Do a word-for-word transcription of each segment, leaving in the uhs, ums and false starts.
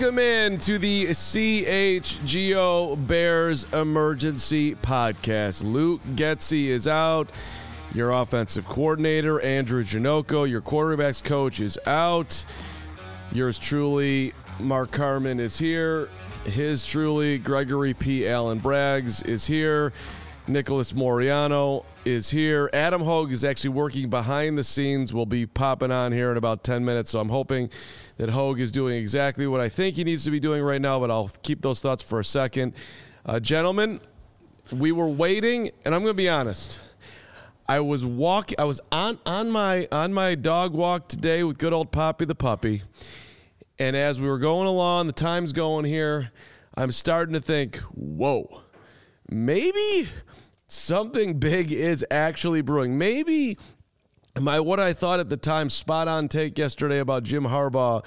Welcome in to the C H G O Bears Emergency Podcast. Luke Getsy is out. Your offensive coordinator, Andrew Janocko. Your quarterback's coach is out. Yours truly, Mark Carman, is here. His truly, Gregory P. Allen Braggs, is here. Nicholas Moriano is here. Adam Hogue is actually working behind the scenes. We'll be popping on here in about ten minutes, so I'm hoping that Hogue is doing exactly what I think he needs to be doing right now, but I'll keep those thoughts for a second. Uh, gentlemen, we were waiting, and I'm going to be honest. I was walk. I was on, on my on my dog walk today with good old Poppy the puppy, and as we were going along, the time's going here, I'm starting to think, whoa, maybe something big is actually brewing. Maybe my what I thought at the time spot on take yesterday about Jim Harbaugh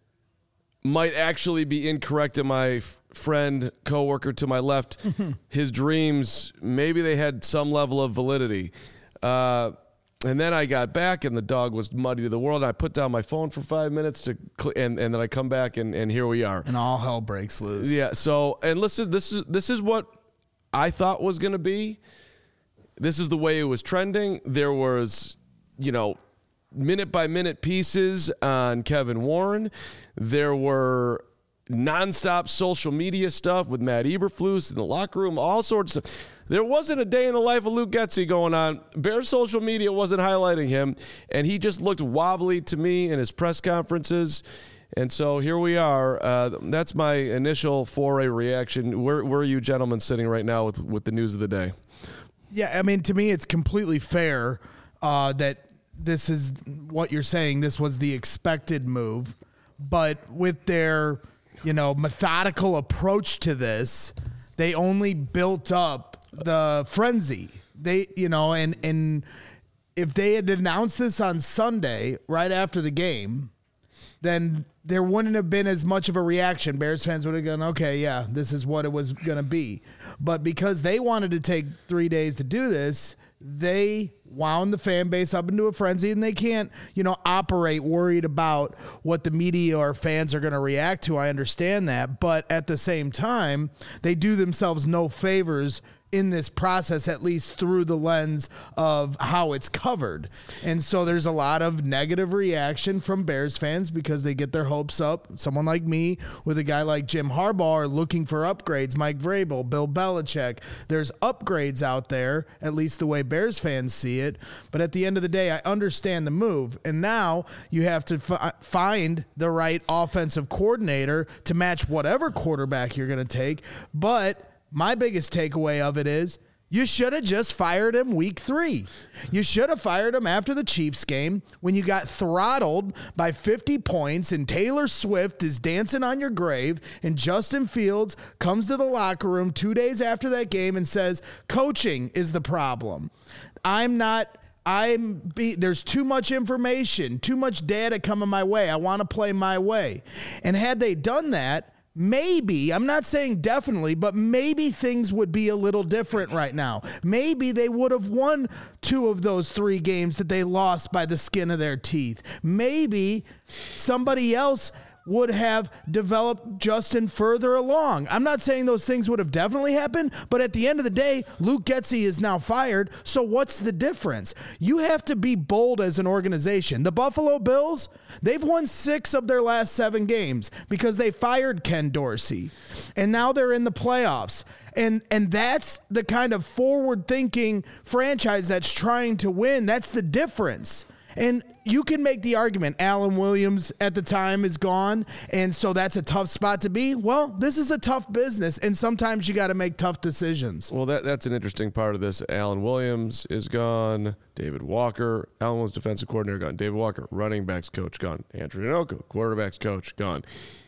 might actually be incorrect. And my f- friend, coworker to my left, his dreams, maybe they had some level of validity. Uh, and then I got back, and the dog was muddy to the world. I put down my phone for five minutes to, cl- and and then I come back, and, and here we are. And all hell breaks loose. Yeah. So, and listen, this is this is what I thought was going to be. This is the way it was trending. There was, you know, minute by minute pieces on Kevin Warren. There were nonstop social media stuff with Matt Eberflus in the locker room, all sorts of stuff. There wasn't a day in the life of Luke Getsy going on. Bears social media wasn't highlighting him, and he just looked wobbly to me in his press conferences. And so here we are. Uh, that's my initial foray reaction. Where, where are you gentlemen sitting right now with, with the news of the day? Yeah, I mean, to me, it's completely fair uh, that this is what you're saying. This was the expected move. But with their, you know, methodical approach to this, they only built up the frenzy. They, you know, and, and if they had announced this on Sunday, right after the game, then there wouldn't have been as much of a reaction. Bears fans would have gone, okay, yeah, this is what it was going to be. But because they wanted to take three days to do this, they wound the fan base up into a frenzy, and they can't, you know, operate worried about what the media or fans are going to react to. I understand that. But at the same time, they do themselves no favors in this process, at least through the lens of how it's covered. And so there's a lot of negative reaction from Bears fans because they get their hopes up. Someone like me with a guy like Jim Harbaugh are looking for upgrades. Mike Vrabel, Bill Belichick. There's upgrades out there, at least the way Bears fans see it. But at the end of the day, I understand the move. And now you have to f- find the right offensive coordinator to match whatever quarterback you're going to take. But my biggest takeaway of it is you should have just fired him week three. You should have fired him after the Chiefs game when you got throttled by fifty points and Taylor Swift is dancing on your grave and Justin Fields comes to the locker room two days after that game and says, coaching is the problem. I'm not... I'm be, there's too much information, too much data coming my way. I want to play my way. And had they done that, maybe, I'm not saying definitely, but maybe things would be a little different right now. Maybe they would have won two of those three games that they lost by the skin of their teeth. Maybe somebody else would have developed Justin further along. I'm not saying those things would have definitely happened, but at the end of the day, Luke Getsy is now fired, so what's the difference? You have to be bold as an organization. The Buffalo Bills, they've won six of their last seven games because they fired Ken Dorsey, and now they're in the playoffs. And and that's the kind of forward-thinking franchise that's trying to win. That's the difference. And you can make the argument Alan Williams at the time is gone, and so that's a tough spot to be. Well, this is a tough business, and sometimes you got to make tough decisions. Well, that that's an interesting part of this. Alan Williams is gone. David Walker, Alan Williams, defensive coordinator, gone. David Walker, running backs coach, gone. Andrew Janocko, quarterbacks coach, gone.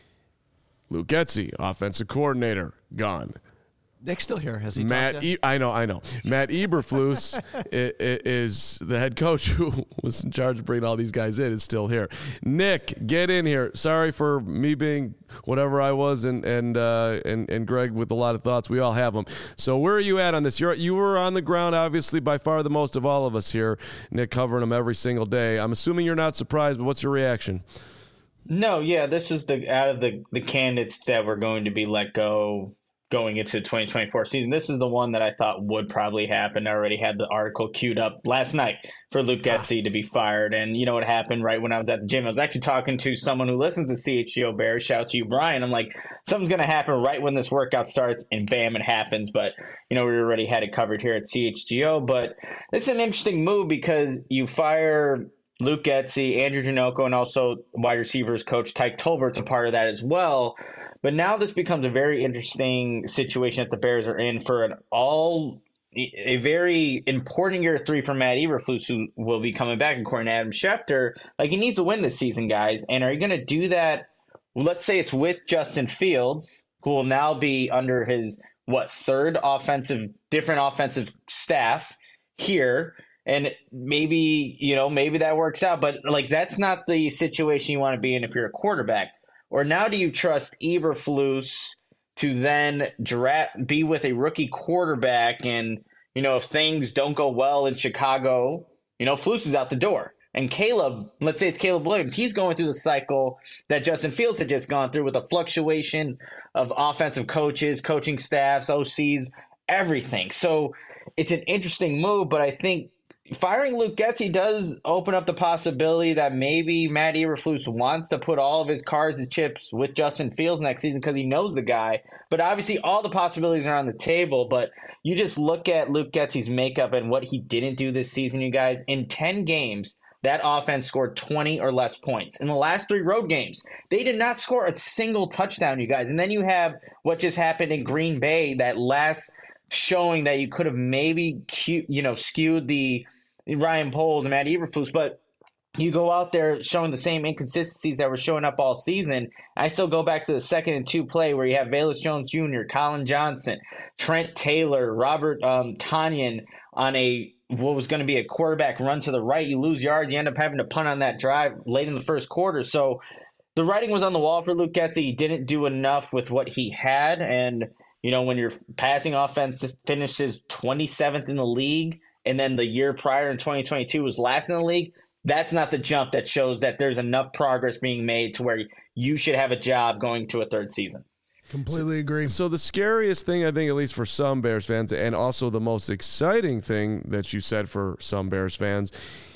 Luke Getsy, offensive coordinator, gone. Nick's still here. Has he Matt talked e- I know, I know. Matt Eberflus is the head coach who was in charge of bringing all these guys in, is still here. Nick, get in here. Sorry for me being whatever I was, and and uh, and and Greg with a lot of thoughts. We all have them. So where are you at on this? You're you were on the ground, obviously, by far the most of all of us here. Nick covering them every single day. I'm assuming you're not surprised, but what's your reaction? No, yeah, this is the out of the the candidates that were going to be let go going into the twenty twenty-four season. This is the one that I thought would probably happen. I already had the article queued up last night for Luke Getsy to be fired. And you know what happened right when I was at the gym? I was actually talking to someone who listens to C H G O Bears. Shout out to you, Brian. I'm like, something's going to happen right when this workout starts, and bam, it happens. But, you know, we already had it covered here at C H G O. But this is an interesting move because you fire Luke Getsy, Andrew Janocko, and also wide receivers coach Tyke Tolbert's a part of that as well. But now this becomes a very interesting situation that the Bears are in for an all a very important year three for Matt Eberflus, who will be coming back, according to Adam Schefter. Like, he needs to win this season, guys. And are you going to do that? Let's say it's with Justin Fields, who will now be under his what third offensive different offensive staff here. And maybe, you know, maybe that works out. But, like, that's not the situation you want to be in if you're a quarterback. Or now do you trust Eberflus to then draft, be with a rookie quarterback? And, you know, if things don't go well in Chicago, you know, Flus is out the door. And Caleb, let's say it's Caleb Williams, he's going through the cycle that Justin Fields had just gone through with a fluctuation of offensive coaches, coaching staffs, O Cs, everything. So it's an interesting move, but I think firing Luke Getsy does open up the possibility that maybe Matt Eberflus wants to put all of his cards and chips with Justin Fields next season because he knows the guy. But obviously all the possibilities are on the table. But you just look at Luke Getsy's makeup and what he didn't do this season, you guys. In ten games, that offense scored twenty or less points. In the last three road games, they did not score a single touchdown, you guys. And then you have what just happened in Green Bay, that last showing that you could have maybe, you know, skewed the Ryan Poles and Matt Eberflus, but you go out there showing the same inconsistencies that were showing up all season. I still go back to the second and two play where you have Velus Jones Junior, Colin Johnson, Trent Taylor, Robert um, Tonyan on a what was going to be a quarterback run to the right. You lose yard. You end up having to punt on that drive late in the first quarter. So the writing was on the wall for Luke Getsy. He didn't do enough with what he had. And, you know, when your passing offense finishes twenty-seventh in the league, and then the year prior in twenty twenty-two was last in the league, that's not the jump that shows that there's enough progress being made to where you should have a job going to a third season. Completely agree. So the scariest thing, I think, at least for some Bears fans, and also the most exciting thing that you said for some Bears fans,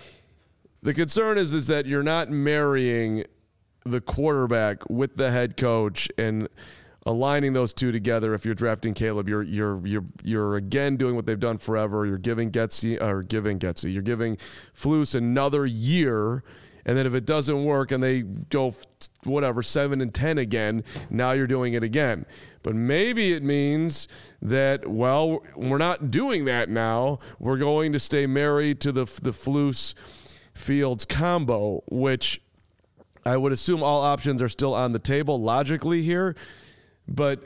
the concern is, is that you're not marrying the quarterback with the head coach and aligning those two together. If you're drafting Caleb, you're you're you're you're again doing what they've done forever. You're giving Getsy or giving Getsy. You're giving Flus another year, and then if it doesn't work and they go whatever seven and ten again, now you're doing it again. But maybe it means that, well, we're not doing that now. We're going to stay married to the the Flus Fields combo, which I would assume all options are still on the table logically here. But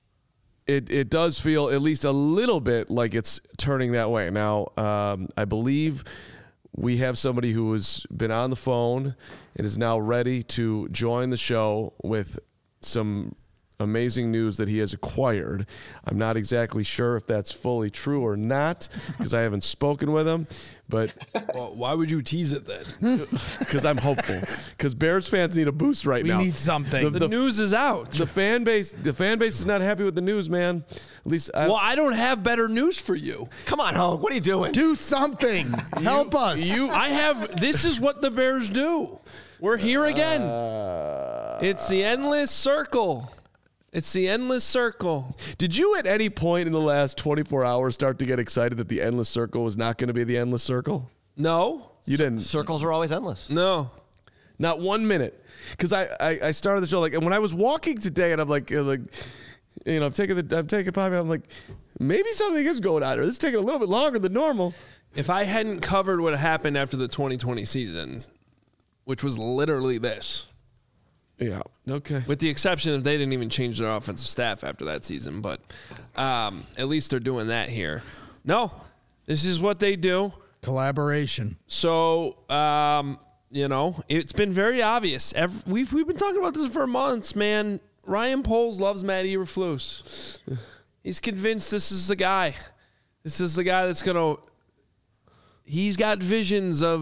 it it does feel at least a little bit like it's turning that way. Now, um, I believe we have somebody who has been on the phone and is now ready to join the show with some amazing news that he has acquired. I'm not exactly sure if that's fully true or not because I haven't spoken with him. But well, why would you tease it then? Because I'm hopeful. Because Bears fans need a boost right we now. We need something. The, the, the news is out. The fan base, the fan base is not happy with the news, man. At least, I, well, I don't have better news for you. Come on, Hogue. What are you doing? Do something. Help you, us. You, I have. This is what the Bears do. We're here again. Uh, it's the endless circle. It's the endless circle. Did you at any point in the last twenty-four hours start to get excited that the endless circle was not going to be the endless circle? No. You didn't. Circles are always endless. No. Not one minute. Because I, I, I started the show like, and when I was walking today, and I'm like, like, you know, I'm taking the, I'm taking Poppy, I'm like, maybe something is going on, or this is taking a little bit longer than normal. If I hadn't covered what happened after the twenty twenty season, which was literally this. Yeah. Okay. With the exception of they didn't even change their offensive staff after that season, but um, at least they're doing that here. No, this is what they do. Collaboration. So, um, you know, it's been very obvious. Every, we've we've been talking about this for months, man. Ryan Poles loves Matt Eberflus. He's convinced this is the guy. This is the guy that's going to – he's got visions of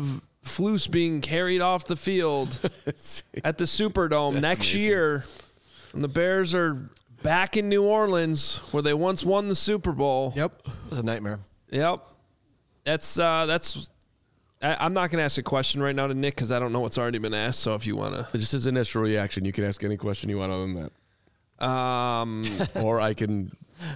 Flus being carried off the field at the Superdome That's next amazing. year, and the Bears are back in New Orleans where they once won the Super Bowl. Yep. It was a nightmare. Yep. That's uh, that's. I, I'm not going to ask a question right now to Nick because I don't know what's already been asked. So if you want to, Just his initial reaction, you can ask any question you want other than that. um, Or I can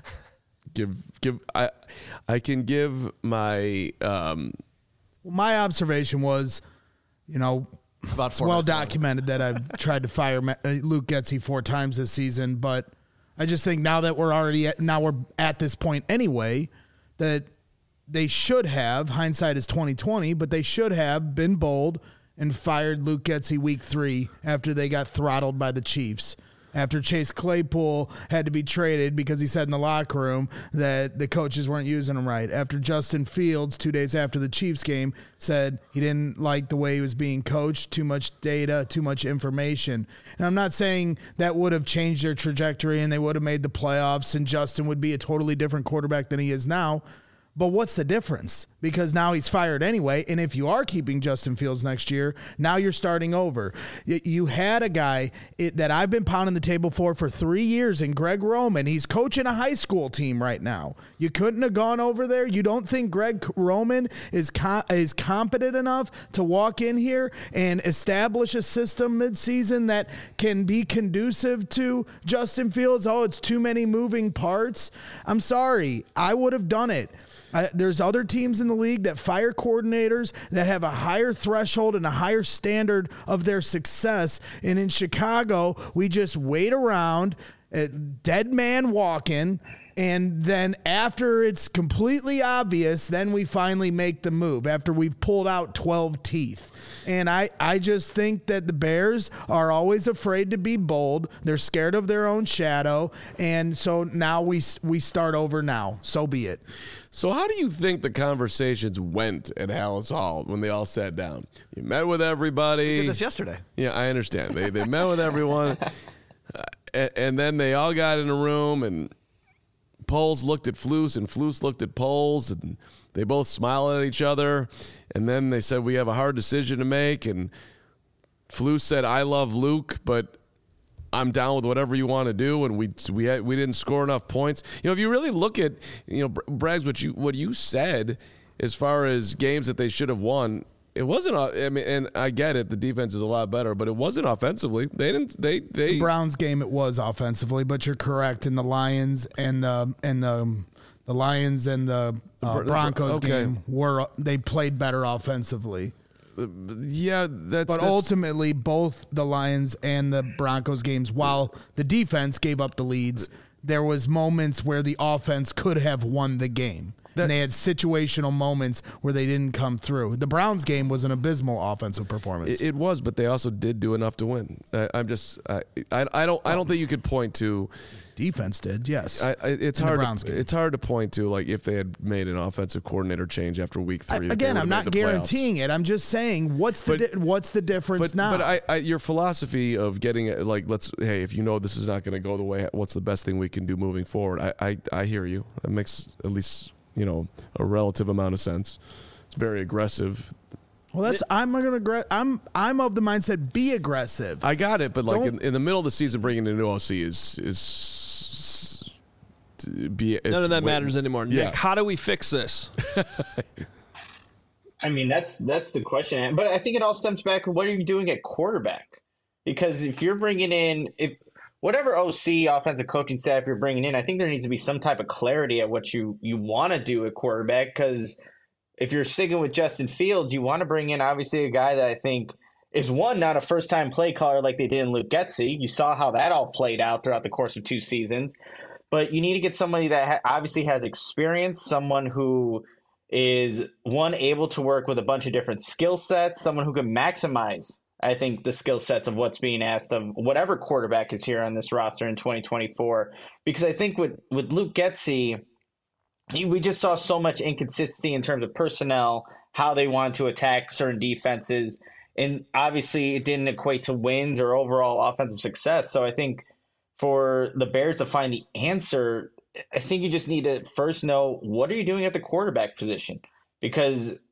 give give I I can give my um Well, my observation was, you know, About it's four well minutes ago. documented that I've tried to fire Ma- uh, Luke Getsy four times this season, but I just think now that we're already at, now we're at this point anyway, that they should have, hindsight is twenty twenty, but they should have been bold and fired Luke Getsy week three after they got throttled by the Chiefs. After Chase Claypool had to be traded because he said in the locker room that the coaches weren't using him right. After Justin Fields, two days after the Chiefs game, said he didn't like the way he was being coached, too much data, too much information. And I'm not saying that would have changed their trajectory and they would have made the playoffs and Justin would be a totally different quarterback than he is now. But what's the difference? Because now he's fired anyway. And if you are keeping Justin Fields next year, now you're starting over. Y- You had a guy it, that I've been pounding the table for for three years in Greg Roman. He's coaching a high school team right now. You couldn't have gone over there. You don't think Greg Roman is co- is competent enough to walk in here and establish a system midseason that can be conducive to Justin Fields? Oh, it's too many moving parts. I'm sorry. I would have done it. Uh, there's other teams in the league that fire coordinators that have a higher threshold and a higher standard of their success. And in Chicago, we just wait around, uh, dead man walking, and then after it's completely obvious, then we finally make the move after we've pulled out twelve teeth. And I, I just think that the Bears are always afraid to be bold. They're scared of their own shadow. And so now we we start over now. So be it. So how do you think the conversations went at Hallis Hall when they all sat down? You met with everybody. We did this yesterday. Yeah, I understand. They they met with everyone, uh, and, and then they all got in a room, and Poles looked at Flus, and Flus looked at Poles, and they both smiled at each other. And then they said, we have a hard decision to make. And Flus said, I love Luke, but I'm down with whatever you want to do, and we we had, we didn't score enough points. You know, if you really look at, you know, Braggs, what you what you said as far as games that they should have won, it wasn't. I mean, and I get it, the defense is a lot better, but it wasn't offensively. They didn't. They they. The Browns game it was offensively, but you're correct in the Lions and the and the the Lions and the uh, Broncos okay. game were they played better offensively. Yeah, that's. But that's, ultimately, both the Lions and the Broncos games, while the defense gave up the leads, there was moments where the offense could have won the game. That- and they had situational moments where they didn't come through. The Browns game was an abysmal offensive performance. It, it was, but they also did do enough to win. I, I'm just. I, I I don't. I don't think you could point to. Defense did, yes. I, I, it's In the hard. Browns To, game. it's hard to point to like if they had made an offensive coordinator change after week I- three. that they again, would I'm have not made the playoffs. guaranteeing it. I'm just saying, what's the But- di- what's the difference But now? but I, I your philosophy of getting it like let's hey if you know this is not going to go the way, what's the best thing we can do moving forward? I, I I hear you. That makes at least you know a relative amount of sense. It's very aggressive. well, that's I'm gonna aggre- I'm I'm of the mindset be aggressive. I got it, but like in, Don't- in the middle of the season, bringing in a new O C is is to be it's none of that way- matters anymore. Yeah. Nick, how do we fix this? I mean, that's that's the question. But I think it all stems back to what are you doing at quarterback? Because if you're bringing in, if whatever O C, offensive coaching staff you're bringing in, I think there needs to be some type of clarity at what you, you want to do at quarterback. Because if you're sticking with Justin Fields, you want to bring in, obviously, a guy that I think is, one, not a first-time play caller like they did in Luke Getsy. You saw how that all played out throughout the course of two seasons. But you need to get somebody that ha- obviously has experience, someone who is, one, able to work with a bunch of different skill sets, someone who can maximize, I think, the skill sets of what's being asked of whatever quarterback is here on this roster in twenty twenty-four. Because I think with, with Luke Getsy, he- we just saw so much inconsistency in terms of personnel, how they wanted to attack certain defenses. And obviously it didn't equate to wins or overall offensive success. So I think for the Bears to find the answer, I think you just need to first know, what are you doing at the quarterback position? Because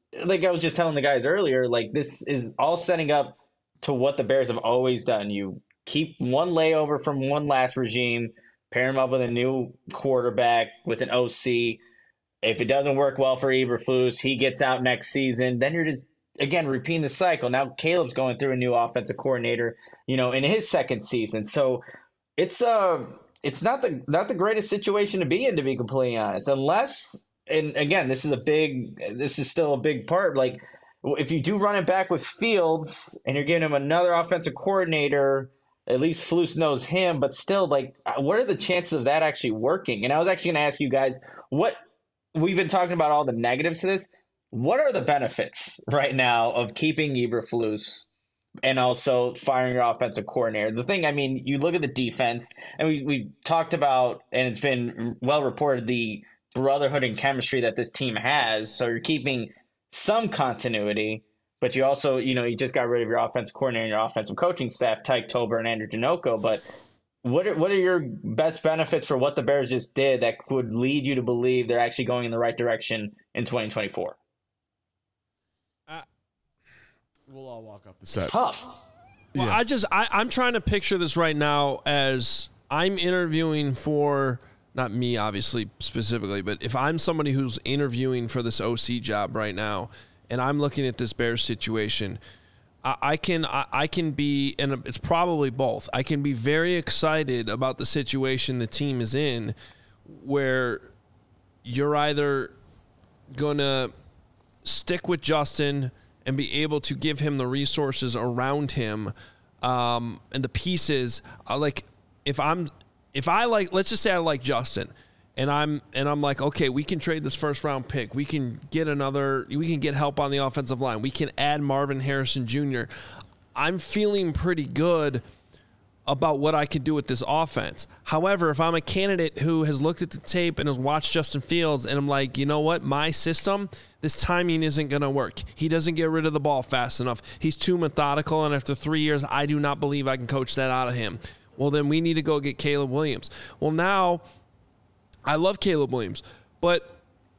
like I was just telling the guys earlier, like this is all setting up to what the Bears have always done. You keep one layover from one last regime, pair him up with a new quarterback with an O C. If it doesn't work well for Eberflus, he gets out next season. Then you're just, again, repeating the cycle. Now Caleb's going through a new offensive coordinator, you know, in his second season. So it's uh, it's not the not the greatest situation to be in, to be completely honest. Unless, and again, this is a big, this is still a big part. Like, if you do run it back with Fields and you're giving him another offensive coordinator, at least Flus knows him, but still, like, what are the chances of that actually working? And I was actually going to ask you guys, what we've been talking about all the negatives to this. What are the benefits right now of keeping Eberflus and also firing your offensive coordinator? The thing, I mean, you look at the defense, and we we talked about, and it's been well reported, the brotherhood and chemistry that this team has. So you're keeping some continuity, but you also, you know, you just got rid of your offensive coordinator and your offensive coaching staff, Tyke Tober and Andrew Janocko. But what are, what are your best benefits for what the Bears just did that would lead you to believe they're actually going in the right direction in twenty twenty-four? Uh, We'll all walk off the set. It's tough. Well, Yeah. I just I, I'm trying to picture this right now as I'm interviewing for, not me obviously specifically, but if I'm somebody who's interviewing for this O C job right now, and I'm looking at this Bears situation, I, I can I, I can be, and it's probably both. I can be very excited about the situation the team is in, where you're either gonna stick with Justin and be able to give him the resources around him, um, and the pieces. Uh, like if I'm, if I like, let's just say I like Justin, and I'm and I'm like, okay, we can trade this first round pick. We can get another. We can get help on the offensive line. We can add Marvin Harrison Junior I'm feeling pretty good about what I could do with this offense. However, if I'm a candidate who has looked at the tape and has watched Justin Fields, and I'm like, you know what, my system, this timing isn't going to work. He doesn't get rid of the ball fast enough. He's too methodical, and after three years, I do not believe I can coach that out of him. Well, then we need to go get Caleb Williams. Well, now, I love Caleb Williams, but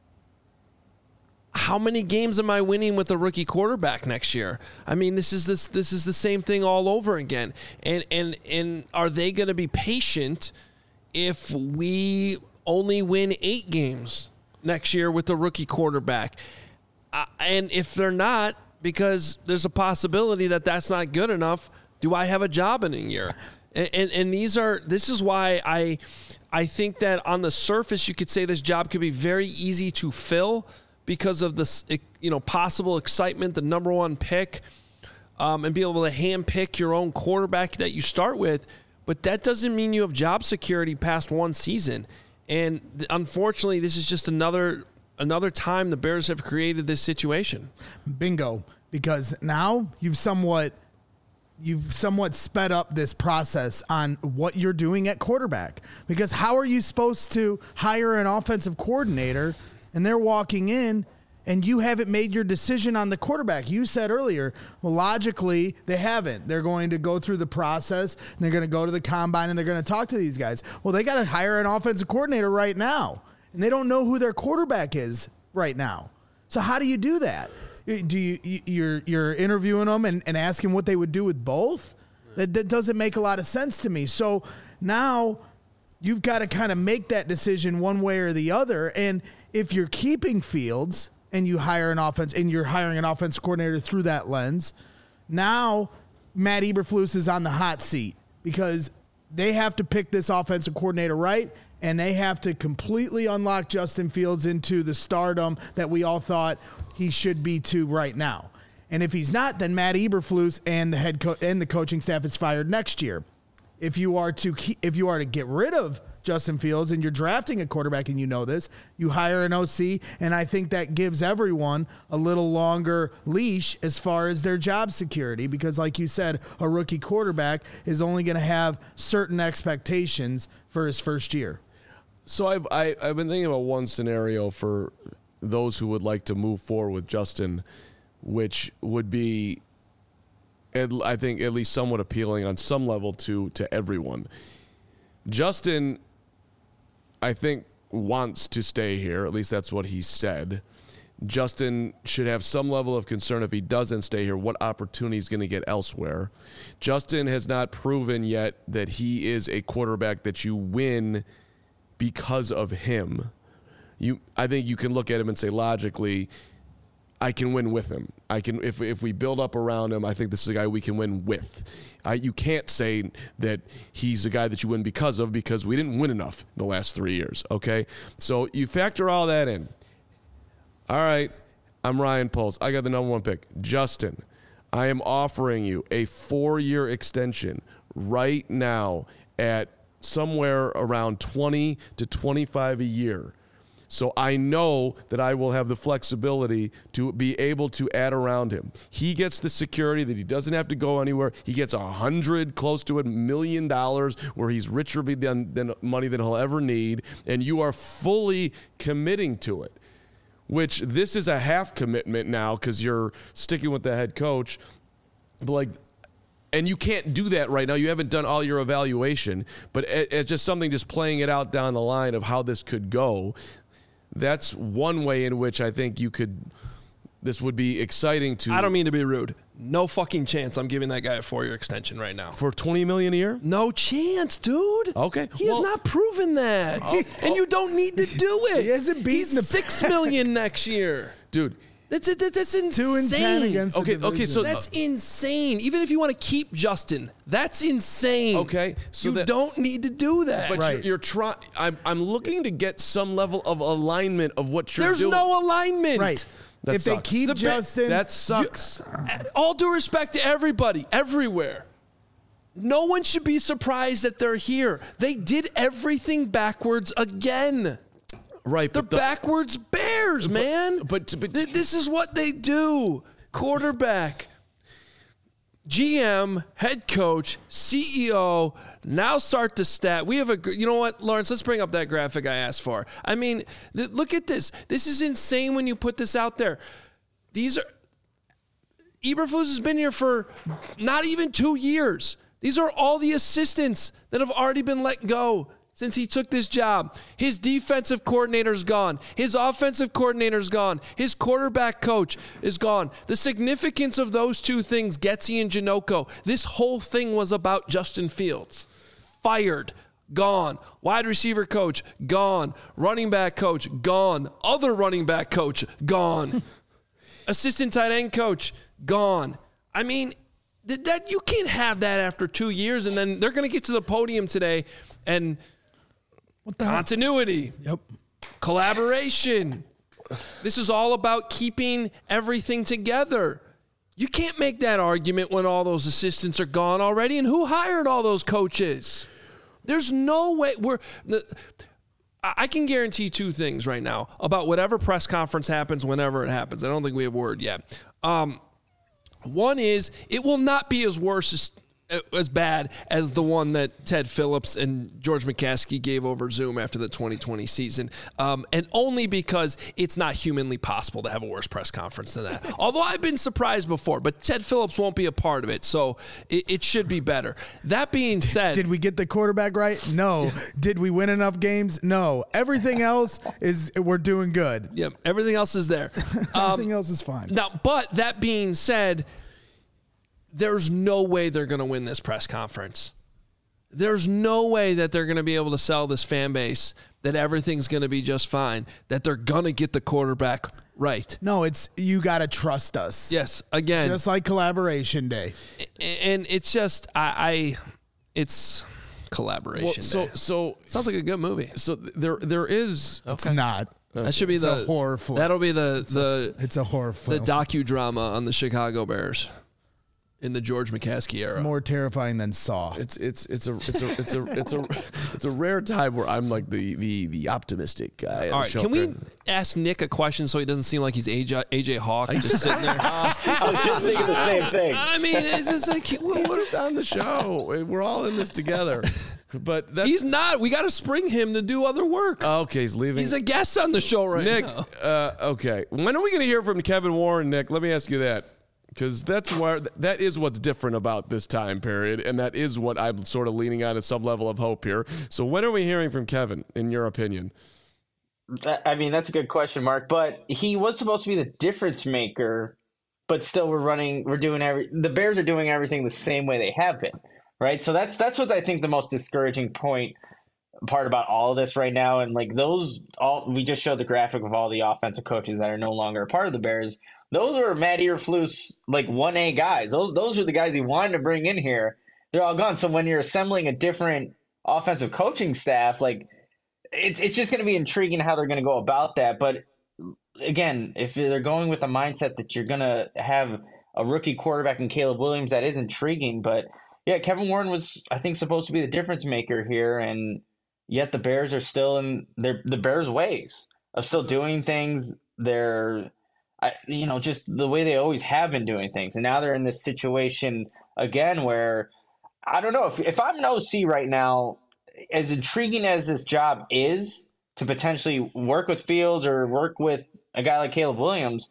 how many games am I winning with a rookie quarterback next year? I mean, this is this this is the same thing all over again. And and and are they going to be patient if we only win eight games next year with the rookie quarterback? Uh, and if they're not, because there's a possibility that that's not good enough, do I have a job in a year? And, and and these are this is why I I think that on the surface you could say this job could be very easy to fill, because of this, you know, possible excitement, the number one pick, um, and be able to hand pick your own quarterback that you start with. But that doesn't mean you have job security past one season. And th- unfortunately, this is just another another time the Bears have created this situation. Bingo. Because now you've somewhat you've somewhat sped up this process on what you're doing at quarterback. Because how are you supposed to hire an offensive coordinator and they're walking in and you haven't made your decision on the quarterback? You said earlier, well, logically, they haven't. They're going to go through the process, and they're going to go to the combine, and they're going to talk to these guys. Well, they got to hire an offensive coordinator right now, and they don't know who their quarterback is right now. So how do you do that? Do you you're you're interviewing them and, and asking what they would do with both? That that doesn't make a lot of sense to me. So now you've got to kind of make that decision one way or the other. And if you're keeping Fields and you hire an offense and you're hiring an offensive coordinator through that lens, now Matt Eberflus is on the hot seat because they have to pick this offensive coordinator right, and they have to completely unlock Justin Fields into the stardom that we all thought he should be to right now. And if he's not, then Matt Eberflus and the head coach and the coaching staff is fired next year. If you are to keep, if you are to get rid of Justin Fields and you're drafting a quarterback and you know this, you hire an O C, and I think that gives everyone a little longer leash as far as their job security, because like you said, a rookie quarterback is only going to have certain expectations for his first year. So I've I, I've been thinking about one scenario for those who would like to move forward with Justin, which would be, I think, at least somewhat appealing on some level to to everyone. Justin, I think, wants to stay here. At least that's what he said. Justin should have some level of concern if he doesn't stay here, what opportunity he's going to get elsewhere. Justin has not proven yet that he is a quarterback that you win because of him. You, I think you can look at him and say logically, I can win with him. I can if if we build up around him, I think this is a guy we can win with. I, you can't say that he's a guy that you win because of because we didn't win enough the last three years, okay? So you factor all that in. All right, I'm Ryan Poles. I got the number one pick. Justin, I am offering you a four-year extension right now at somewhere around twenty to twenty-five a year. So I know that I will have the flexibility to be able to add around him. He gets the security that he doesn't have to go anywhere. He gets a hundred, close to a million dollars, where he's richer than, than money than he'll ever need, and you are fully committing to it. Which this is a half commitment now because you're sticking with the head coach, but like. And you can't do that right now. You haven't done all your evaluation, but it's just something, just playing it out down the line of how this could go. That's one way in which I think you could, this would be exciting to. I don't mean to be rude. No fucking chance I'm giving that guy a four-year extension right now. For twenty million dollars a year? No chance, dude. Okay. He well, has not proven that. Oh, and you don't need to do it. He hasn't beaten He's the six million dollars next year. Dude. That's it. That's, that's insane. Two and ten against the okay, division. okay, so that's insane. Even if you want to keep Justin, that's insane. Okay, so you that, don't need to do that. But right. you're, you're trying. I'm, I'm looking to get some level of alignment of what you're There's doing. There's no alignment. Right. That if sucks. they keep the Justin, that sucks. You, all due respect to everybody, everywhere. No one should be surprised that they're here. They did everything backwards again. Right, the, but the backwards Bears, but, man. But, but Th- this is what they do. Quarterback, G M, head coach, C E O. Now start to stat. We have a. You know what, Lawrence? Let's bring up that graphic I asked for. I mean, th- look at this. This is insane when you put this out there. These are. Eberflus has been here for not even two years. These are all the assistants that have already been let go since he took this job. His defensive coordinator's gone. His offensive coordinator's gone. His quarterback coach is gone. The significance of those two things, Getsy and Janocko, this whole thing was about Justin Fields. Fired, gone. Wide receiver coach, gone. Running back coach, gone. Other running back coach, gone. Assistant tight end coach, gone. I mean, th- that you can't have that after two years, and then they're going to get to the podium today and what the continuity, hell? Yep, collaboration. This is all about keeping everything together. You can't make that argument when all those assistants are gone already. And who hired all those coaches? There's no way we're. I can guarantee two things right now about whatever press conference happens, whenever it happens. I don't think we have word yet. Um, one is it will not be as worse as. as bad as the one that Ted Phillips and George McCaskey gave over Zoom after the twenty twenty season. Um, and only because it's not humanly possible to have a worse press conference than that. Although I've been surprised before, but Ted Phillips won't be a part of it, so it, it should be better. That being said... Did we get the quarterback right? No. Did we win enough games? No. Everything else is, we're doing good. Yep, everything else is there. Everything um, else is fine. Now, but that being said... There's no way they're going to win this press conference. There's no way that they're going to be able to sell this fan base that everything's going to be just fine, that they're going to get the quarterback right. No, it's you got to trust us. Yes, again. Just like Collaboration Day. And it's just, I, I it's Collaboration well, so, Day. So, sounds like a good movie. So there there is... It's not. That should be it's the a horror film. That'll be the, it's the, a, it's a horror film. The docudrama on the Chicago Bears. In the George McCaskey era, it's more terrifying than Saw. It's it's it's a it's a it's a it's a it's a rare time where I'm like the the the optimistic guy. All right, can we ask Nick a question so he doesn't seem like he's A J, A J Hawk just sitting there? I was just thinking the same thing. I mean, it's just like we're just on the show. We're all in this together. But that's, he's not. We got to spring him to do other work. Okay, he's leaving. He's a guest on the show right Nick, now. Nick, uh, okay. When are we going to hear from Kevin Warren, Nick? Let me ask you that. Because that's where that is what's different about this time period, and that is what I'm sort of leaning on at some level of hope here. So when are we hearing from Kevin, in your opinion? I mean, that's a good question, Mark. But he was supposed to be the difference maker, but still, we're running, we're doing every. The Bears are doing everything the same way they have been, right? So that's that's what I think the most discouraging point part about all of this right now. And like those, all we just showed the graphic of all the offensive coaches that are no longer a part of the Bears. Those are Matt Eberflus, like one A guys. Those those are the guys he wanted to bring in here. They're all gone. So when you're assembling a different offensive coaching staff, like. It's it's just going to be intriguing how they're going to go about that. But again, if they're going with a mindset that you're going to have a rookie quarterback in Caleb Williams, that is intriguing. But yeah, Kevin Warren was, I think, supposed to be the difference maker here, and yet the Bears are still in their the Bears' ways of still doing things. They're, I, you know, just the way they always have been doing things, and now they're in this situation again where I don't know if if I'm an O C right now. As intriguing as this job is to potentially work with Fields or work with a guy like Caleb Williams,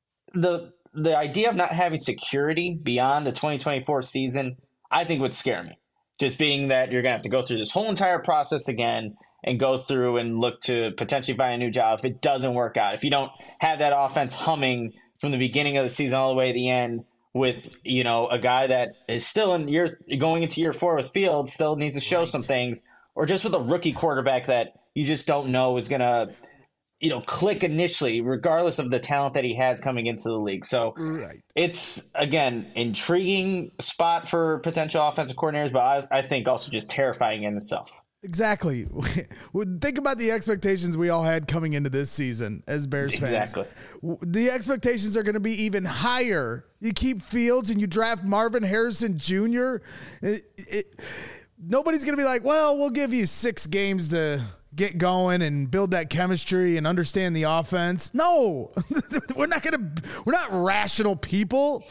the the idea of not having security beyond the twenty twenty-four season, I think would scare me. Just being that you're going to have to go through this whole entire process again and go through and look to potentially find a new job if it doesn't work out. If you don't have that offense humming from the beginning of the season all the way to the end with, you know, a guy that is still in year going into year four with Fields, still needs to show right. some things. Or just with a rookie quarterback that you just don't know is going to, you know, click initially, regardless of the talent that he has coming into the league. So right. it's, again, intriguing spot for potential offensive coordinators, but I, I think also just terrifying in itself. Exactly. Think about the expectations we all had coming into this season as Bears fans. Exactly. The expectations are going to be even higher. You keep Fields and you draft Marvin Harrison Junior It, it, Nobody's going to be like, well, we'll give you six games to get going and build that chemistry and understand the offense. No, we're not going to, we're not rational people.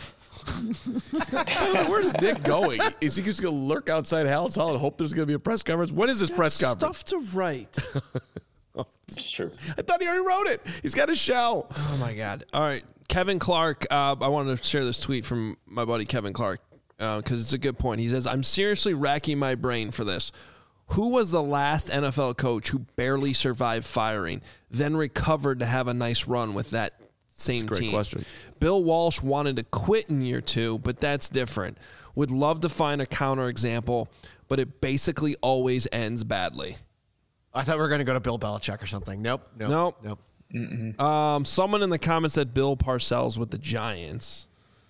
Where's Nick going? Is he just going to lurk outside Hal's Hall and hope there's going to be a press conference? When is this press conference? Stuff to write. Sure. I thought he already wrote it. He's got a shell. Oh, my God. All right. Kevin Clark. Uh, I wanted to share this tweet from my buddy Kevin Clark. Because uh, it's a good point. He says, I'm seriously racking my brain for this. Who was the last N F L coach who barely survived firing, then recovered to have a nice run with that same that's a great team? Question. Bill Walsh wanted to quit in year two, but that's different. Would love to find a counterexample, but it basically always ends badly. I thought we were going to go to Bill Belichick or something. Nope. Nope. Nope. Nope. Um, someone in the comments said Bill Parcells with the Giants.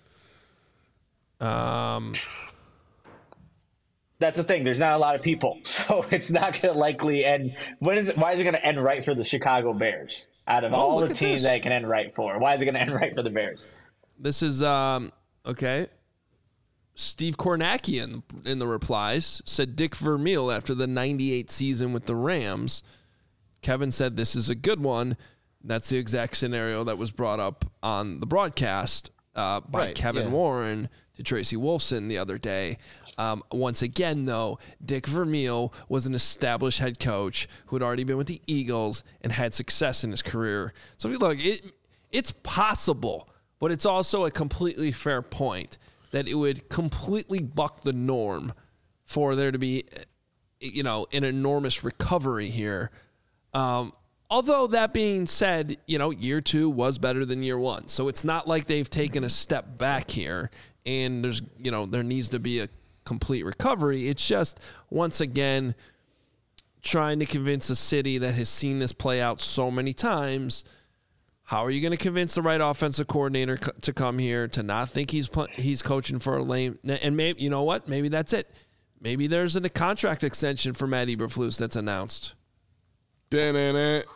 Um, that's the thing. There's not a lot of people, so it's not going to likely end. When is it? Why is it going to end right for the Chicago Bears? Out of oh, all the teams this. that it can end right for, why is it going to end right for the Bears? This is um okay. Steve Kornacki in, in the replies said Dick Vermeil after the ninety-eight season with the Rams. Kevin said this is a good one. That's the exact scenario that was brought up on the broadcast uh, by right, Kevin yeah. Warren to Tracy Wolfson the other day. Um, once again, though, Dick Vermeil was an established head coach who had already been with the Eagles and had success in his career. So, look, it it's possible, but it's also a completely fair point that it would completely buck the norm for there to be, you know, an enormous recovery here. Um, although that being said, you know, year two was better than year one. So it's not like they've taken a step back here and there's, you know, there needs to be a complete recovery. It's just, once again, trying to convince a city that has seen this play out so many times. How are you going to convince the right offensive coordinator co- to come here, to not think he's pl- he's coaching for a lame? And maybe, you know what? Maybe that's it. Maybe there's a contract extension for Matt Eberflus that's announced. Wouldn't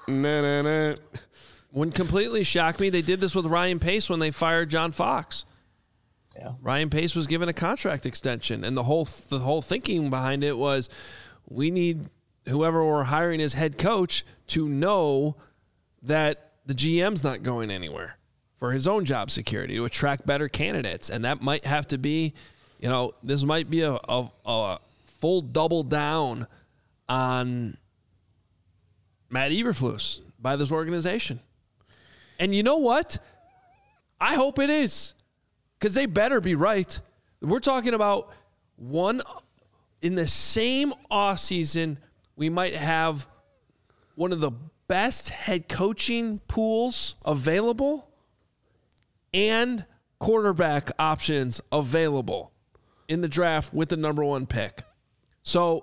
completely shock me. They did this with Ryan Pace when they fired John Fox. Yeah. Ryan Pace was given a contract extension, and the whole the whole thinking behind it was, we need whoever we're hiring as head coach to know that the G M's not going anywhere for his own job security, to attract better candidates. And that might have to be, you know, this might be a, a, a full double down on Matt Eberflus by this organization. And you know what? I hope it is, because they better be right. We're talking about one in the same offseason, we might have one of the best head coaching pools available and quarterback options available in the draft with the number one pick. So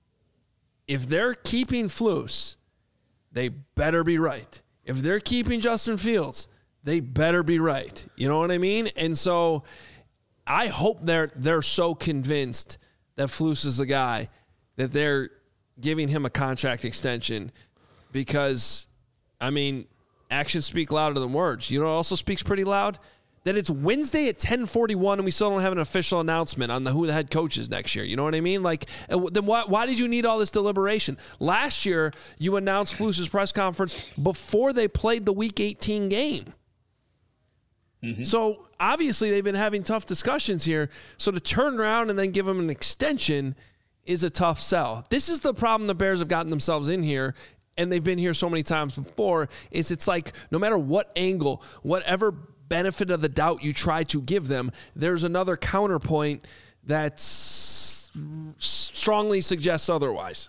if they're keeping Flus, they better be right. If they're keeping Justin Fields, they better be right. You know what I mean? And so I hope they're they're so convinced that Flus is the guy that they're giving him a contract extension because, I mean, actions speak louder than words. You know what also speaks pretty loud? That it's Wednesday at ten forty-one and we still don't have an official announcement on the who the head coach is next year. You know what I mean? Like, then why, why did you need all this deliberation? Last year, you announced Flus's press conference before they played the Week eighteen game. Mm-hmm. So, obviously, they've been having tough discussions here. So, to turn around and then give them an extension is a tough sell. This is the problem the Bears have gotten themselves in here, and they've been here so many times before, is it's like no matter what angle, whatever benefit of the doubt you try to give them, there's another counterpoint that s- strongly suggests otherwise.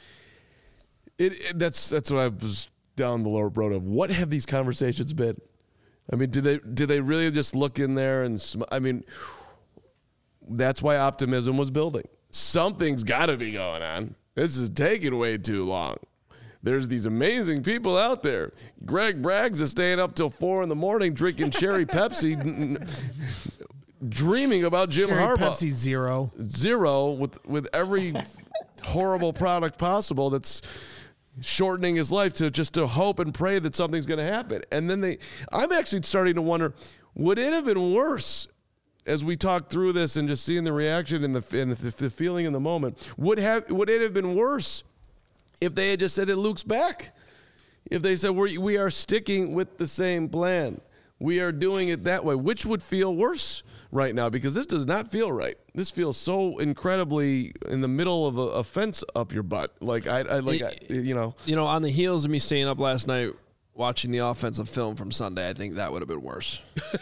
It, it that's that's what I was down the lower road of. What have these conversations been? I mean, did they did they really just look in there and sm- I mean, that's why optimism was building. Something's got to be going on. This is taking way too long. There's these amazing people out there. Greg Braggs is staying up till four in the morning drinking cherry Pepsi, n- n- dreaming about Jim Cherry Harbaugh. Pepsi zero. Zero with, with every horrible product possible that's shortening his life to just to hope and pray that something's going to happen. And then they, I'm actually starting to wonder, would it have been worse as we talk through this and just seeing the reaction and the, and the, the feeling in the moment? Would have would it have been worse if they had just said that Luke's back? If they said we we are sticking with the same plan, we are doing it that way, which would feel worse right now? Because this does not feel right. This feels so incredibly in the middle of a, a fence up your butt. Like I, I like It, I, you know, you know, on the heels of me staying up last night watching the offensive film from Sunday, I think that would have been worse.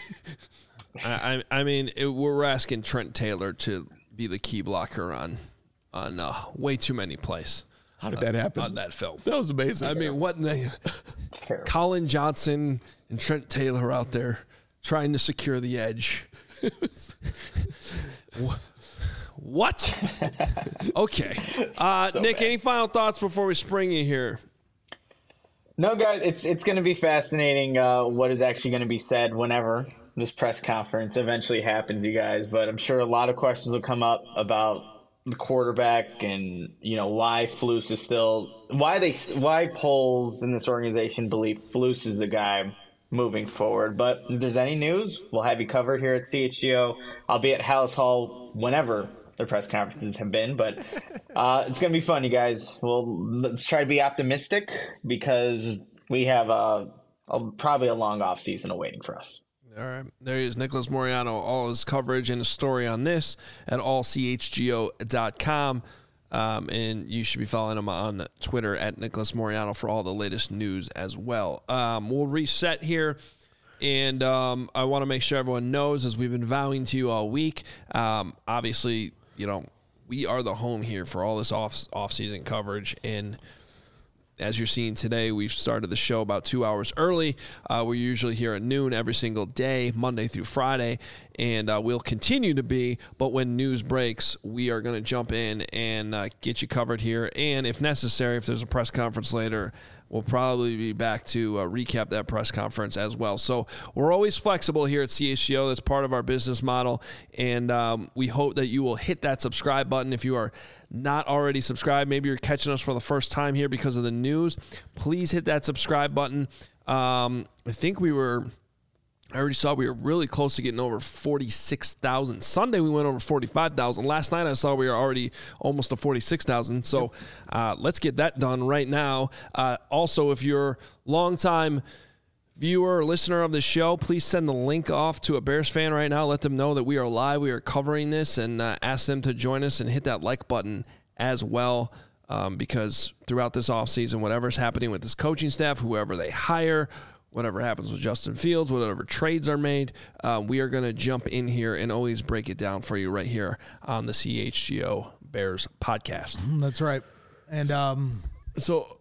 I, I I mean, it, we're asking Trent Taylor to be the key blocker on on uh, way too many plays. How did that happen? On that film. That was amazing. I mean, what in the Colin Johnson and Trent Taylor out there trying to secure the edge. What? Okay. Uh, so Nick, bad. Any final thoughts before we spring you here? No, guys, it's it's going to be fascinating uh, what is actually going to be said whenever this press conference eventually happens, you guys. But I'm sure a lot of questions will come up about the quarterback and, you know, why Flus is still why they why polls in this organization believe Flus is the guy moving forward. But if there's any news, we'll have you covered here at C H G O. I'll be at House Hall whenever the press conferences have been, but uh, it's gonna be fun, you guys. Well, let's try to be optimistic because we have a, a probably a long off season awaiting for us. All right. There he is, Nicholas Moreano. All his coverage and his story on this at all c h g o dot com. Um, and you should be following him on Twitter at Nicholas Moreano for all the latest news as well. Um, we'll reset here. And um, I want to make sure everyone knows, as we've been vowing to you all week, um, obviously, you know, we are the home here for all this off off-season coverage. And as you're seeing today, we've started the show about two hours early. Uh, we're usually here at noon every single day, Monday through Friday, and uh, we'll continue to be. But when news breaks, we are going to jump in and uh, get you covered here. And if necessary, if there's a press conference later, we'll probably be back to uh, recap that press conference as well. So we're always flexible here at C H G O. That's part of our business model. And um, we hope that you will hit that subscribe button if you are not already subscribed. Maybe you're catching us for the first time here because of the news. Please hit that subscribe button. Um, I think we were... I already saw we were really close to getting over forty-six thousand. Sunday, we went over forty-five thousand. Last night, I saw we were already almost to forty-six thousand. So uh, let's get that done right now. Uh, also, if you're a longtime viewer or listener of the show, please send the link off to a Bears fan right now. Let them know that we are live, we are covering this, and uh, ask them to join us and hit that like button as well. Um, because throughout this offseason, whatever's happening with this coaching staff, whoever they hire, whatever happens with Justin Fields, whatever trades are made, uh, we are going to jump in here and always break it down for you right here on the C H G O Bears podcast. That's right. And um, so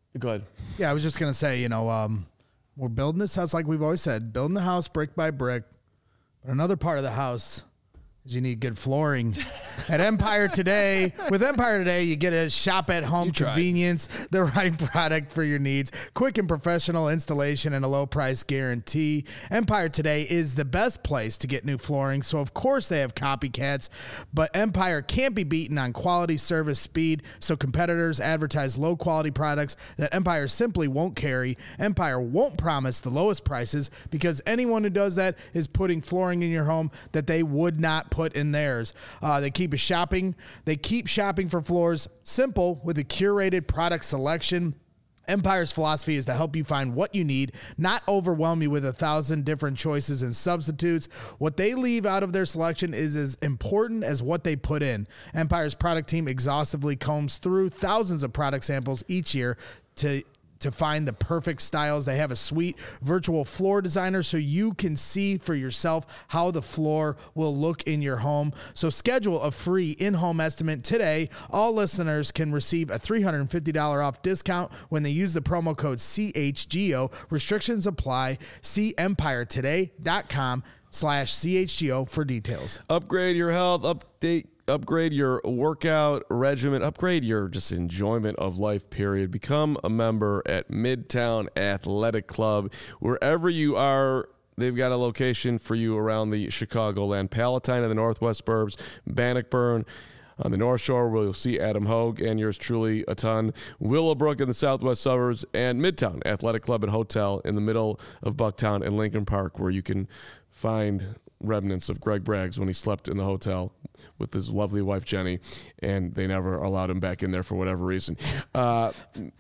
Go ahead. Yeah, I was just going to say, you know, um, we're building this house like we've always said, building the house brick by brick. But another part of the house is you need good flooring. At Empire Today, with Empire Today, you get a shop at home convenience, the right product for your needs, quick and professional installation, and a low price guarantee. Empire Today is the best place to get new flooring, so of course they have copycats, but Empire can't be beaten on quality, service, speed, so competitors advertise low quality products that Empire simply won't carry. Empire won't promise the lowest prices because anyone who does that is putting flooring in your home that they would not put in theirs. Uh, they keep a shopping. They keep shopping for floors simple with a curated product selection. Empire's philosophy is to help you find what you need, not overwhelm you with a thousand different choices and substitutes. What they leave out of their selection is as important as what they put in. Empire's product team exhaustively combs through thousands of product samples each year to to find the perfect styles. They have a sweet virtual floor designer so you can see for yourself how the floor will look in your home. So schedule a free in-home estimate today. All listeners can receive a three hundred fifty dollars off discount when they use the promo code C H G O. Restrictions apply. See empire today dot com slash C H G O for details. Upgrade your health, update upgrade your workout regimen, upgrade your just enjoyment of life, period. Become a member at Midtown Athletic Club. Wherever you are, they've got a location for you around the Chicagoland, Palatine in the northwest burbs, Bannockburn on the North Shore, where you'll see Adam Hogue and yours truly a ton, Willowbrook in the southwest suburbs, and Midtown Athletic Club and Hotel in the middle of Bucktown and Lincoln Park, where you can find remnants of Greg Braggs when he slept in the hotel with his lovely wife, Jenny, and they never allowed him back in there for whatever reason. Uh,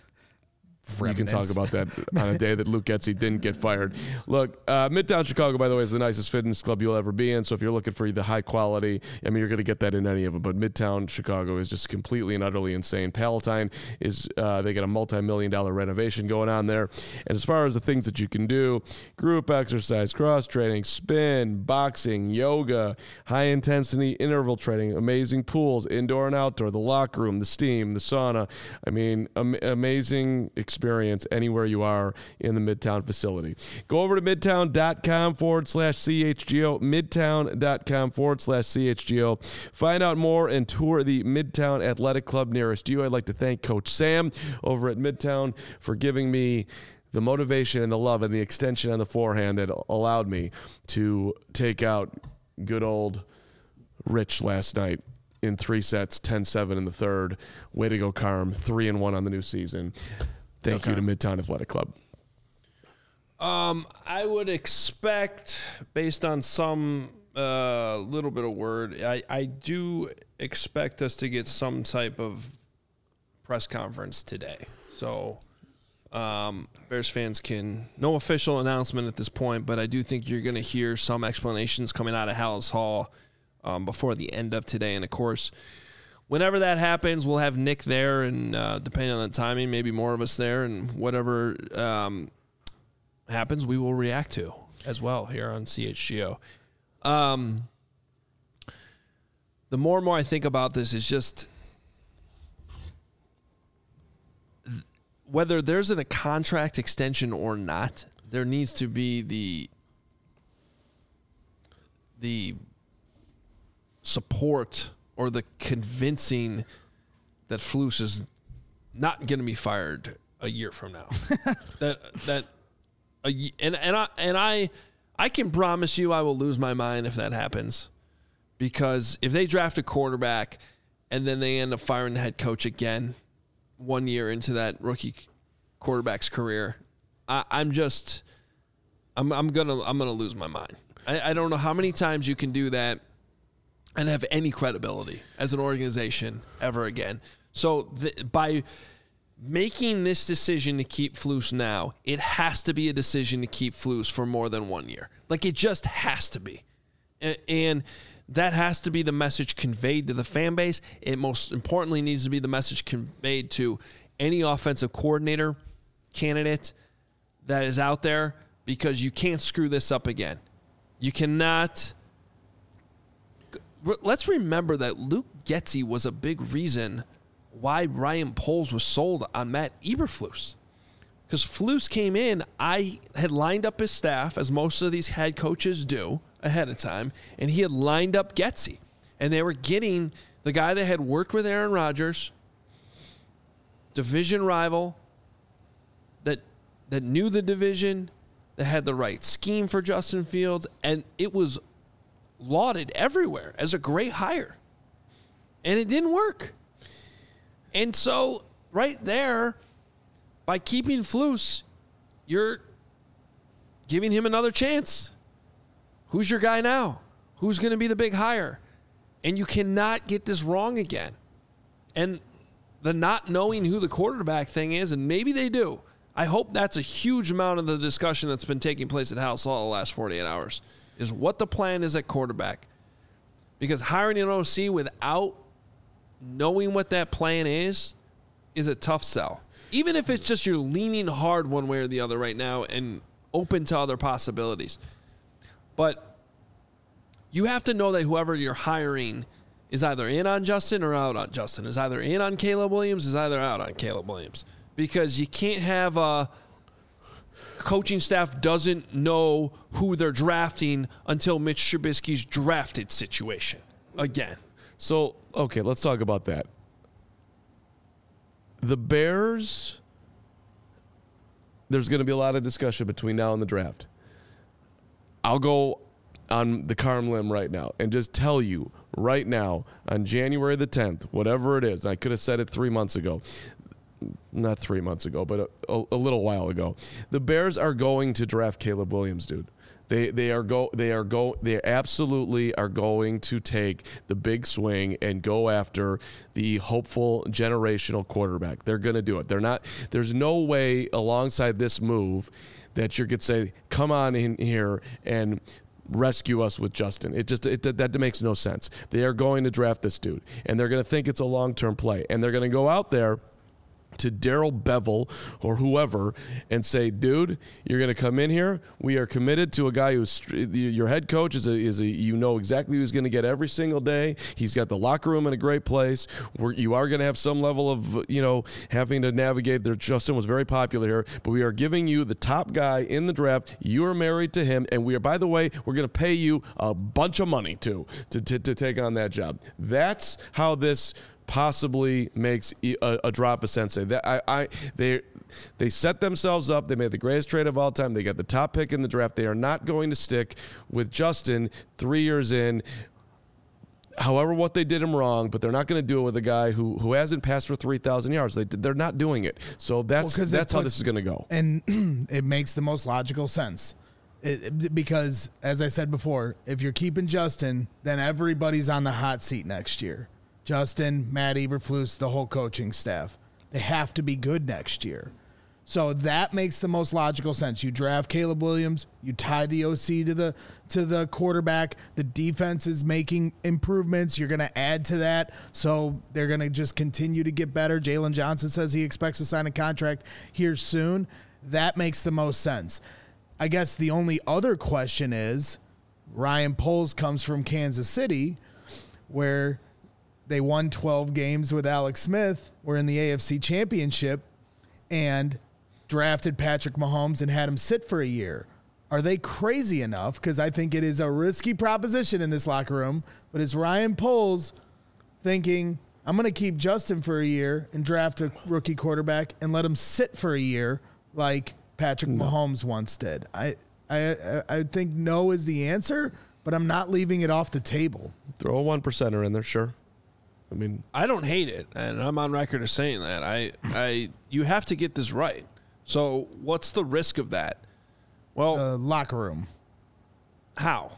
You can talk about that on a day that Luke Getsy didn't get fired. Look, uh, Midtown Chicago, by the way, is the nicest fitness club you'll ever be in. So if you're looking for the high quality, I mean, you're going to get that in any of them. But Midtown Chicago is just completely and utterly insane. Palatine is, uh, they got a multi-million dollar renovation going on there. And as far as the things that you can do, group exercise, cross training, spin, boxing, yoga, high intensity interval training, amazing pools, indoor and outdoor, the locker room, the steam, the sauna. I mean, am- amazing experience. experience anywhere you are in the Midtown facility. Go over to midtown.com forward slash CHGO, midtown.com forward slash CHGO. Find out more and tour the Midtown Athletic Club nearest you. I'd like to thank Coach Sam over at Midtown for giving me the motivation and the love and the extension on the forehand that allowed me to take out good old Rich last night in three sets, ten seven in the third. Way to go, Carm. Three and one on the new season. Thank okay. you to Midtown Athletic Club. Um, I would expect, based on some uh, little bit of word, I, I do expect us to get some type of press conference today. So um, Bears fans can, no official announcement at this point, but I do think you're going to hear some explanations coming out of Hallis Hall um, before the end of today. And, of course, whenever that happens, we'll have Nick there, and uh, depending on the timing, maybe more of us there, and whatever um, happens, we will react to as well here on C H G O. Um, the more and more I think about this is just th- whether there's a contract extension or not, there needs to be the the support or the convincing that Flus is not going to be fired a year from now. that that a, and and I and I I can promise you I will lose my mind if that happens, because if they draft a quarterback and then they end up firing the head coach again one year into that rookie quarterback's career, I, I'm just I'm I'm gonna I'm gonna lose my mind. I, I don't know how many times you can do that and have any credibility as an organization ever again. So the, by making this decision to keep Flus now, it has to be a decision to keep Flus for more than one year. Like, it just has to be. And, and that has to be the message conveyed to the fan base. It most importantly needs to be the message conveyed to any offensive coordinator candidate that is out there, because you can't screw this up again. You cannot... Let's remember that Luke Getsy was a big reason why Ryan Poles was sold on Matt Eberflus. Because Flus came in, I had lined up his staff, as most of these head coaches do, ahead of time, and he had lined up Getsy. And they were getting the guy that had worked with Aaron Rodgers, division rival, that that knew the division, that had the right scheme for Justin Fields, and it was lauded everywhere as a great hire. And it didn't work. And so, right there, by keeping Flus, you're giving him another chance. Who's your guy now? Who's going to be the big hire? And you cannot get this wrong again. And the not knowing who the quarterback thing is, and maybe they do, I hope that's a huge amount of the discussion that's been taking place at House Hall the last forty-eight hours, is what the plan is at quarterback. Because hiring an O C without knowing what that plan is, is a tough sell. Even if it's just you're leaning hard one way or the other right now and open to other possibilities. But you have to know that whoever you're hiring is either in on Justin or out on Justin, is either in on Caleb Williams, is either out on Caleb Williams. Because you can't have a coaching staff doesn't know who they're drafting until Mitch Trubisky's drafted situation again. So, okay, let's talk about that. The Bears, there's going to be a lot of discussion between now and the draft. I'll go on the Carm limb right now and just tell you right now on January the tenth, whatever it is, I could have said it three months ago, not three months ago, but a, a little while ago, the Bears are going to draft Caleb Williams, dude. They they are go they are go they absolutely are going to take the big swing and go after the hopeful generational quarterback. They're going to do it. They're not. There's no way alongside this move that you could say, "Come on in here and rescue us with Justin." It just it, that makes no sense. They are going to draft this dude, and they're going to think it's a long-term play, and they're going to go out there to Darrell Bevel or whoever and say, dude, you're going to come in here. We are committed to a guy who's your head coach is a, is a you know exactly who's going to get every single day. He's got the locker room in a great place. Where you are going to have some level of, you know, having to navigate there. Justin was very popular here, but we are giving you the top guy in the draft. You are married to him. And we are, by the way, we're going to pay you a bunch of money too, to, to, to take on that job. That's how this possibly makes a, a drop of sensei. That I, I they they set themselves up. They made the greatest trade of all time. They got the top pick in the draft. They are not going to stick with Justin three years in. However, what they did him wrong, but they're not going to do it with a guy who who hasn't passed for three thousand yards. They they're not doing it. So that's well, that's how this is going to go. And it makes the most logical sense. It, because as I said before, if you're keeping Justin, then everybody's on the hot seat next year. Justin, Matt Eberflus, the whole coaching staff. They have to be good next year. So that makes the most logical sense. You draft Caleb Williams, you tie the O C to the to the quarterback. The defense is making improvements. You're going to add to that. So they're going to just continue to get better. Jalen Johnson says he expects to sign a contract here soon. That makes the most sense. I guess the only other question is Ryan Poles comes from Kansas City, where they won twelve games with Alex Smith, were in the A F C Championship, and drafted Patrick Mahomes and had him sit for a year. Are they crazy enough? Because I think it is a risky proposition in this locker room. But is Ryan Poles thinking, I'm going to keep Justin for a year and draft a rookie quarterback and let him sit for a year like Patrick no. Mahomes once did? I, I, I think no is the answer, but I'm not leaving it off the table. Throw a one percenter in there, sure. I mean, I don't hate it, and I'm on record as saying that. I, I, you have to get this right. So, what's the risk of that? Well, the locker room. How?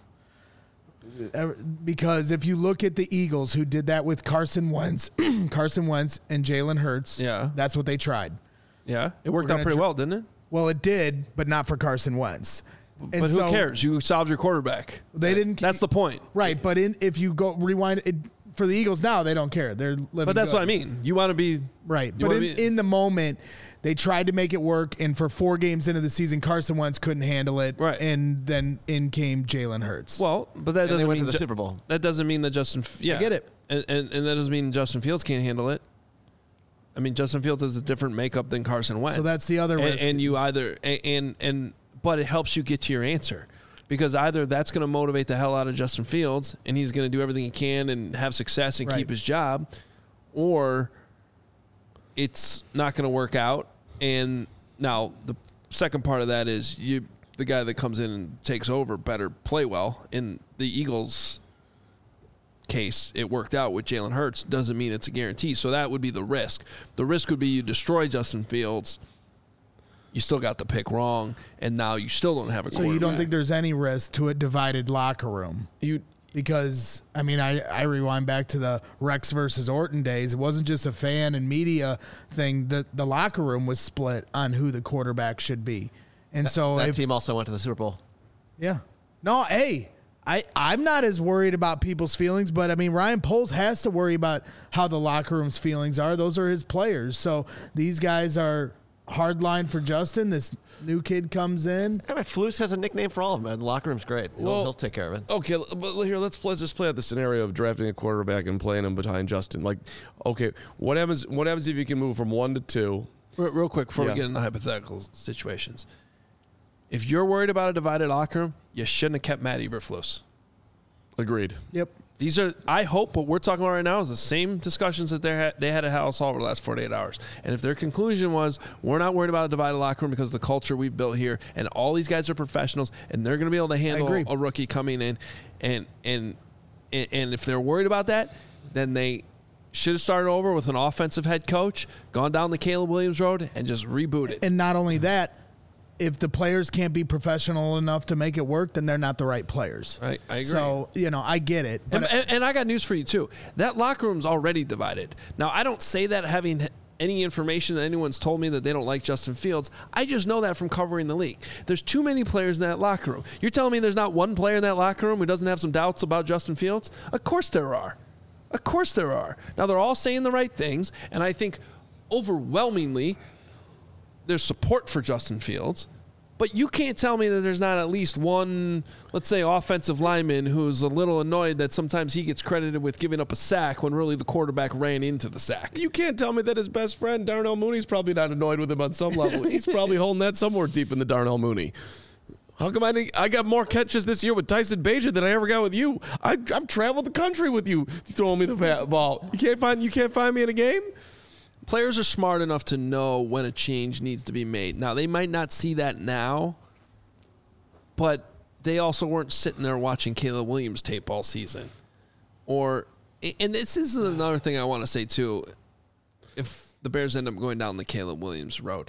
Because if you look at the Eagles, who did that with Carson Wentz, Carson Wentz and Jalen Hurts, yeah, that's what they tried. Yeah, it worked out pretty dr- well, didn't it? Well, it did, but not for Carson Wentz. But and who so, cares? You solved your quarterback. They didn't. That's the point, right? But in, if you go rewind it. For the Eagles now, they don't care. They're living But that's good. what I mean. You want to be... Right. But in, be, in the moment, they tried to make it work, and for four games into the season, Carson Wentz couldn't handle it. Right. And then in came Jalen Hurts. Well, but that and doesn't they went mean... to the Ju- Super Bowl. That doesn't mean that Justin... Yeah. I get it. And, and, and that doesn't mean Justin Fields can't handle it. I mean, Justin Fields has a different makeup than Carson Wentz. So that's the other and, risk. And you either and, and and but it helps you get to your answer. Because either that's going to motivate the hell out of Justin Fields and he's going to do everything he can and have success and right. keep his job, or it's not going to work out. And now the second part of that is you, the guy that comes in and takes over better play well. In the Eagles' case, it worked out with Jalen Hurts. Doesn't mean it's a guarantee. So that would be the risk. The risk would be you destroy Justin Fields. You still got the pick wrong, and now you still don't have a quarterback. So you don't think there's any risk to a divided locker room? You Because, I mean, I, I rewind back to the Rex versus Orton days. It wasn't just a fan and media thing. The, the locker room was split on who the quarterback should be. And that, so that if, team also went to the Super Bowl. Yeah. No, hey, I, I'm not as worried about people's feelings, but, I mean, Ryan Poles has to worry about how the locker room's feelings are. Those are his players. So these guys are hard line for Justin. This new kid comes in. Yeah, but Flus has a nickname for all of them, man. The locker room's great. He'll, Well, he'll take care of it. Okay, but here let's let's just play out the scenario of drafting a quarterback and playing him behind Justin. Like, okay, what happens? What happens if you can move from one to two? Real, real quick before Yeah. we get into hypothetical situations. If you're worried about a divided locker room, you shouldn't have kept Matt Eberflus. Agreed. Yep. These are, I hope, what we're talking about right now is the same discussions that they had, they had at House over the last forty-eight hours. And if their conclusion was, we're not worried about a divided locker room because of the culture we've built here, and all these guys are professionals, and they're going to be able to handle agree. a rookie coming in, and and and and if they're worried about that, then they should have started over with an offensive head coach, gone down the Caleb Williams road, and just rebooted. And not only that, if the players can't be professional enough to make it work, then they're not the right players. I, I agree. So, you know, I get it. But And, and, and I got news for you, too. That locker room's already divided. Now, I don't say that having any information that anyone's told me that they don't like Justin Fields. I just know that from covering the league. There's too many players in that locker room. You're telling me there's not one player in that locker room who doesn't have some doubts about Justin Fields? Of course there are. Of course there are. Now, they're all saying the right things, and I think overwhelmingly there's support for Justin Fields. But you can't tell me that there's not at least one, let's say, offensive lineman who's a little annoyed that sometimes he gets credited with giving up a sack when really the quarterback ran into the sack. You can't tell me that his best friend, Darnell Mooney's probably not annoyed with him on some level. He's probably holding that somewhere deep in the Darnell Mooney. How come I didn't, I got more catches this year with Tyson Bagent than I ever got with you? I, I've traveled the country with you throwing me the bat ball. You can't find you can't find me in a game? Players are smart enough to know when a change needs to be made. Now, they might not see that now, but they also weren't sitting there watching Caleb Williams tape all season. Or, and this is another thing I want to say, too. If the Bears end up going down the Caleb Williams road,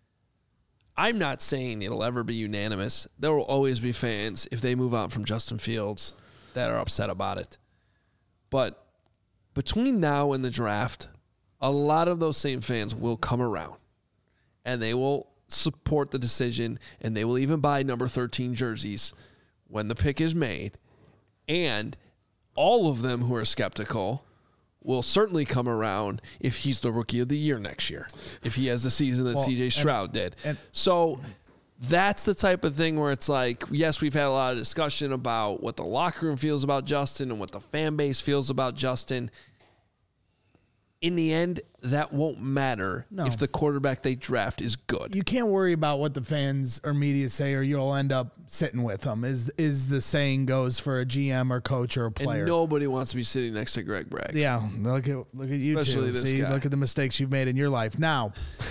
I'm not saying it'll ever be unanimous. There will always be fans, if they move on from Justin Fields, that are upset about it. But between now and the draft, a lot of those same fans will come around and they will support the decision, and they will even buy number thirteen jerseys when the pick is made. And all of them who are skeptical will certainly come around if he's the rookie of the year next year, if he has the season that Well, C J and- Stroud did. and- So that's the type of thing where it's like, yes, we've had a lot of discussion about what the locker room feels about Justin and what the fan base feels about Justin. In the end, that won't matter No. if the quarterback they draft is good. you can't worry about what the fans or media say, or you'll end up sitting with them, is is the saying goes for a G M or coach or a player. And nobody wants to be sitting next to Greg Bragg. Yeah, look at look at you Especially two. this See, guy. look at the mistakes you've made in your life. Now,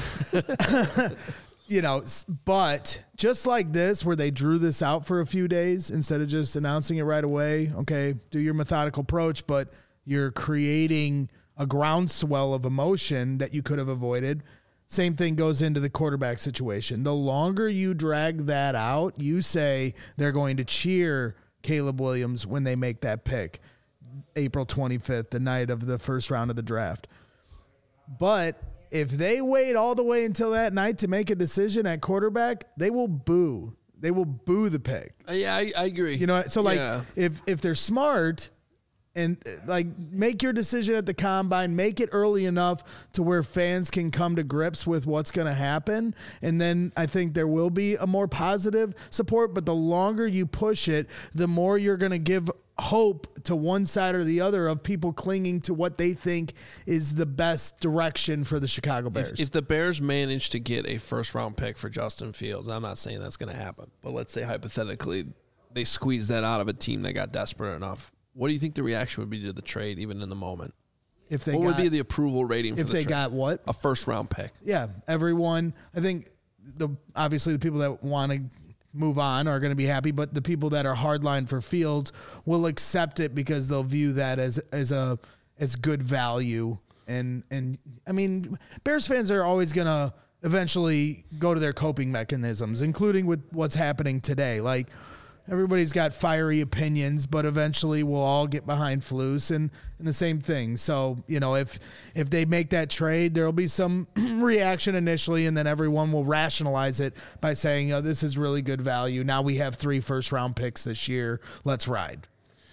you know, s- but just like this, where they drew this out for a few days instead of just announcing it right away. Okay, do your methodical approach, but you're creating a groundswell of emotion that you could have avoided. Same thing goes into the quarterback situation. The longer you drag that out, you say they're going to cheer Caleb Williams when they make that pick. April twenty-fifth, the night of the first round of the draft. But if they wait all the way until that night to make a decision at quarterback, they will boo. They will boo the pick. Uh, yeah, I, I agree. You know, so like Yeah. if if they're smart and uh, like make your decision at the combine, make it early enough to where fans can come to grips with what's going to happen, and then I think there will be a more positive support. But the longer you push it, the more you're going to give hope to one side or the other of people clinging to what they think is the best direction for the Chicago Bears. If, if the Bears manage to get a first-round pick for Justin Fields, I'm not saying that's going to happen, but let's say hypothetically they squeeze that out of a team that got desperate enough. What do you think the reaction would be to the trade, even in the moment? If they what got, would be the approval rating for if the they trade? got what? A first-round pick. Yeah, everyone. I think the obviously the people that want to move on are going to be happy, but the people that are hardline for Fields will accept it because they'll view that as as a as good value. And and I mean, Bears fans are always going to eventually go to their coping mechanisms, including with what's happening today. Like, everybody's got fiery opinions, but eventually we'll all get behind Flus and, and the same thing. So, you know, if if they make that trade, there'll be some reaction initially, and then everyone will rationalize it by saying, oh, this is really good value. Now we have three first-round picks this year. Let's ride.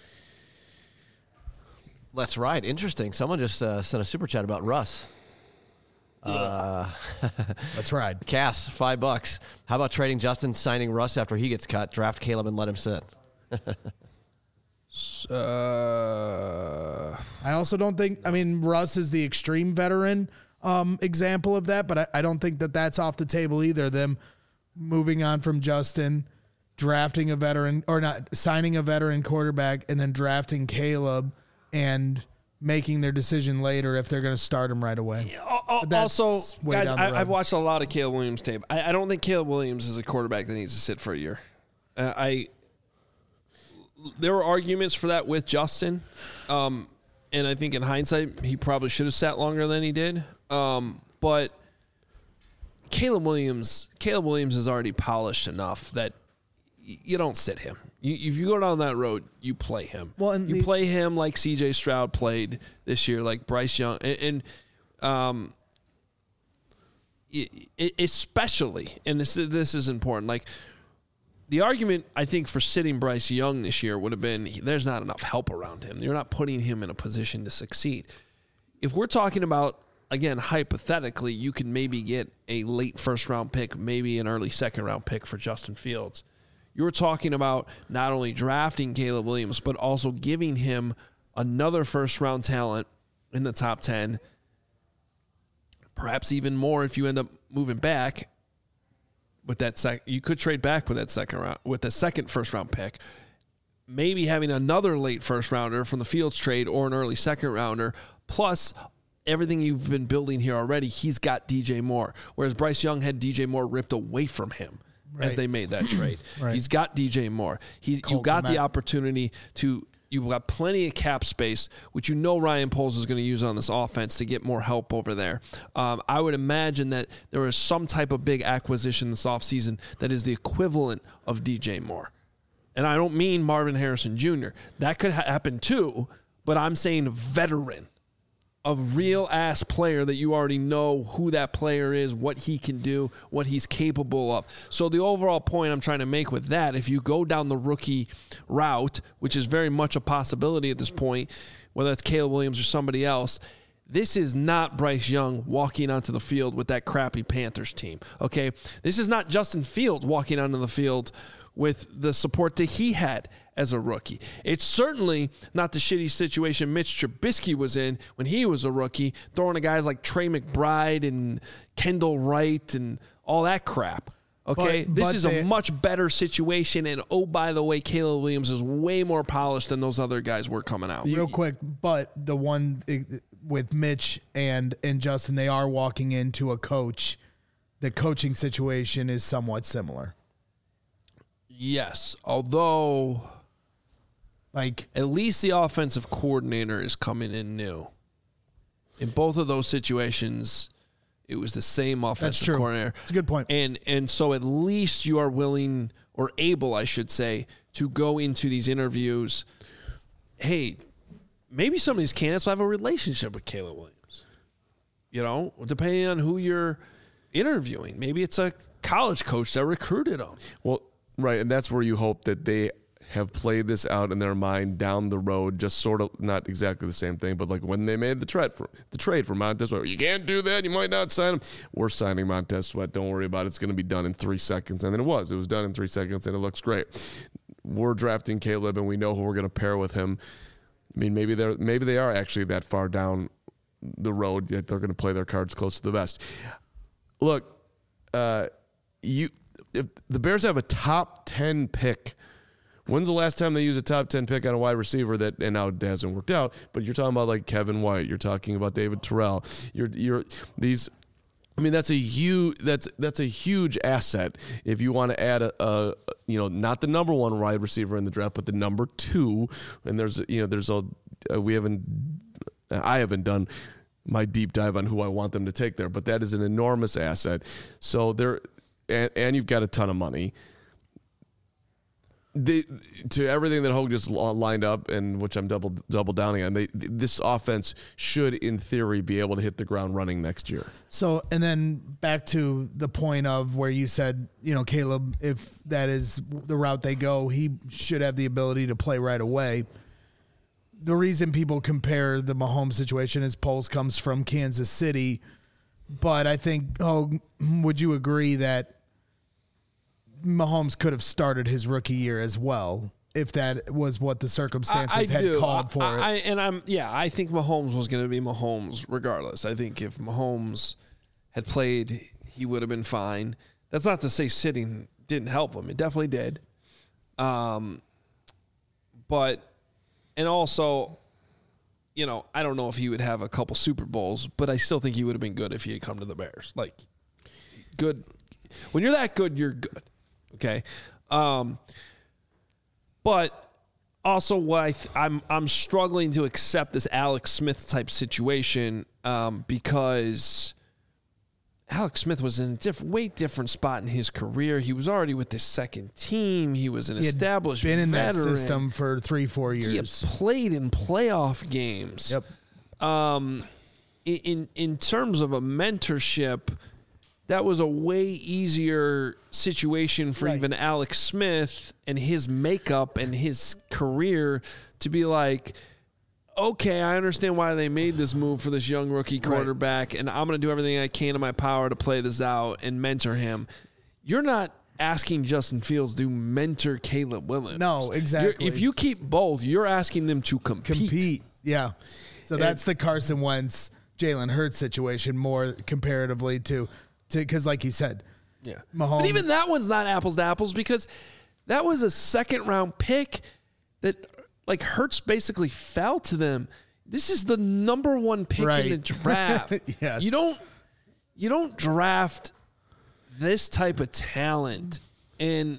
Let's ride. Interesting. Someone just uh, sent a super chat about Russ. Uh, Let's ride. Cass, five bucks. How about trading Justin, signing Russ after he gets cut, draft Caleb, and let him sit? uh, I also don't think, I mean, Russ is the extreme veteran um, example of that, but I, I don't think that that's off the table either. Them moving on from Justin, drafting a veteran, or not, signing a veteran quarterback, and then drafting Caleb and making their decision later if they're going to start him right away. Also, guys, I, I've watched a lot of Caleb Williams tape. I, I don't think Caleb Williams is a quarterback that needs to sit for a year. Uh, I there were arguments for that with Justin, um, and I think in hindsight he probably should have sat longer than he did. Um, but Caleb Williams, Caleb Williams is already polished enough that y- you don't sit him. You, if you go down that road, you play him. Well, and you the, play him like C J Stroud played this year, like Bryce Young, and, and um, it, it, especially, and this this is important. Like the argument, I think, for sitting Bryce Young this year would have been there's not enough help around him. You're not putting him in a position to succeed. If we're talking about, again, hypothetically, you can maybe get a late first round pick, maybe an early second round pick for Justin Fields. You're talking about not only drafting Caleb Williams, but also giving him another first-round talent in the top ten, perhaps even more if you end up moving back with that sec. You could trade back with that second round, with the second first-round pick. Maybe having another late first-rounder from the Fields trade or an early second-rounder, plus everything you've been building here already. He's got D J Moore, whereas Bryce Young had D J Moore ripped away from him. Right. As they made that trade. Right. He's got D J Moore. He's you got the opportunity to you've got plenty of cap space, which you know Ryan Poles is going to use on this offense to get more help over there. Um, I would imagine that there is some type of big acquisition this offseason that is the equivalent of D J Moore. And I don't mean Marvin Harrison Junior That could ha- happen too, but I'm saying veteran. A real-ass player that you already know who that player is, what he can do, what he's capable of. So the overall point I'm trying to make with that, if you go down the rookie route, which is very much a possibility at this point, whether it's Caleb Williams or somebody else, this is not Bryce Young walking onto the field with that crappy Panthers team, okay? This is not Justin Fields walking onto the field with the support that he had as a rookie. It's certainly not the shitty situation Mitch Trubisky was in when he was a rookie, throwing to guys like Trey McBride and Kendall Wright and all that crap. Okay, but, this but is they, a much better situation, and oh, by the way, Caleb Williams is way more polished than those other guys were coming out. Real quick, but the one with Mitch and, and Justin, they are walking into a coach. The coaching situation is somewhat similar. Yes, although... Like at least the offensive coordinator is coming in new. In both of those situations, it was the same offensive that's true. coordinator. That's a good point. And and so at least you are willing or able, I should say, to go into these interviews. Hey, maybe some of these candidates will have a relationship with Caleb Williams. You know, depending on who you're interviewing. Maybe it's a college coach that recruited them. Well, right, and that's where you hope that they have played this out in their mind down the road, just sort of not exactly the same thing, but like when they made the trade for the trade for Montez Sweat, you can't do that. You might not sign him. We're signing Montez Sweat. Don't worry about it. It's going to be done in three seconds. And then it was. It was done in three seconds, and it looks great. we're drafting Caleb and we know who we're going to pair with him. I mean, maybe they're maybe they are actually that far down the road that they're going to play their cards close to the vest. Look, uh, you if the Bears have a top ten pick. When's the last time they used a top ten pick on a wide receiver that, and now it hasn't worked out, but you're talking about like Kevin White, you're talking about David Terrell, you're, you're these, I mean, that's a huge, that's, that's a huge asset. If you want to add a, a, you know, not the number one wide receiver in the draft, but the number two, and there's, you know, there's a, uh, we haven't, I haven't done my deep dive on who I want them to take there, but that is an enormous asset. So there, and, and you've got a ton of money. They, to everything that Hogue just lined up, and which I'm double double downing on, they, this offense should, in theory, be able to hit the ground running next year. So, and then back to the point of where you said, you know, Caleb, if that is the route they go, he should have the ability to play right away. The reason people compare the Mahomes situation is Poles comes from Kansas City, but I think, Hogue, would you agree that Mahomes could have started his rookie year as well if that was what the circumstances I, I had do. called for I, it. I, and I'm yeah, I think Mahomes was going to be Mahomes regardless. I think if Mahomes had played, he would have been fine. That's not to say sitting didn't help him. It definitely did. Um, but and also, you know, I don't know if he would have a couple Super Bowls, but I still think he would have been good if he had come to the Bears. Like, good. When you're that good, you're good. Okay, um, but also what I th- I'm I'm struggling to accept this Alex Smith type situation um, because Alex Smith was in a different, way different spot in his career. He was already with the second team. He was an he had established been in veteran. that system for three, four years. He had played in playoff games. Yep. Um, in in terms of a mentorship, that was a way easier situation for Right. even Alex Smith and his makeup and his career to be like, okay, I understand why they made this move for this young rookie quarterback, right, and I'm going to do everything I can in my power to play this out and mentor him. You're not asking Justin Fields to mentor Caleb Williams. No, exactly. You're, if you keep both, you're asking them to compete. Compete, yeah. So And- that's the Carson Wentz, Jalen Hurts situation more comparatively to – because like you said, Yeah. Mahomes. But even that one's not apples to apples because that was a second round pick that like Hurts basically fell to them. This is the number one pick Right. in the draft. Yes. You don't you don't draft this type of talent and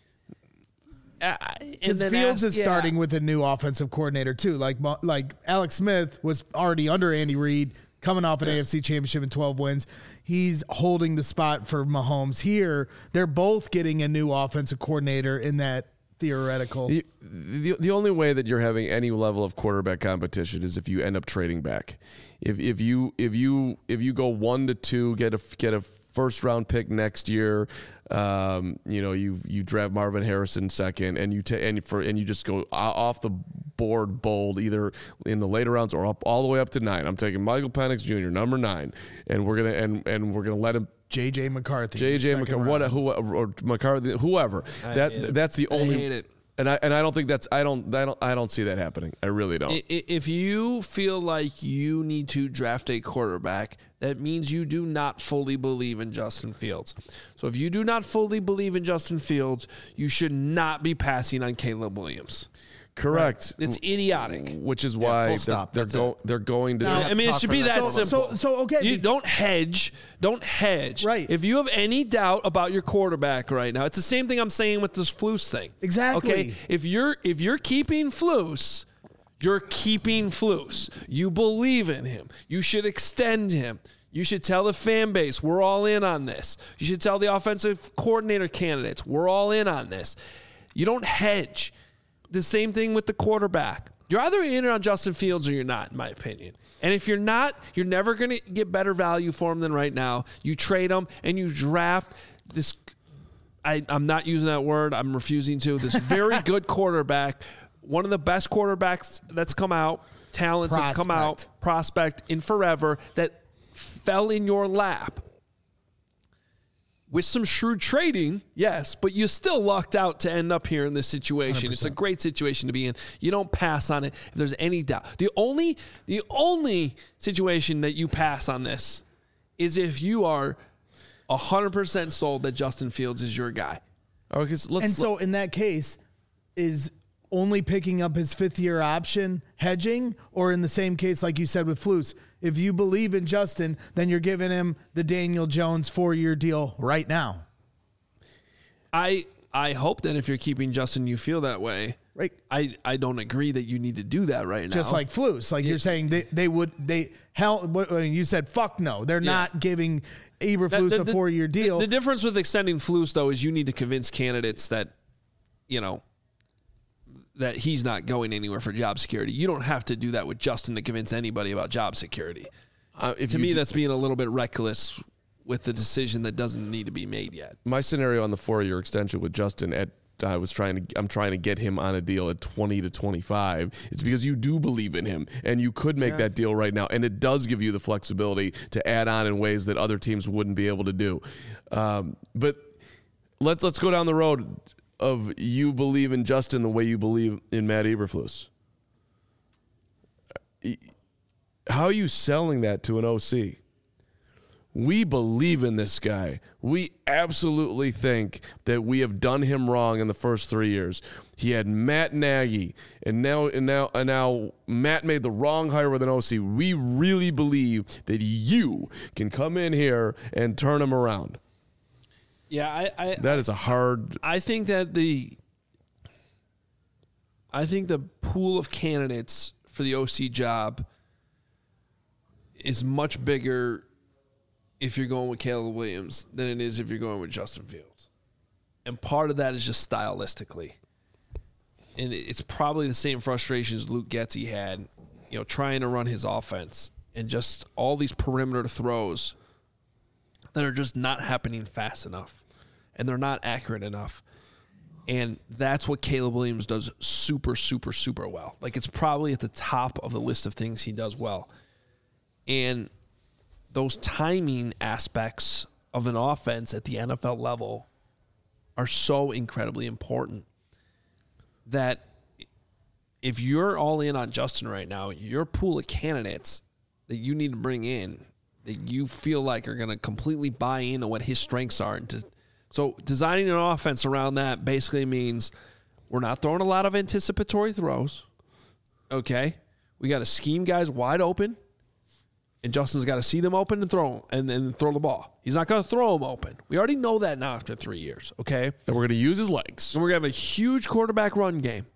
uh, and Because then Fields ask- is yeah. starting with a new offensive coordinator too. Like Mo- like Alex Smith was already under Andy Reid, coming off an A F C championship and twelve wins. He's holding the spot for Mahomes here. They're both getting a new offensive coordinator in that theoretical. The, the the only way that you're having any level of quarterback competition is if you end up trading back. If if you if you if you go one to two, get a get a first round pick next year, um, you know you you draft Marvin Harrison second, and you ta- and for and you just go off the board bold either in the later rounds or up all the way up to nine. I'm taking Michael Penix Junior number nine, and we're gonna and and we're gonna let him. J J McCarthy. J J second McCarthy, what, round. who, or McCarthy, whoever. I that hate it. that's the I only. hate it. And I and I don't think that's I don't I don't I don't see that happening. I really don't. I- i- If you feel like you need to draft a quarterback, that means you do not fully believe in Justin Fields. So if you do not fully believe in Justin Fields, you should not be passing on Caleb Williams. Correct. It's idiotic. Which is why full they're, stop. they're, That's go, it. they're going to. Now- I mean, it talk should from be that that So- simple. so- so, okay, You be- don't hedge. Don't hedge. Right. If you have any doubt about your quarterback right now, it's the same thing I'm saying with this Flus thing. Exactly. Okay. If you're if you're keeping Flus, you're keeping Flus. You believe in him. You should extend him. You should tell the fan base, we're all in on this. You should tell the offensive coordinator candidates, we're all in on this. You don't hedge. The same thing with the quarterback. You're either in on Justin Fields or you're not, in my opinion. And if you're not, you're never going to get better value for him than right now. You trade him and you draft this. I, I'm not using that word. I'm refusing to. This very good quarterback, one of the best quarterbacks that's come out, talents that's come out, Prospect. prospect in forever that fell in your lap. with some shrewd trading, yes, but you still lucked out to end up here in this situation. one hundred percent. It's a great situation to be in. You don't pass on it if there's any doubt. The only the only situation that you pass on this is if you are one hundred percent sold that Justin Fields is your guy. Okay, so let's, and so in that case, is only picking up his fifth year option hedging, or in the same case, like you said with Flus, if you believe in Justin, then you're giving him the Daniel Jones four year deal right now. I I hope that if you're keeping Justin, you feel that way. Right. I, I don't agree that you need to do that right now. Just like Flus, like it, you're saying they, they would they hell. You said fuck no, they're yeah. not giving Eberflus the, the, a four year deal. The, the difference with extending Flus though is you need to convince candidates that, you know, that he's not going anywhere for job security. You don't have to do that with Justin to convince anybody about job security. Uh, to me, do, that's being a little bit reckless with the decision that doesn't need to be made yet. My scenario on the four-year extension with Justin, at I was trying to, I'm trying to get him on a deal at twenty to twenty-five. It's because you do believe in him, and you could make yeah. that deal right now, and it does give you the flexibility to add on in ways that other teams wouldn't be able to do. Um, but let's let's go down the road of you believe in Justin the way you believe in Matt Eberflus. How are you selling that to an O C? We believe in this guy. We absolutely think that we have done him wrong in the first three years. He had Matt Nagy, and now and now and now Matt made the wrong hire with an O C. We really believe that you can come in here and turn him around. Yeah, I, I that is a hard. I think that the I think the pool of candidates for the O C job is much bigger if you're going with Caleb Williams than it is if you're going with Justin Fields. And part of that is just stylistically. And it's probably the same frustrations Luke Getsy had, you know, trying to run his offense and just all these perimeter throws that are just not happening fast enough and they're not accurate enough. And that's what Caleb Williams does super, super, super well. Like, it's probably at the top of the list of things he does well. And those timing aspects of an offense at the N F L level are so incredibly important that if you're all in on Justin right now, your pool of candidates that you need to bring in that you feel like are going to completely buy into what his strengths are. And to, so designing an offense around that basically means we're not throwing a lot of anticipatory throws. Okay. We got to scheme guys wide open. And Justin's got to see them open and throw and then throw the ball. He's not going to throw them open. We already know that now after three years, okay? And we're going to use his legs. And we're going to have a huge quarterback run game.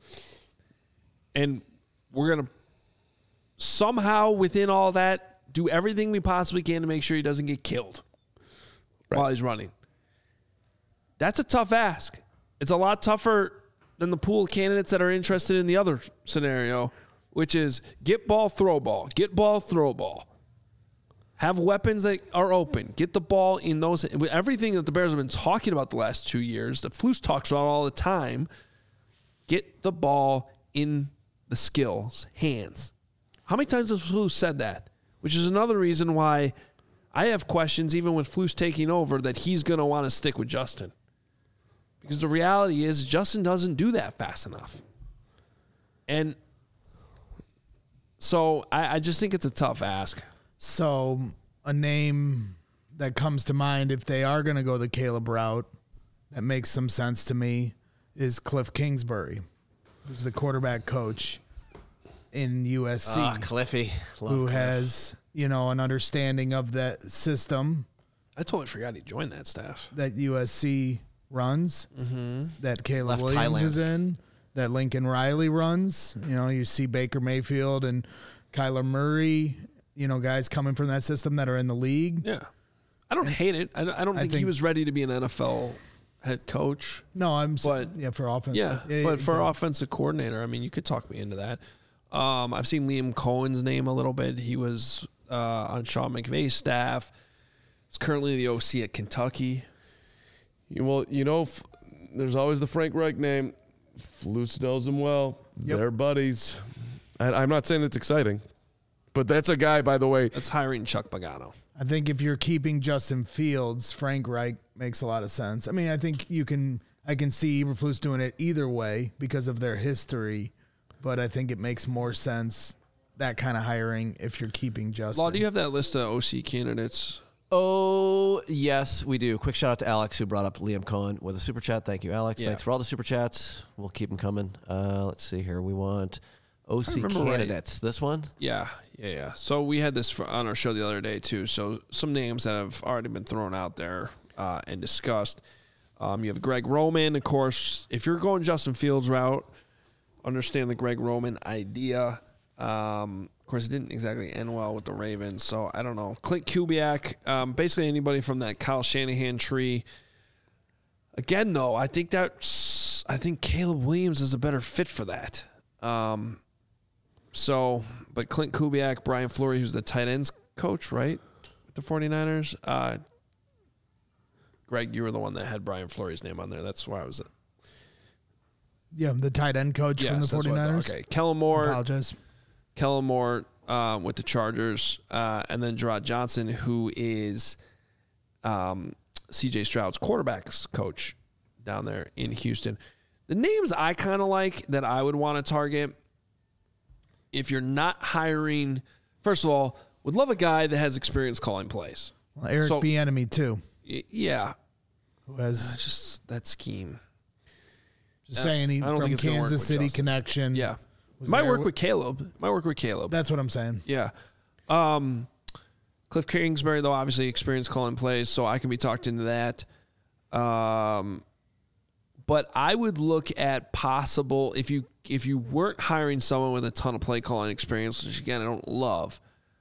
And we're going to somehow within all that do everything we possibly can to make sure he doesn't get killed right. while he's running. That's a tough ask. It's a lot tougher than the pool of candidates that are interested in the other scenario, which is get ball, throw ball, get ball, throw ball. Have weapons that are open. Get the ball in those. Everything that the Bears have been talking about the last two years, that Flus talks about all the time, get the ball in the skills, hands. How many times has Flus said that? Which is another reason why I have questions, even with Flus taking over, that he's going to want to stick with Justin. Because the reality is Justin doesn't do that fast enough. And so I, I just think it's a tough ask. So a name that comes to mind if they are going to go the Caleb route that makes some sense to me is Cliff Kingsbury, who's the quarterback coach in U S C. Ah, Cliffy. Love who Cliff. has, you know, an understanding of that system. I totally forgot he joined that staff. That U S C runs, mm-hmm. that Caleb Left Williams Thailand. is in, that Lincoln Riley runs. You know, you see Baker Mayfield and Kyler Murray, you know, guys coming from that system that are in the league. Yeah. I don't hate it. I don't, I don't think, think he was ready to be an N F L head coach. No, I'm but, yeah, for offense. Yeah, yeah, yeah but for exactly. offensive coordinator, I mean, you could talk me into that. Um, I've seen Liam Cohen's name a little bit. He was uh, on Sean McVay's staff. He's currently the O C at Kentucky. Well, you know, f- there's always the Frank Reich name. Flus knows him well. Yep. They're buddies. I, I'm not saying it's exciting, but that's a guy, by the way. That's hiring Chuck Pagano. I think if you're keeping Justin Fields, Frank Reich makes a lot of sense. I mean, I think you can. I can see Eberflus doing it either way because of their history, but I think it makes more sense that kind of hiring if you're keeping Justin. Law, do you have that list of O C candidates? Oh, yes, we do. Quick shout out to Alex who brought up Liam Cohen with a super chat. Thank you, Alex. Yeah. Thanks for all the super chats. We'll keep them coming. Uh, let's see here. We want O C candidates. Right. This one? Yeah, yeah, yeah. So we had this for, on our show the other day, too. So some names that have already been thrown out there uh, and discussed. Um, you have Greg Roman, of course. If you're going Justin Fields route, understand the Greg Roman idea. Um, of course, it didn't exactly end well with the Ravens, so I don't know. Clint Kubiak, um, basically anybody from that Kyle Shanahan tree. Again, though, I think that I think Caleb Williams is a better fit for that. Um, so, but Clint Kubiak, Brian Fleury, who's the tight ends coach, right, with the 49ers. Uh, Greg, you were the one that had Brian Fleury's name on there. That's why I was. Yeah, the tight end coach yes, from the 49ers. Okay, Kellen Moore. I apologize. Kellen Moore um, with the Chargers, uh, and then Gerard Johnson, who is um, C J Stroud's quarterbacks coach down there in Houston. The names I kind of like that I would want to target, if you're not hiring, first of all, would love a guy that has experience calling plays. Well, Eric so, Bieniemy too. Y- yeah. Who has uh, just that scheme. Just uh, saying he from Kansas City Justin. connection. Yeah. Might work with Caleb. Might work with Caleb. That's what I'm saying. Yeah. Um, Cliff Kingsbury, though, obviously experienced calling plays, so I can be talked into that. Um, but I would look at possible if you if you weren't hiring someone with a ton of play calling experience, which again I don't love.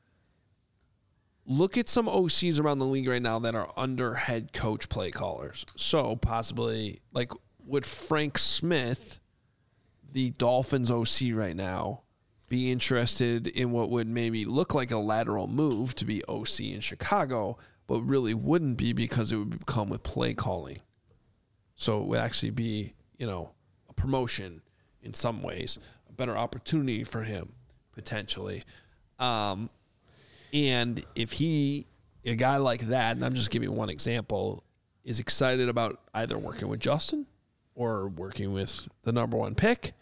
Look at some O Cs around the league right now that are under head coach play callers. So possibly like would Frank Smith, the Dolphins O C right now, be interested in what would maybe look like a lateral move to be O C in Chicago, but really wouldn't be because it would come with play calling. So it would actually be, you know, a promotion in some ways, a better opportunity for him potentially. Um, and if he, a guy like that, and I'm just giving one example, is excited about either working with Justin or working with the number one pick,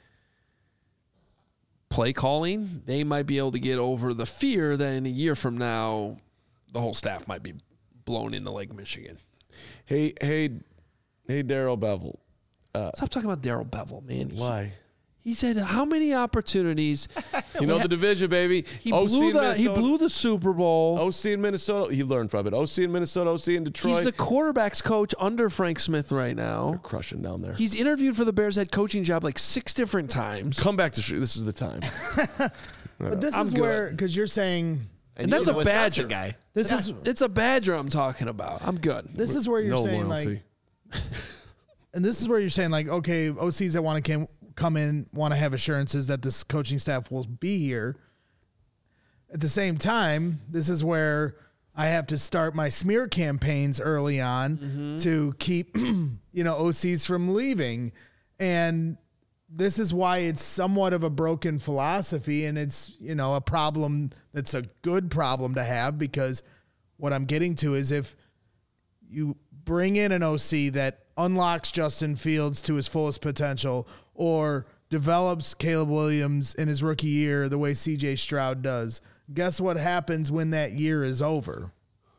play calling, they might be able to get over the fear that in a year from now, the whole staff might be blown into Lake Michigan. Hey, hey, hey, Darrell Bevel. Uh, Stop talking about Darrell Bevel, man. Why? He, he said, how many opportunities? You know the division, baby. He blew, the, he blew the Super Bowl. O C in Minnesota. He learned from it. O C in Minnesota, O C in Detroit. He's the quarterbacks coach under Frank Smith right now. They're crushing down there. He's interviewed for the Bears head coaching job like six different times. Come back to sh- this is the time. But this I'm is good. where, because you're saying, and, and that's a Badger guy. This yeah. is it's a Badger I'm talking about. I'm good. This is where you're no saying loyalty. like, and this is where you're saying like, okay, O Cs that want to come in want to have assurances that this coaching staff will be here. At the same time, this is where I have to start my smear campaigns early on mm-hmm. to keep, you know, O Cs from leaving. And this is why it's somewhat of a broken philosophy, and it's, you know, a problem that's a good problem to have, because what I'm getting to is if you bring in an O C that unlocks Justin Fields to his fullest potential or develops Caleb Williams in his rookie year the way C J Stroud does, guess what happens when that year is over?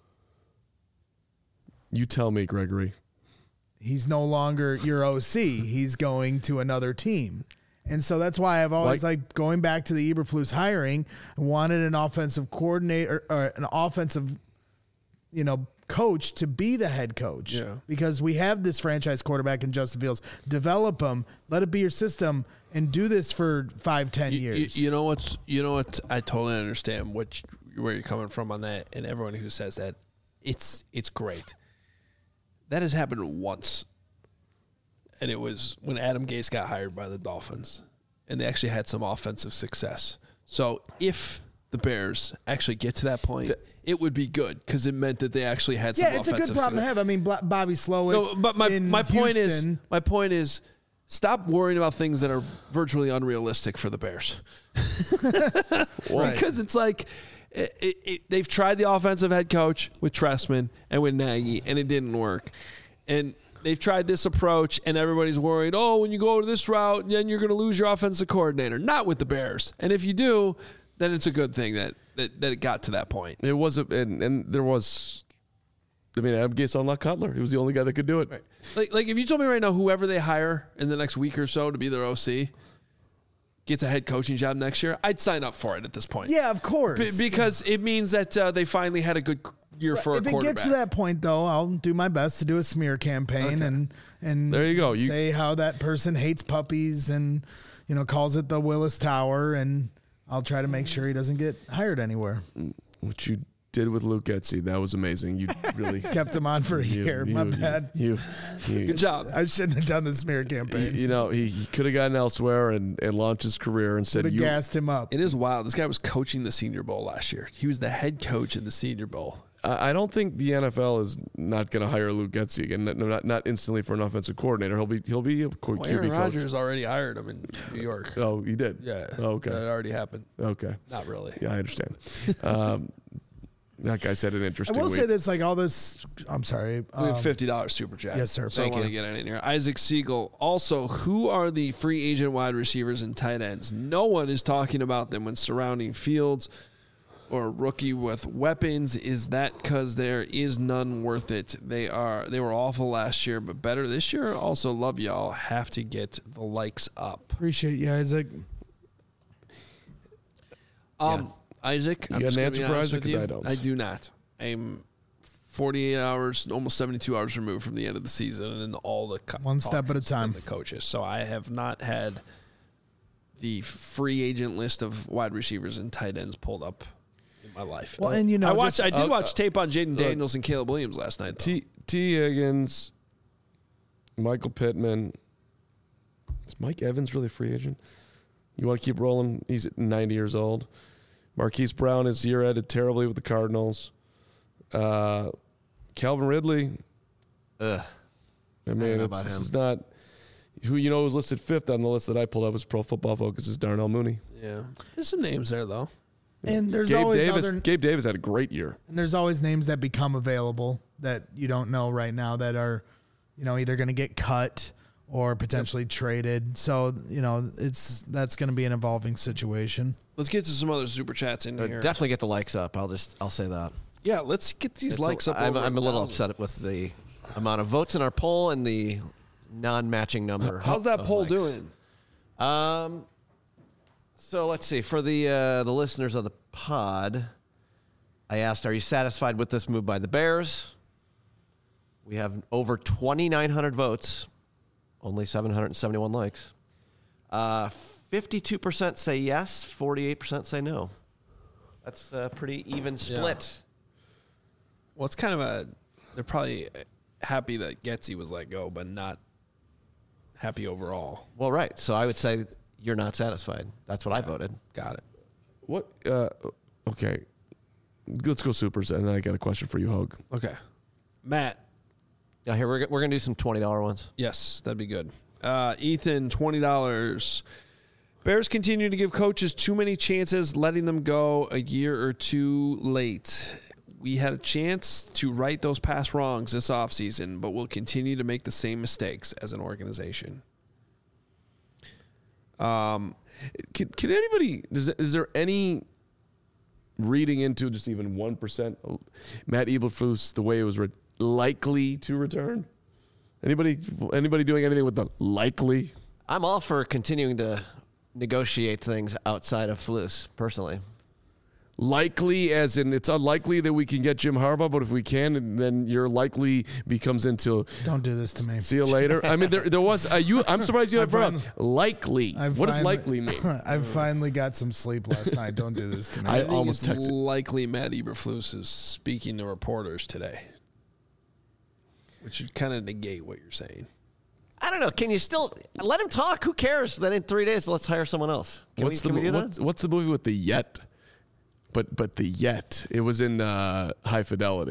You tell me, Gregory. He's no longer your O C. He's going to another team. And so that's why I've always, like, like going back to the Eberflus hiring, I wanted an offensive coordinator or an offensive, you know, coach to be the head coach. Yeah. Because we have this franchise quarterback in Justin Fields. Develop him, let it be your system, and do this for five, ten you, years. You, you know what's you know what I totally understand what where you're coming from on that, and everyone who says that, it's it's great. That has happened once. And it was when Adam Gase got hired by the Dolphins, and they actually had some offensive success. So if the Bears actually get to that point, it would be good because it meant that they actually had some yeah, it's offensive a good problem success. to have. I mean, Bobby Slowick. No, but my in my point Houston, is my point is stop worrying about things that are virtually unrealistic for the Bears. Well, because it's like It, it, it, they've tried the offensive head coach with Trestman and with Nagy, and it didn't work. And they've tried this approach, and everybody's worried, oh, when you go to this route, then you're going to lose your offensive coordinator. Not with the Bears. And if you do, then it's a good thing that that, that it got to that point. It was, a, and, and there was, I mean, Adam Gase unlocked Cutler. He was the only guy that could do it. Right. Like, like if you told me right now, whoever they hire in the next week or so to be their O C gets a head coaching job next year, I'd sign up for it at this point. Yeah, of course. B- because it means that uh, they finally had a good year for if a quarterback. If it gets to that point, though, I'll do my best to do a smear campaign Okay. and and there you go. You, say how that person hates puppies and you know calls it the Willis Tower, and I'll try to make sure he doesn't get hired anywhere. what you did with Luke Getsy, that was amazing. You really Kept him on for a you, year. you, my you, bad. You, you, Good job. I shouldn't have done the smear You, campaign. you know, he, he could have gotten elsewhere and, and launched his career and said, Would have "You." gassed him up. It is wild. This guy was coaching the Senior Bowl last year. He was the head coach in the Senior Bowl. I I don't think the N F L is not going to hire Luke Getsy again. Not, not not instantly for an offensive coordinator. He'll be he'll be a Q B Well, Aaron coach. Rodgers already hired him in New York. Oh, he did. Yeah. Oh, okay. That already happened. Okay. Not really. Yeah, I understand. um, that guy said an I interesting. will week. say this, like all this. I'm sorry. We Um, have fifty dollars super chat. yes, sir. So Thank I want you. to get it in here. Isaac Siegel. Also, who are the free agent wide receivers and tight ends? No one is talking about them when surrounding Fields or a rookie with weapons. Is that because there is none worth it? They are. They were awful last year, but better this year. Also, love y'all. Have to get the likes up. appreciate you, Isaac. Um, Isaac, You I'm got just an gonna answer be for honest Isaac? with 'Cause you. I don't. I do not. I'm forty-eight hours, almost seventy-two hours removed from the end of the season, and all the co- One step talk at a has been time. The coaches. So I have not had the free agent list of wide receivers and tight ends pulled up in my life. Well, and you know, I watched. just- I did uh, watch tape on Jaden look, Daniels and Caleb Williams last night. Though. T T Higgins, Michael Pittman. Is Mike Evans really a free agent? You want to keep rolling? He's at ninety years old. Marquise Brown is year ended terribly with the Cardinals. Uh, Calvin Ridley. Ugh. I mean, know it's, about this him. is not who you know was listed fifth on the list that I pulled up was Pro Football Focus is Darnell Mooney. Yeah, there's some names there though. And there's Gabe always Davis. other, Gabe Davis had a great year. and there's always names that become available that you don't know right now that are, you know, either going to get cut or potentially traded. So you know, it's that's going to be an evolving situation. Let's get to some other super chats in Uh, here. Definitely get the likes up. I'll just I'll say that. Yeah, let's get these It's likes a, up. I'm, over I'm a little thousand. upset with the amount of votes in our poll and the non-matching number. How's that of poll likes. doing? Um, so let's see. For the uh, the listeners of the pod, I asked, "Are you satisfied with this move by the Bears?" We have over twenty-nine hundred votes, only seven hundred seventy-one likes. Uh, fifty-two percent say yes, forty-eight percent say no. That's a pretty even split. Well, it's kind of a. They're probably happy that Getsy was let go, but not happy overall. Well, right. So I would say you're not satisfied. That's what I voted. Got it. What? Uh, okay, let's go supers, and then I got a question for you, Hogue. Okay. Matt. Yeah, here we're g- we're gonna do some twenty dollar ones. Yes, that'd be good. Uh, Ethan, twenty dollars. Bears continue to give coaches too many chances, letting them go a year or two late. We had a chance to right those past wrongs this offseason, but we'll continue to make the same mistakes as an organization. Um, Can, can anybody? Does, is there any reading into just even one percent Matt Eberflus the way it was re- likely to return? Anybody? Anybody doing anything with the likely? I'm all for continuing to negotiate things outside of Flus, personally. Likely, as in it's unlikely that we can get Jim Harbaugh, but if we can, then your likely becomes into Don't do this to me. see you later. I mean, there there was uh, you. I'm surprised you I have brought finally- likely. I've What does finally- likely mean? I've finally got some sleep last night. Don't do this to me. I I think almost it's texted. likely Matt Eberflus is speaking to reporters today, which would kind of negate what you're saying. I don't know. Can you still let him talk? Who cares? Then in three days, let's hire someone else. Can what's we, can the we do that? what's, what's the movie with the yet? But but the yet it was in uh, High Fidelity.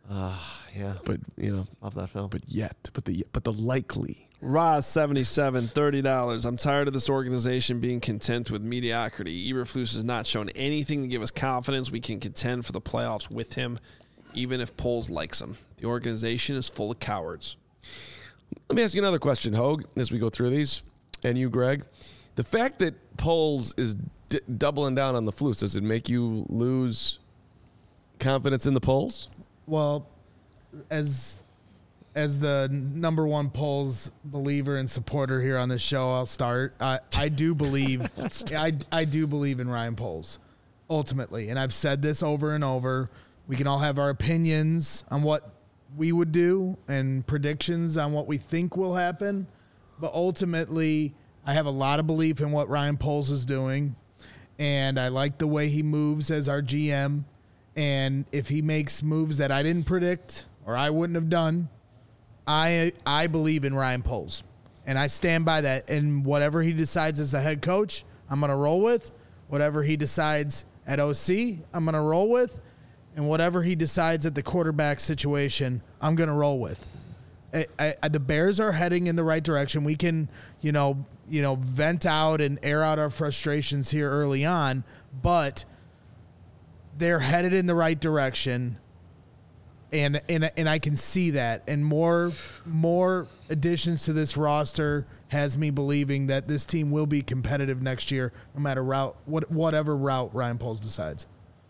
Uh, yeah. But you know, Love that film. but yet, but the but the likely. Roz seventy-seven, thirty dollars. I'm tired of this organization being content with mediocrity. Eberflus has not shown anything to give us confidence we can contend for the playoffs with him, even if Poles likes him. The organization is full of cowards. Let me ask you another question, Hogue, as we go through these, and you, Greg. The fact that Poles is d- doubling down on the Flus, does it make you lose confidence in the Poles? Well, as as the number one polls believer and supporter here on this show, I'll start. I, I do believe I, I do believe in Ryan Poles, ultimately. And I've said this over and over. We can all have our opinions on what we would do and predictions on what we think will happen. But ultimately, I have a lot of belief in what Ryan Poles is doing. And I like the way he moves as our G M. And if he makes moves that I didn't predict or I wouldn't have done, I I believe in Ryan Poles. And I stand by that. And whatever he decides as the head coach, I'm going to roll with. Whatever he decides at O C, I'm going to roll with. And whatever he decides at the quarterback situation, I'm going to roll with. I, I, the Bears are heading in the right direction. We can, you know, you know, vent out and air out our frustrations here early on, but they're headed in the right direction. And, and and I can see that, and more more additions to this roster has me believing that this team will be competitive next year, no matter route what whatever route Ryan Poles decides.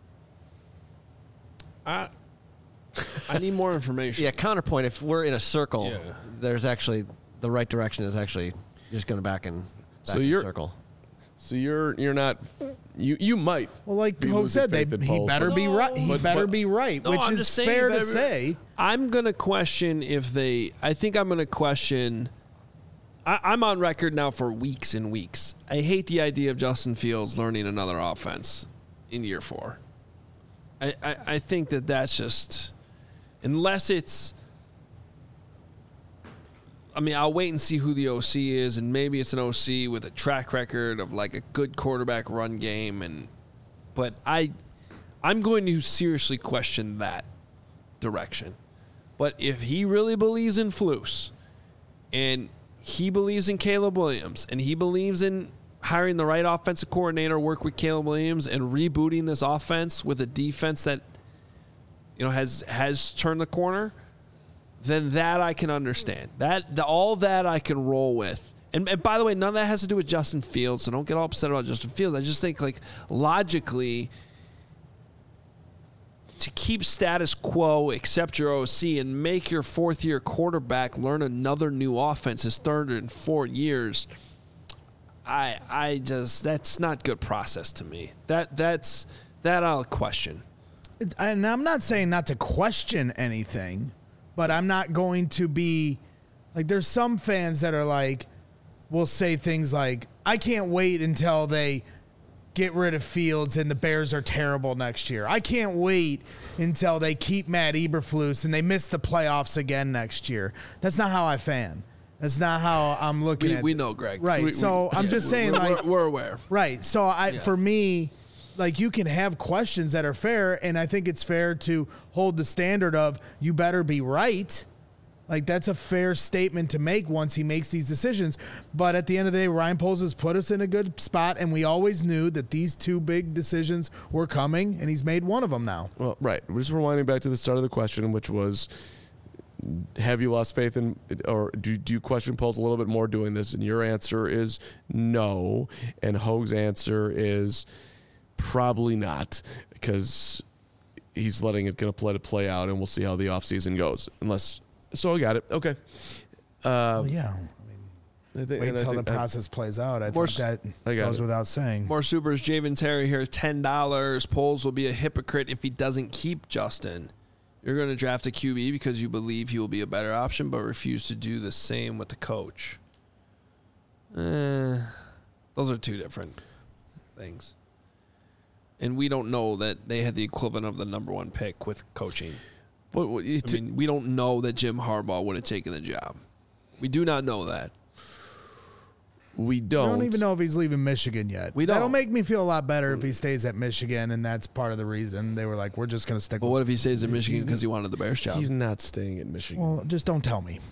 I I need more information. Yeah, counterpoint. If we're in a circle, Yeah. there's actually the right direction is actually just going back and back So in you're- the circle. So you're you're not you you might Well, like be Hogue losing said, they faith in he Poles, better but- be right. He but- better but- be right, No, which I'm is just saying fair to better- say. I'm going to question if they – I think I'm going to question – I'm on record now for weeks and weeks. I hate the idea of Justin Fields learning another offense in year four. I, I, I think that that's just – unless it's – I mean, I'll wait and see who the O C is, and maybe it's an O C with a track record of like a good quarterback run game. And but I, I'm going to seriously question that direction. But if he really believes in Flus, and he believes in Caleb Williams, and he believes in hiring the right offensive coordinator, work with Caleb Williams, and rebooting this offense with a defense that you know has has turned the corner, then that I can understand. That the, all that I can roll with. And, and by the way, none of that has to do with Justin Fields, so don't get all upset about Justin Fields. I just think, like, logically, to keep status quo, accept your O C, and make your fourth-year quarterback learn another new offense his third and fourth years, I I just, that's not good process to me. That That's, that I'll question. It's, and I'm not saying not to question anything, but I'm not going to be like, there's some fans that are like, will say things like, I can't wait until they get rid of Fields and the Bears are terrible next year. I can't wait until they keep Matt Eberflus and they miss the playoffs again next year. That's not how I fan. That's not how I'm looking We, at we it. know, Greg. Right. We- so we- I'm yeah, just we're- saying, we're, like, we're aware. right. So I, Yeah. for me, like, you can have questions that are fair, and I think it's fair to hold the standard of you better be right. Like, that's a fair statement to make once he makes these decisions. But at the end of the day, Ryan Poles has put us in a good spot, and we always knew that these two big decisions were coming, and he's made one of them now. Well, right. We're just rewinding back to the start of the question, which was, have you lost faith in, or do, do you question Poles a little bit more doing this? And your answer is no. And Hogue's answer is probably not, because he's letting it kind of play to play out, and we'll see how the offseason goes. Unless, so I got it. Okay. Uh, Well, yeah. I think, Wait and I until the think I- process plays out. I More think that I got goes it. without saying. More supers. Javen Terry here, ten dollars. Poles will be a hypocrite if he doesn't keep Justin. You're going to draft a Q B because you believe he will be a better option, but refuse to do the same with the coach. Eh, those are two different things. And we don't know that they had the equivalent of the number one pick with coaching. What, what, you I t- mean, we don't know that Jim Harbaugh would have taken the job. We do not know that. we I don't. don't even know if he's leaving Michigan yet. We That'll don't. make me feel a lot better if he stays at Michigan, and that's part of the reason they were like, we're just going to stick But with what if he stays in Michigan because he wanted the Bears job? He's not staying in Michigan. Well, just don't tell me.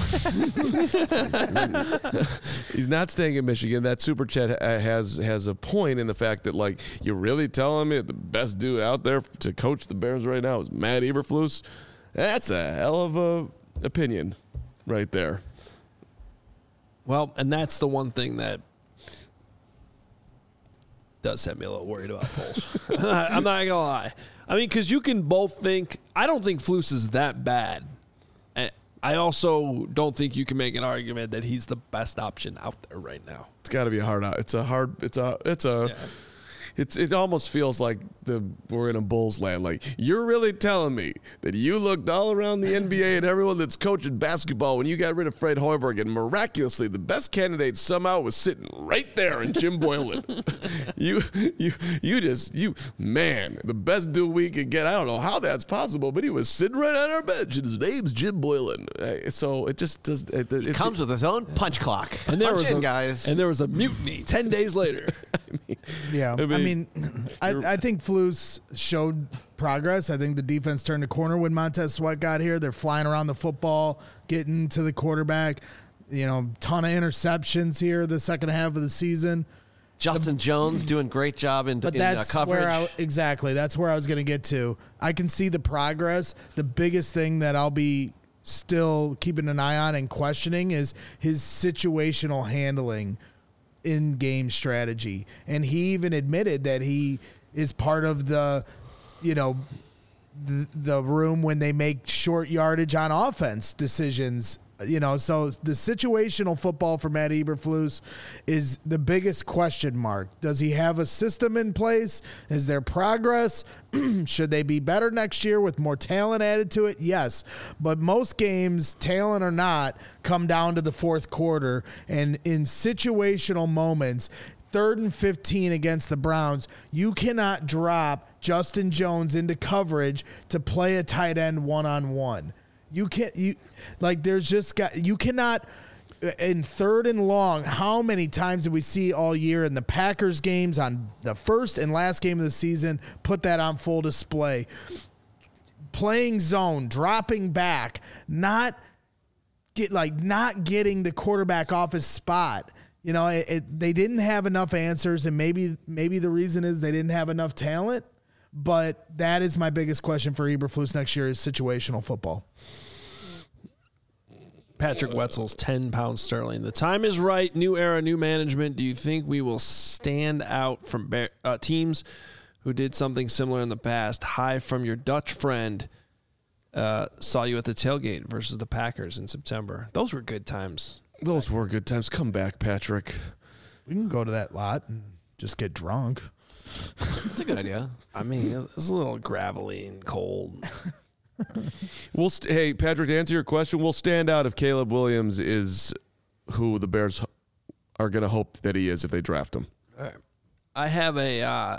He's not staying in Michigan. That super chat ha- has has a point in the fact that, like, you're really telling me the best dude out there to coach the Bears right now is Matt Eberflus? That's a hell of a opinion right there. Well, and that's the one thing that does have me a little worried about polls. I'm not going to lie. I mean, because you can both think, I don't think Flus is that bad. And I also don't think you can make an argument that he's the best option out there right now. It's got to be a hard out. It's a hard. It's a. It's a. Yeah. It's it almost feels like the we're in a Bulls land. Like, you're really telling me that you looked all around the N B A and everyone that's coaching basketball when you got rid of Fred Hoiberg, and miraculously the best candidate somehow was sitting right there in Jim Boylan. you you you just you man, the best dude we could get. I don't know how that's possible, but he was sitting right on our bench, and his name's Jim Boylan. Uh, So it just does. It, it, It comes with his own punch clock. And there Punch was in, a, guys. And there was a mutiny ten days later. I mean, Yeah, I I mean, mean, I, I think Flus showed progress. I think the defense turned the corner when Montez Sweat got here. They're flying around the football, getting to the quarterback. You know, ton of interceptions here the second half of the season. Justin Jones doing great job in, But in uh, that's coverage. where I, exactly that's where I was going to get to. I can see the progress. The biggest thing that I'll be still keeping an eye on and questioning is his situational handling in game strategy. And he even admitted that he is part of the, you know, the, the room when they make short yardage on offense decisions. You know, so the situational football for Matt Eberflus is the biggest question mark. Does he have a system in place? Is there progress? Should they be better next year with more talent added to it? Yes. But most games, talent or not, come down to the fourth quarter. And in situational moments, third and fifteen against the Browns, you cannot drop Justin Jones into coverage to play a tight end one-on-one. You can't, you like, there's just got, you cannot, in third and long, how many times did we see all year in the Packers games on the first and last game of the season, put that on full display? Playing zone, dropping back, not get like not getting the quarterback off his spot. You know, it, it, they didn't have enough answers, and maybe maybe the reason is they didn't have enough talent. But that is my biggest question for Eberflus next year is situational football. Patrick Wetzel's ten pounds sterling. The time is right. New era, new management. Do you think we will stand out from bear, uh, teams who did something similar in the past? Hi from your Dutch friend. Uh, saw you at the tailgate versus the Packers in September. Those were good times. those were good times. Come back, Patrick. We can go to that lot and just get drunk. That's a good idea. I mean, it's a little gravelly and cold. We'll st- hey, Patrick, to answer your question, we'll stand out if Caleb Williams is who the Bears are going to hope that he is if they draft him. All right. I have a, uh,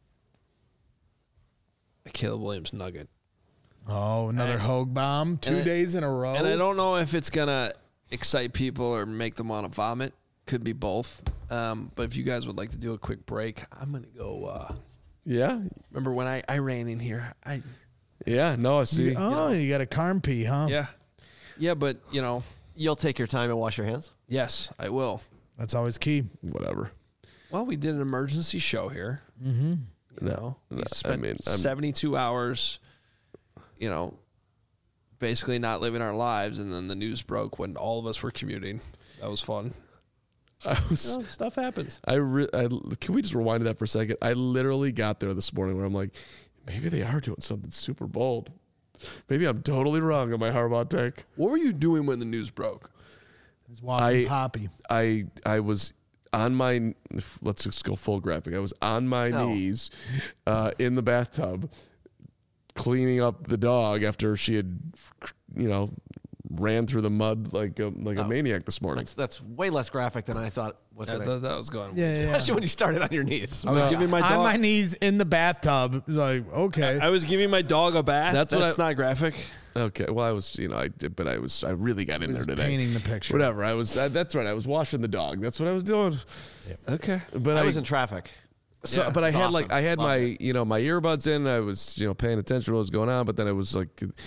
a Caleb Williams nugget. Oh, another And- Hogue bomb. Two and I- days in a row. And I don't know if it's going to excite people or make them want to vomit. Could be both. Um, but if you guys would like to do a quick break, I'm going to go. Uh, Yeah, remember when I, I ran in here? I yeah. No, I see. Oh, you got a carm pee, huh? Yeah. Yeah, but, you know, You'll take your time and wash your hands? yes, I will. That's always key. Whatever. Well, we did an emergency show here. Mm-hmm. You No, know, we no, I spent mean, I'm- seventy-two hours, you know, basically not living our lives, and then the news broke when all of us were commuting. That was fun. I was. You know, stuff happens. I, re- I can we just rewind to that for a second? I literally got there this morning where I'm like, maybe they are doing something super bold. Maybe I'm totally wrong on my Harbaugh take. What were you doing when the news broke? He's walking I- Poppy. I I was on my let's just go full graphic. I was on my No. knees uh, in the bathtub cleaning up the dog after she had, you know, ran through the mud like a, like a Oh. maniac this morning. That's that's way less graphic than I thought was I going to thought that was going. Yeah, yeah, yeah. Especially when you started on your knees. I was giving my On dog. my knees in the bathtub. Like, okay. I was giving my dog a bath. That's That's, what That's I- not graphic. Okay. Well, I was, you know, I did, but I was, I really got in there today. Painting the picture. Whatever. I was. I, that's right. I was washing the dog. That's what I was doing. Okay. But I I was in traffic. So, Yeah, but I it's had awesome. like I had Love my it. you know my earbuds in. I was you know paying attention to what was going on, but then I was like,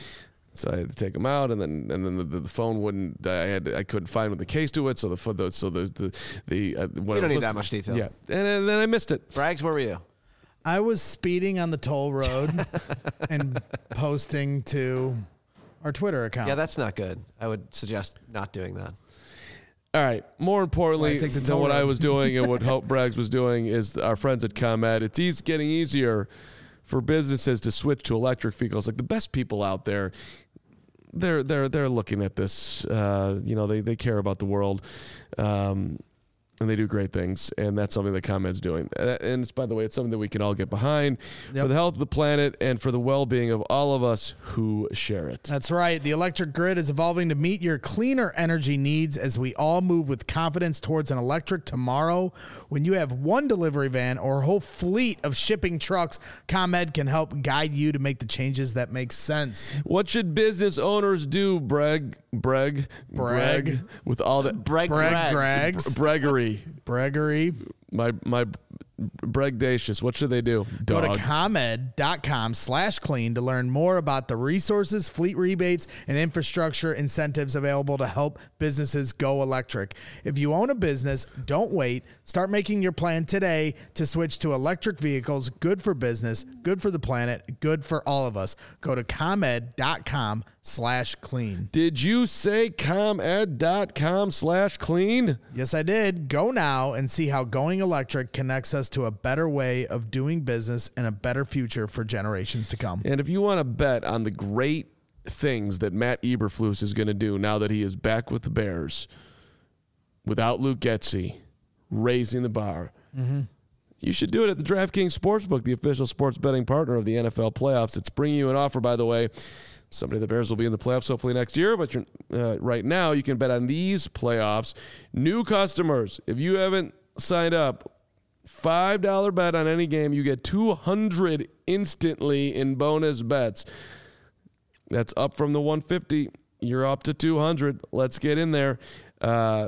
so I had to take them out, and then and then the, the phone wouldn't. I had I couldn't find the case to it, so the the so the the the uh, We don't need that much detail. Yeah, and, and then I missed it. Braggs, where were you? I was speeding on the toll road and posting to our Twitter account. Yeah, that's not good. I would suggest not doing that. All right. More importantly Why take the than toll what I road? was doing and what Hope Braggs was doing is our friends at ComEd. It's easy, getting easier for businesses to switch to electric vehicles. Like the best people out there, they're they're they're looking at this. Uh, you know, they they care about the world. Um, And they do great things, and that's something that ComEd's doing. Uh, And it's, by the way, it's something that we can all get behind Yep. for the health of the planet and for the well-being of all of us who share it. That's right. The electric grid is evolving to meet your cleaner energy needs as we all move with confidence towards an electric tomorrow. When you have one delivery van or a whole fleet of shipping trucks, ComEd can help guide you to make the changes that make sense. What should business owners do, Breg, Breg, Brag. with all that Bragg, Brag, Braggs. Grags, Breggery? Bregery. My my Bregdacious. What should they do? Go Dog. to ComEd.com slash clean to learn more about the resources, fleet rebates, and infrastructure incentives available to help businesses go electric. If you own a business, don't wait. Start making your plan today to switch to electric vehicles. Good for business, good for the planet, good for all of us. Go to ComEd.com slash clean. Did you say ComEd.com slash clean? Yes, I did. Go now and see how going electric connects us to a better way of doing business and a better future for generations to come. And if you want to bet on the great things that Matt Eberflus is going to do now that he is back with the Bears, without Luke Getsy, raising the bar, Mm-hmm. you should do it at the DraftKings Sportsbook, the official sports betting partner of the N F L playoffs. It's bringing you an offer, by the way. Somebody, the Bears will be in the playoffs hopefully next year, but you're, uh, right now you can bet on these playoffs. New customers, if you haven't signed up, five dollar bet on any game, you get two hundred instantly in bonus bets. That's up from the one fifty. You're up to two hundred. Let's get in there. Uh,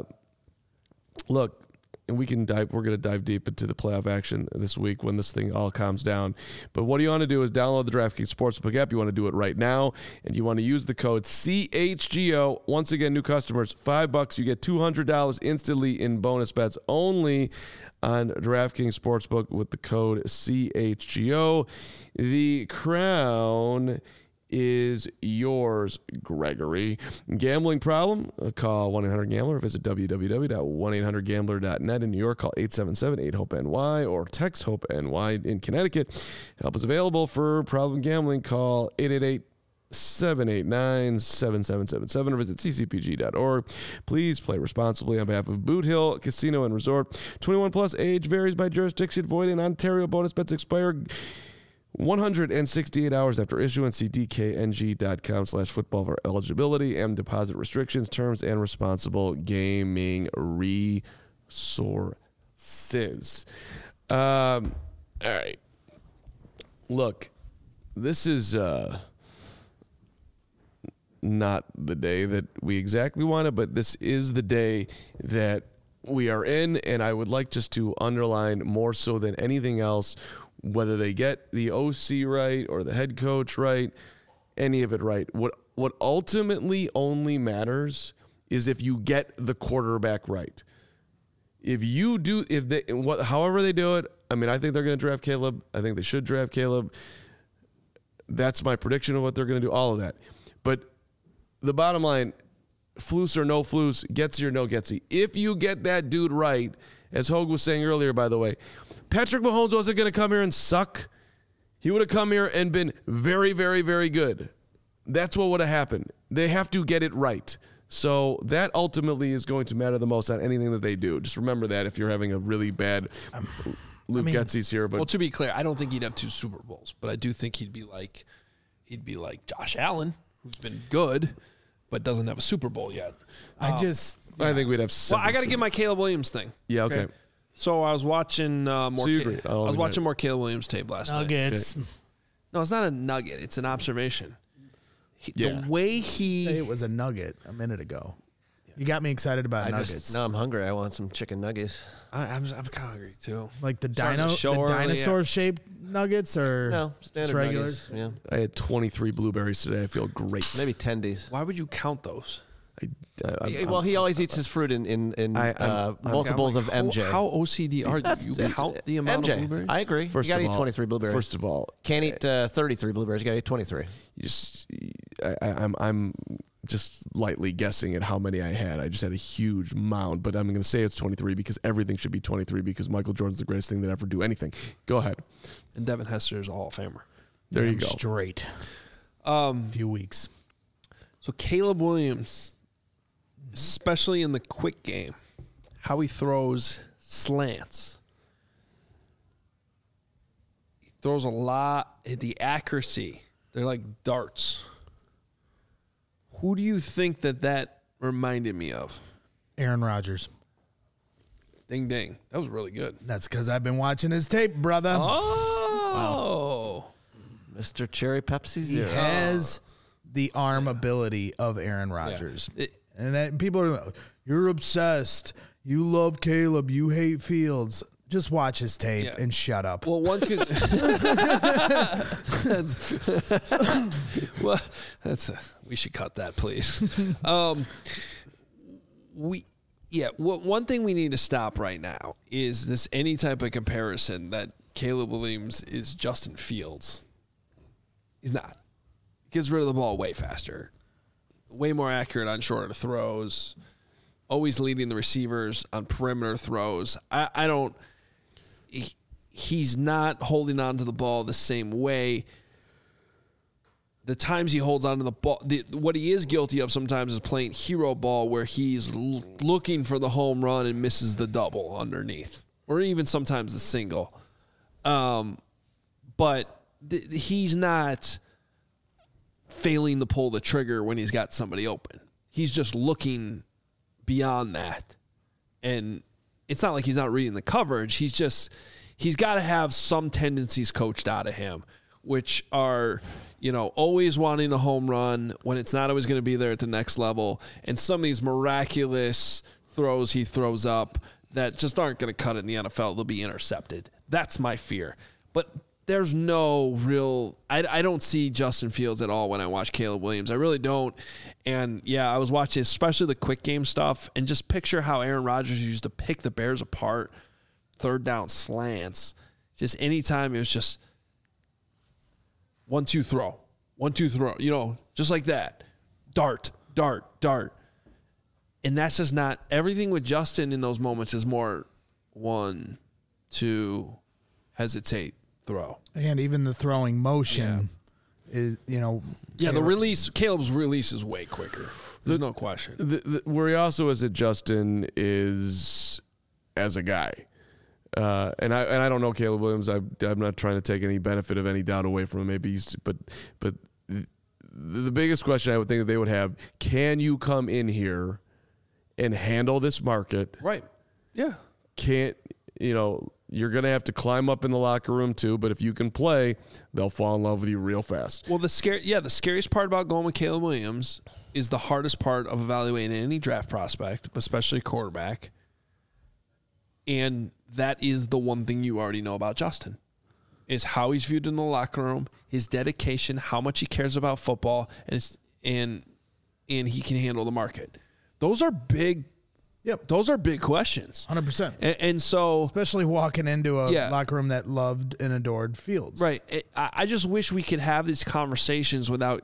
look, and we can dive, we're going to dive deep into the playoff action this week when this thing all calms down. But what you want to do is download the DraftKings Sportsbook app. You want to do it right now, and you want to use the code C H G O. Once again, new customers, five bucks. You get two hundred dollars instantly in bonus bets only on DraftKings Sportsbook with the code C H G O. The crown is yours, Gregory. Gambling problem? Uh, call one eight hundred gambler. Visit w w w dot one eight hundred gambler dot net. In New York, call eight seven seven eight hope N Y or text HOPE-NY. In Connecticut, help is available for problem gambling. Call eight eight eight seven eight nine seven seven seven seven or visit c c p g dot org. Please play responsibly on behalf of Boot Hill Casino and Resort. twenty-one plus, age varies by jurisdiction. Void in Ontario. Bonus bets expire one hundred sixty-eight hours after issuance. See d k n g dot com slash football for eligibility and deposit restrictions, terms, and responsible gaming resources. Um, all right. Look, this is uh, not the day that we exactly wanted, but this is the day that we are in, and I would like just to underline more so than anything else, whether they get the O C right or the head coach right, any of it right. What what ultimately only matters is if you get the quarterback right. If you do, if they, what, however they do it, I mean, I think they're going to draft Caleb. I think they should draft Caleb. That's my prediction of what they're going to do. All of that, but the bottom line, Flus or no Flus, Getsy or no Getsy. If you get that dude right, as Hogue was saying earlier, by the way, Patrick Mahomes wasn't going to come here and suck. He would have come here and been very, very, very good. That's what would have happened. They have to get it right. So that ultimately is going to matter the most on anything that they do. Just remember that if you're having a really bad Luke I mean, Getsy's here. But Well, to be clear, I don't think he'd have two Super Bowls, but I do think he'd be like he'd be like Josh Allen, who's been good, but doesn't have a Super Bowl yet. I just, I think we'd have Well, seven I got to Super- give my Caleb Williams thing. Yeah, okay. So I was watching uh, more. So you Ca- agree. I I'll was admit watching it. more Caleb Williams tape last night. Nuggets. No, it's not a nugget. It's an observation. He, Yeah. The way Say he it was a nugget a minute ago. You got me excited about I nuggets. just, now I'm hungry. I want some chicken nuggets. I, I'm I'm kind of hungry too. Like the Starting dino, the show the early, dinosaur shaped nuggets, or No, standard just regular. nuggets. Yeah, I had twenty-three blueberries today. I feel great. maybe tendies. Why would you count those? I, I, Yeah, well, he always eats his fruit in in, in I- I'm- uh, I'm- multiples I'm of like, M J. How, how O C D are you? That's- You it's- count the amount M J. of blueberries? I agree. First you gotta of eat all, twenty-three blueberries. First of all, Can't eat uh, thirty-three blueberries. You gotta eat twenty-three. you just I, I, I'm I'm just lightly guessing at how many I had. I just had a huge mound, but I'm going to say it's twenty-three because everything should be twenty-three because Michael Jordan's the greatest thing that ever do anything. Go ahead. And Devin Hester is a Hall of Famer. There you Damn go. Straight. Um, Few weeks. so Caleb Williams, especially in the quick game, how he throws slants. He throws a lot. The accuracy, they're like darts. Who do you think that that reminded me of? Aaron Rodgers. Ding ding. That was really good. That's because I've been watching his tape, brother. Oh. Mister Cherry Pepsi He Zero. has the arm ability of Aaron Rodgers. It- And that, people are like, you're obsessed. You love Caleb. You hate Fields. Just watch his tape Yeah. and shut up. Well, one could. that's, well, that's. A, we should cut that, please. Um, we, yeah. What one thing we need to stop right now is this any type of comparison that Caleb Williams is Justin Fields. He's not. He gets rid of the ball way faster, way more accurate on shorter throws. Always leading the receivers on perimeter throws. I, I don't. He, he's not holding on to the ball the same way. The times he holds on to the ball, the, what he is guilty of sometimes is playing hero ball where he's l- looking for the home run and misses the double underneath, or even sometimes the single. Um, but th- he's not failing to pull the trigger when he's got somebody open. He's just looking beyond that. And it's not like he's not reading the coverage. He's just, he's got to have some tendencies coached out of him, which are, you know, always wanting a home run when it's not always going to be there at the next level. And some of these miraculous throws he throws up that just aren't going to cut it in the N F L. They'll be intercepted. That's my fear. But there's no real, I, I don't see Justin Fields at all when I watch Caleb Williams. I really don't. And yeah, I was watching especially the quick game stuff, and just picture how Aaron Rodgers used to pick the Bears apart, third down slants. Just anytime it was just one, two, throw, one, two, throw, you know, just like that. Dart, dart, dart. And that's just not, everything with Justin in those moments is more one, two, hesitate, throw. And even the throwing motion is, you know. Yeah, the Caleb- release, Caleb's release is way quicker. There's no question. The, the, where he also is at Justin is as a guy. Uh, and I and I don't know Caleb Williams. I, I'm not trying to take any benefit of any doubt away from him. Maybe he's, but but the, the biggest question I would think that they would have: can you come in here and handle this market? Right. Yeah. Can't you know? You're gonna have to climb up in the locker room too. But if you can play, they'll fall in love with you real fast. Well, the scare, yeah, the scariest part about going with Caleb Williams is the hardest part of evaluating any draft prospect, especially quarterback. And that is the one thing you already know about Justin, is how he's viewed in the locker room, his dedication, how much he cares about football, and it's, and and he can handle the market. Those are big. Yep. Those are big questions. one hundred percent. And, and so, Especially walking into a Yeah. locker room that loved and adored Fields. right. It, I, I just wish we could have these conversations without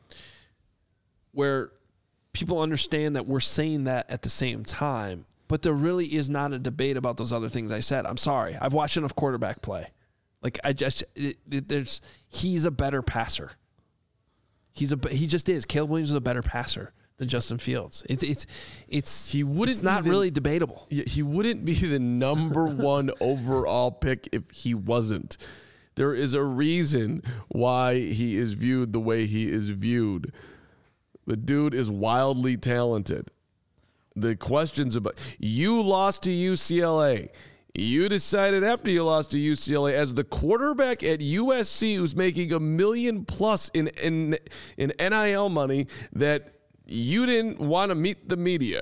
where people understand that we're saying that at the same time, but there really is not a debate about those other things I said. I'm sorry. I've watched enough quarterback play. Like I just, it, it, there's, he's a better passer. He's a, he just is. Caleb Williams is a better passer than Justin Fields. It's, it's, it's, He wouldn't it's not be the- really debatable. He he wouldn't be the number one overall pick if he wasn't. There is a reason why he is viewed the way he is viewed. The dude is wildly talented. The questions about you lost to U C L A You decided after you lost to U C L A as the quarterback at U S C who's making a million plus in, in, in N I L money that you didn't want to meet the media.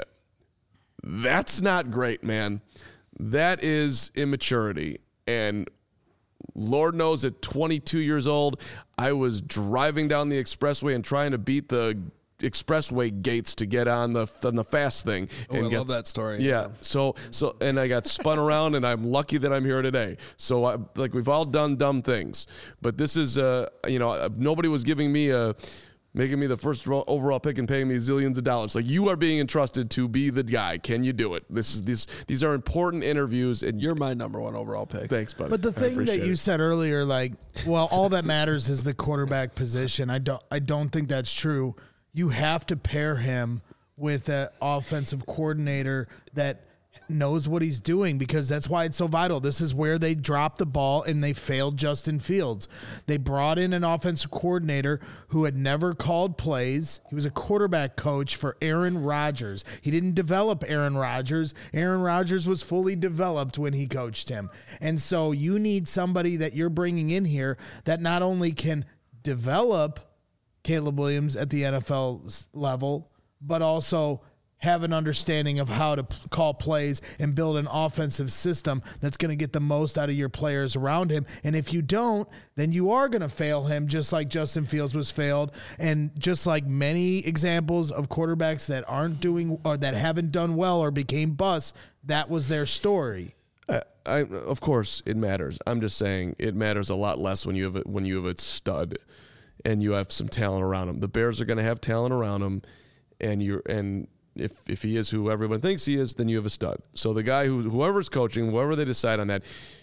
That's not great, man. That is immaturity. And Lord knows at twenty-two years old, I was driving down the expressway and trying to beat the expressway gates to get on the on the fast thing. Oh, and I get, love that story. Yeah. Yeah. So so and I got spun around, and I'm lucky that I'm here today. So I, like we've all done dumb things, but this is uh you know nobody was giving me a. Making me the first overall pick and paying me zillions of dollars. Like, you are being entrusted to be the guy. Can you do it? This is these these are important interviews, and You're my number one overall pick. thanks, buddy. But the I thing that appreciate you it. said earlier, like, well, all that matters is the quarterback position. I don't, I don't think that's true. You have to pair him with an offensive coordinator that knows what he's doing, because that's why it's so vital. This is where they dropped the ball and they failed Justin Fields. They brought in an offensive coordinator who had never called plays. He was a quarterback coach for Aaron Rodgers. He didn't develop Aaron Rodgers. Aaron Rodgers was fully developed when he coached him. And so you need somebody that you're bringing in here that not only can develop Caleb Williams at the N F L level, but also have an understanding of how to p- call plays and build an offensive system that's going to get the most out of your players around him. And if you don't, then you are going to fail him, just like Justin Fields was failed. And just like many examples of quarterbacks that aren't doing or that haven't done well or became busts, that was their story. I, I, of course, it matters. I'm just saying it matters a lot less when you have a, when you have a stud and you have some talent around him. The Bears are going to have talent around him, and you're and. If if he is who everyone thinks he is, then you have a stud. So the guy who whoever's coaching, whoever they decide on that,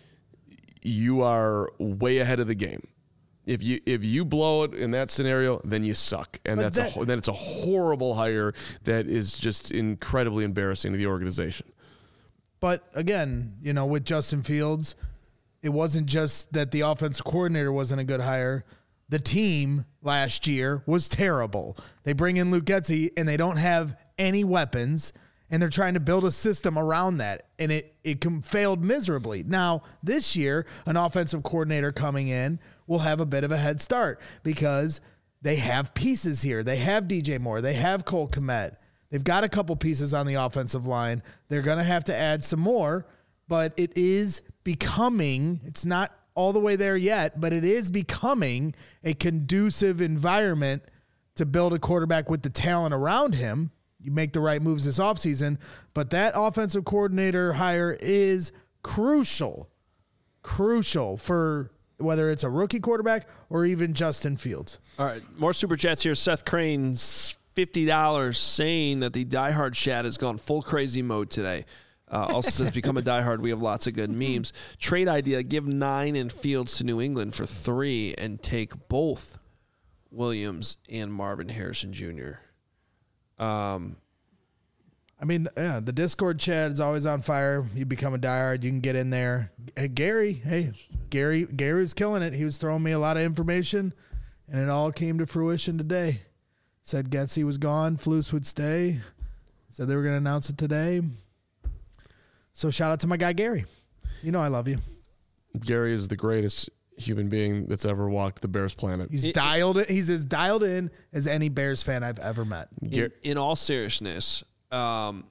you are way ahead of the game. If you if you blow it in that scenario, then you suck, and But that's that- a then it's a horrible hire that is just incredibly embarrassing to the organization. But again, you know, with Justin Fields, it wasn't just that the offensive coordinator wasn't a good hire. The team last year was terrible. They bring in Luke Getsy, and they don't have any weapons, and they're trying to build a system around that, and it it com- failed miserably. Now, this year, an offensive coordinator coming in will have a bit of a head start because they have pieces here. They have D J Moore. They have Cole Kmet. They've got a couple pieces on the offensive line. They're going to have to add some more, but it is becoming, it's not all the way there yet, but it is becoming a conducive environment to build a quarterback with the talent around him. You make the right moves this offseason, but that offensive coordinator hire is crucial, crucial for whether it's a rookie quarterback or even Justin Fields. All right, more super chats here. Seth Crane's fifty dollars saying that the diehard chat has gone full crazy mode today. Uh, also says, become a diehard. We have lots of good memes. Trade idea, give nine and Fields to New England for three and take both Williams and Marvin Harrison Junior Um, I mean, yeah, the Discord chat is always on fire. You become a diehard, you can get in there. Hey, Gary, hey, Gary, Gary was killing it. He was throwing me a lot of information, and it all came to fruition today. Said Getsy was gone, Flus would stay. Said they were going to announce it today. So shout out to my guy Gary. You know I love you. Gary is the greatest human being that's ever walked the Bears planet. He's It- dialed it. He's as dialed in as any Bears fan I've ever met. in, in all seriousness, um,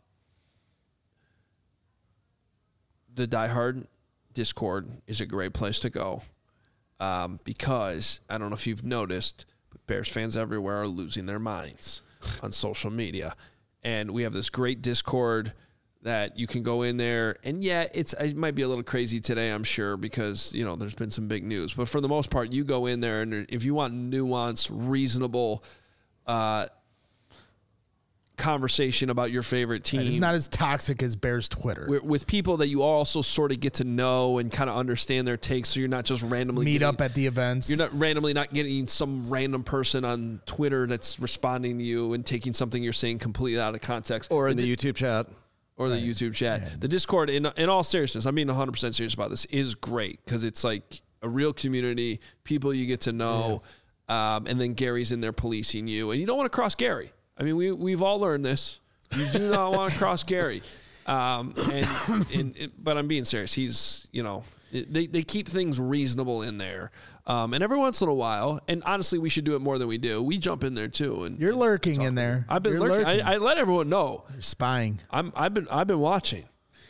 the diehard Discord is a great place to go um, because I don't know if you've noticed, but Bears fans everywhere are losing their minds on social media, and we have this great Discord that you can go in there, and yeah, it's it might be a little crazy today, I'm sure, because you know there's been some big news. But for the most part, you go in there, and if you want nuance, reasonable uh, conversation about your favorite team, It's not as toxic as Bears Twitter. with, with people that you also sort of get to know and kind of understand their takes, so you're not just randomly Meet getting, up at the events. You're not randomly not getting some random person on Twitter that's responding to you and taking something you're saying completely out of context, Or in the YouTube chat. or the YouTube chat. The Discord, in in all seriousness, I'm being one hundred percent serious about this, is great because it's like a real community, people you get to know, um, and then Gary's in there policing you, and you don't want to cross Gary. I mean, we we've all learned this. You do not want to cross Gary. Um, and, and, and but I'm being serious. He's, you know, they they keep things reasonable in there. Um, and every once in a while, and honestly, we should do it more than we do. We jump in there too. And You're lurking in there. I've been You're lurking. lurking. I, I let everyone know. You're spying. I'm. I've been. I've been watching.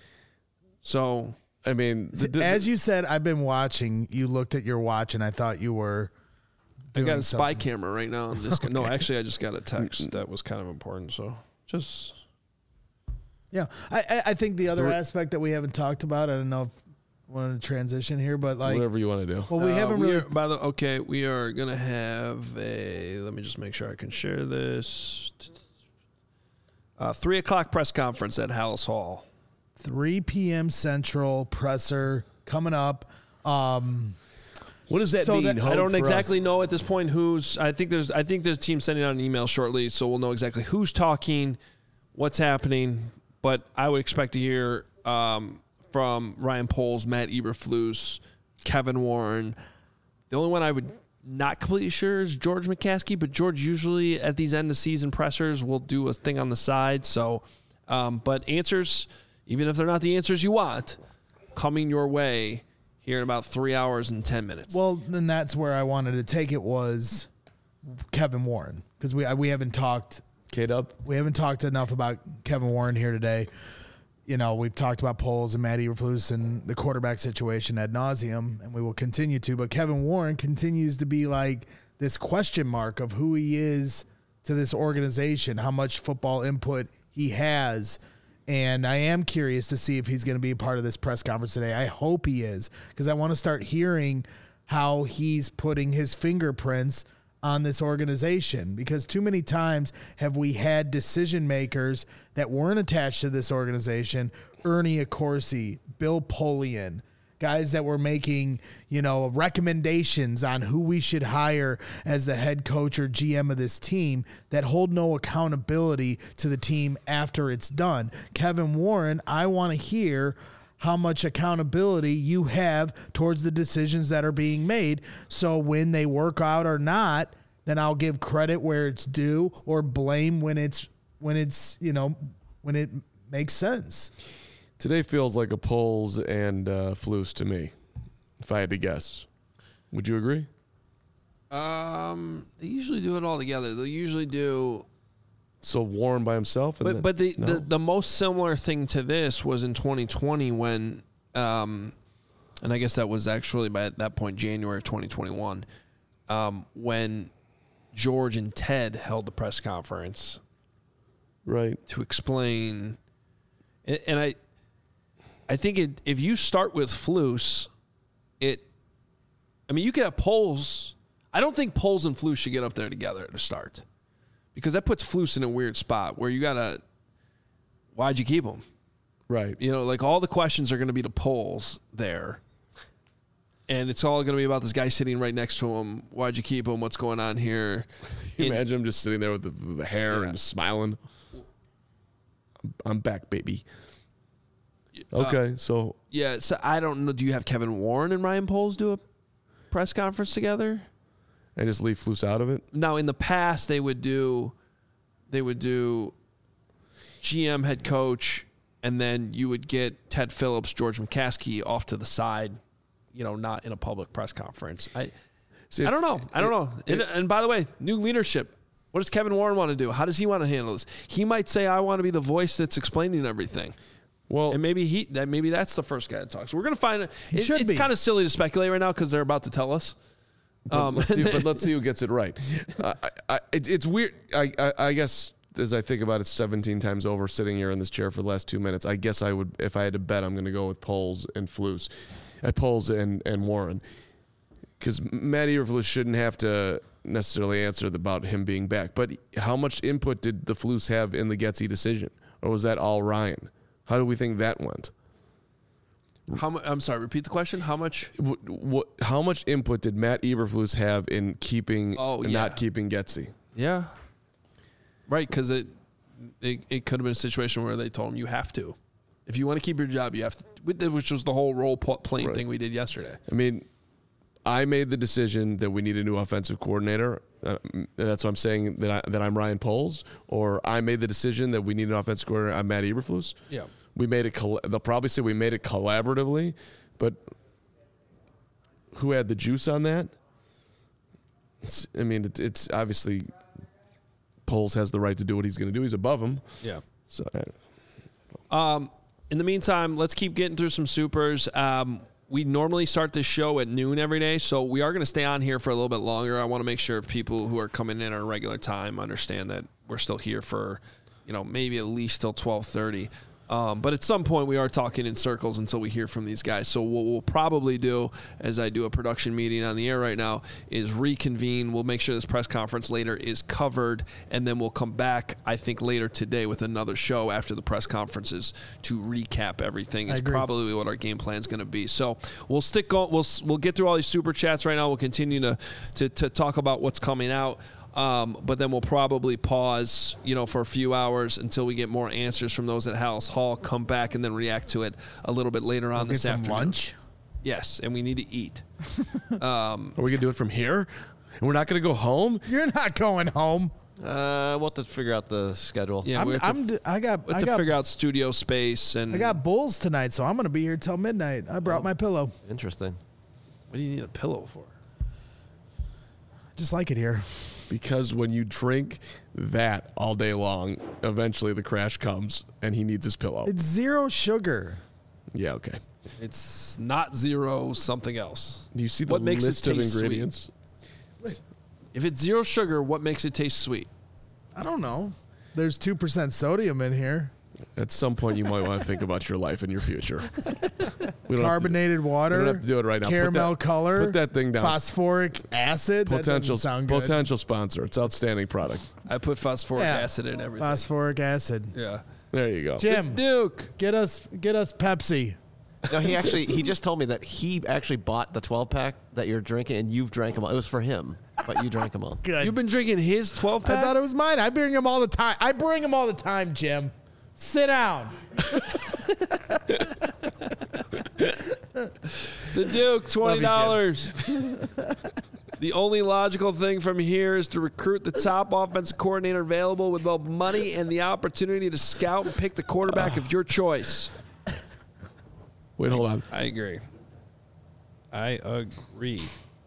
So I mean, the, the, As you said, I've been watching. You looked at your watch, and I thought you were. I got doing a spy something. camera right now. I'm just, No, actually, I just got a text that was kind of important. So just. Yeah, I, I I think the other Three- aspect that we haven't talked about. I don't know if I wanted to transition here, but like, whatever you want to do. well, we Uh, haven't we really. are- by the okay, we are gonna have a. Let me just make sure I can share this. Uh, three o'clock press conference at Hallis Hall. three p.m. Central presser coming up. Um, What does that So mean? that- Hope, I don't for exactly us? know at this point who's. I think there's. I think there's a team sending out an email shortly, so we'll know exactly who's talking, what's happening. But I would expect to hear um, from Ryan Poles, Matt Eberflus, Kevin Warren. The only one I would not completely sure is George McCaskey, but George usually at these end of season pressers will do a thing on the side. So, um, but answers, even if they're not the answers you want, coming your way here in about three hours and ten minutes. well, then that's where I wanted to take it was Kevin Warren because we we haven't talked K-Dub? we haven't talked enough about Kevin Warren here today. You know, we've talked about Poles and Matt Eberflus and the quarterback situation ad nauseum, and we will continue to. But Kevin Warren continues to be like this question mark of who he is to this organization, how much football input he has. And I am curious to see if he's going to be a part of this press conference today. I hope he is, because I want to start hearing how he's putting his fingerprints on this organization, because too many times have we had decision makers that weren't attached to this organization, Ernie Accorsi, Bill Polian, guys that were making, you know, recommendations on who we should hire as the head coach or G M of this team that hold no accountability to the team after it's done. Kevin Warren, I want to hear how much accountability you have towards the decisions that are being made. So when they work out or not, then I'll give credit where it's due or blame when it's, when it's, you know, when it makes sense. Today feels like a Poles and uh, Flus to me, if I had to guess. Would you agree? Um, they usually do it all together. They'll usually do, So Warren by himself? And but then, but the, no? the the most similar thing to this was in twenty twenty when, um, and I guess that was actually by that point January of twenty twenty-one, um, when George and Ted held the press conference right. to explain, and, and I, I think it, if you start with Flus, it, I mean, you could have Poles. I don't think Poles and Flus should get up there together to start, because that puts Flus in a weird spot where you gotta, why'd you keep him? Right. You know, like all the questions are going to be to Poles there. And it's all going to be about this guy sitting right next to him. Why'd you keep him? What's going on here? Can you In- imagine him just sitting there with the, with the hair Yeah. and just smiling? I'm, I'm back, baby. Uh, Okay, so yeah, so I don't know. Do you have Kevin Warren and Ryan Poles do a press conference together? I just leave Flus out of it. Now, in the past, they would do, they would do G M, head coach, and then you would get Ted Phillips, George McCaskey off to the side, you know, not in a public press conference. I, See, I if- don't know. I don't know. if- and, and by the way, new leadership. What does Kevin Warren want to do? How does he want to handle this? He might say, "I want to be the voice that's explaining everything." Well, And maybe he that maybe that's the first guy to talk. So we're gonna find. It, should it's be. kind of silly to speculate right now because they're about to tell us. Um, let's see, but let's see who gets it right. I, I, it, it's weird. I, I, I guess as I think about it, seventeen times over, sitting here in this chair for the last two minutes, I guess I would, if I had to bet, I'm going to go with Poles and Flus, at Poles and and Warren, because Matt Eberflus shouldn't have to necessarily answer about him being back. But how much input did the Flus have in the Getsy decision, or was that all Ryan? How do we think that went? how mu- I'm sorry. Repeat the question. How much? What, what, how much input did Matt Eberflus have in keeping, Oh, and yeah. not keeping Getsy? Yeah. Right, because it, it it could have been a situation where they told him you have to, if you want to keep your job, you have to, which was the whole role pl- playing Right. thing we did yesterday. I mean, I made the decision that we need a new offensive coordinator. Uh, that's why I'm saying that I, that I'm Ryan Poles, or I made the decision that we need an offensive coordinator. I'm Matt Eberflus. Yeah. we made it. Coll- they'll probably say we made it collaboratively, but who had the juice on that? It's, I mean, it, it's obviously Poles has the right to do what he's going to do. He's above him. Yeah. So, Um, in the meantime, let's keep getting through some supers. Um, we normally start this show at noon every day, so we are going to stay on here for a little bit longer. I want to make sure people who are coming in at a regular time understand that we're still here for, you know, maybe at least till twelve thirty. Um, but at some point, we are talking in circles until we hear from these guys. So what we'll probably do, as I do a production meeting on the air right now, is reconvene. We'll make sure this press conference later is covered, and then we'll come back, I think, later today with another show after the press conferences to recap everything. It's probably what our game plan is going to be. So we'll stick on. We'll we'll get through all these super chats right now. We'll continue to to, to talk about what's coming out. Um, but then we'll probably pause, you know, for a few hours until we get more answers from those at House Hall, come back and then react to it a little bit later on We'll this get some afternoon. lunch. Yes, and we need to eat. are we going to do it from here? And we're not going to go home? You're not going home. Uh, we'll have to figure out the schedule. Yeah, I'm, we have to, I'm d- I got we have I to got figure out studio space and I got Bulls tonight, so I'm gonna be here till midnight. I brought my pillow. Interesting. what do you need a pillow for? Just like it here. Because when you drink that all day long, eventually the crash comes and he needs his pillow. It's zero sugar. Yeah, okay. It's not zero something else. Do you see the What makes it list of taste sweet? ingredients? If it's zero sugar, what makes it taste sweet? I don't know. There's two percent sodium in here. At some point, you might want to think about your life and your future. We don't Carbonated have to, water. We don't have to do it right now. Put Caramel that- color. Put that thing down. Phosphoric acid. That Potential, doesn't sound good. potential sponsor. It's outstanding product. I put phosphoric Yeah. acid in everything. Phosphoric acid. yeah. There you go. Jim, Duke. get us get us Pepsi. No, he actually he just told me that he actually bought the twelve pack that you're drinking, and you've drank them all. It was for him, but you drank them all. Good. You've been drinking his twelve pack? I thought it was mine. I bring them all the time. I bring them all the time, Jim. Sit down. The Duke, twenty dollars. The only logical thing from here is to recruit the top offensive coordinator available with both money and the opportunity to scout and pick the quarterback of your choice. Wait, hold on. I agree. I agree.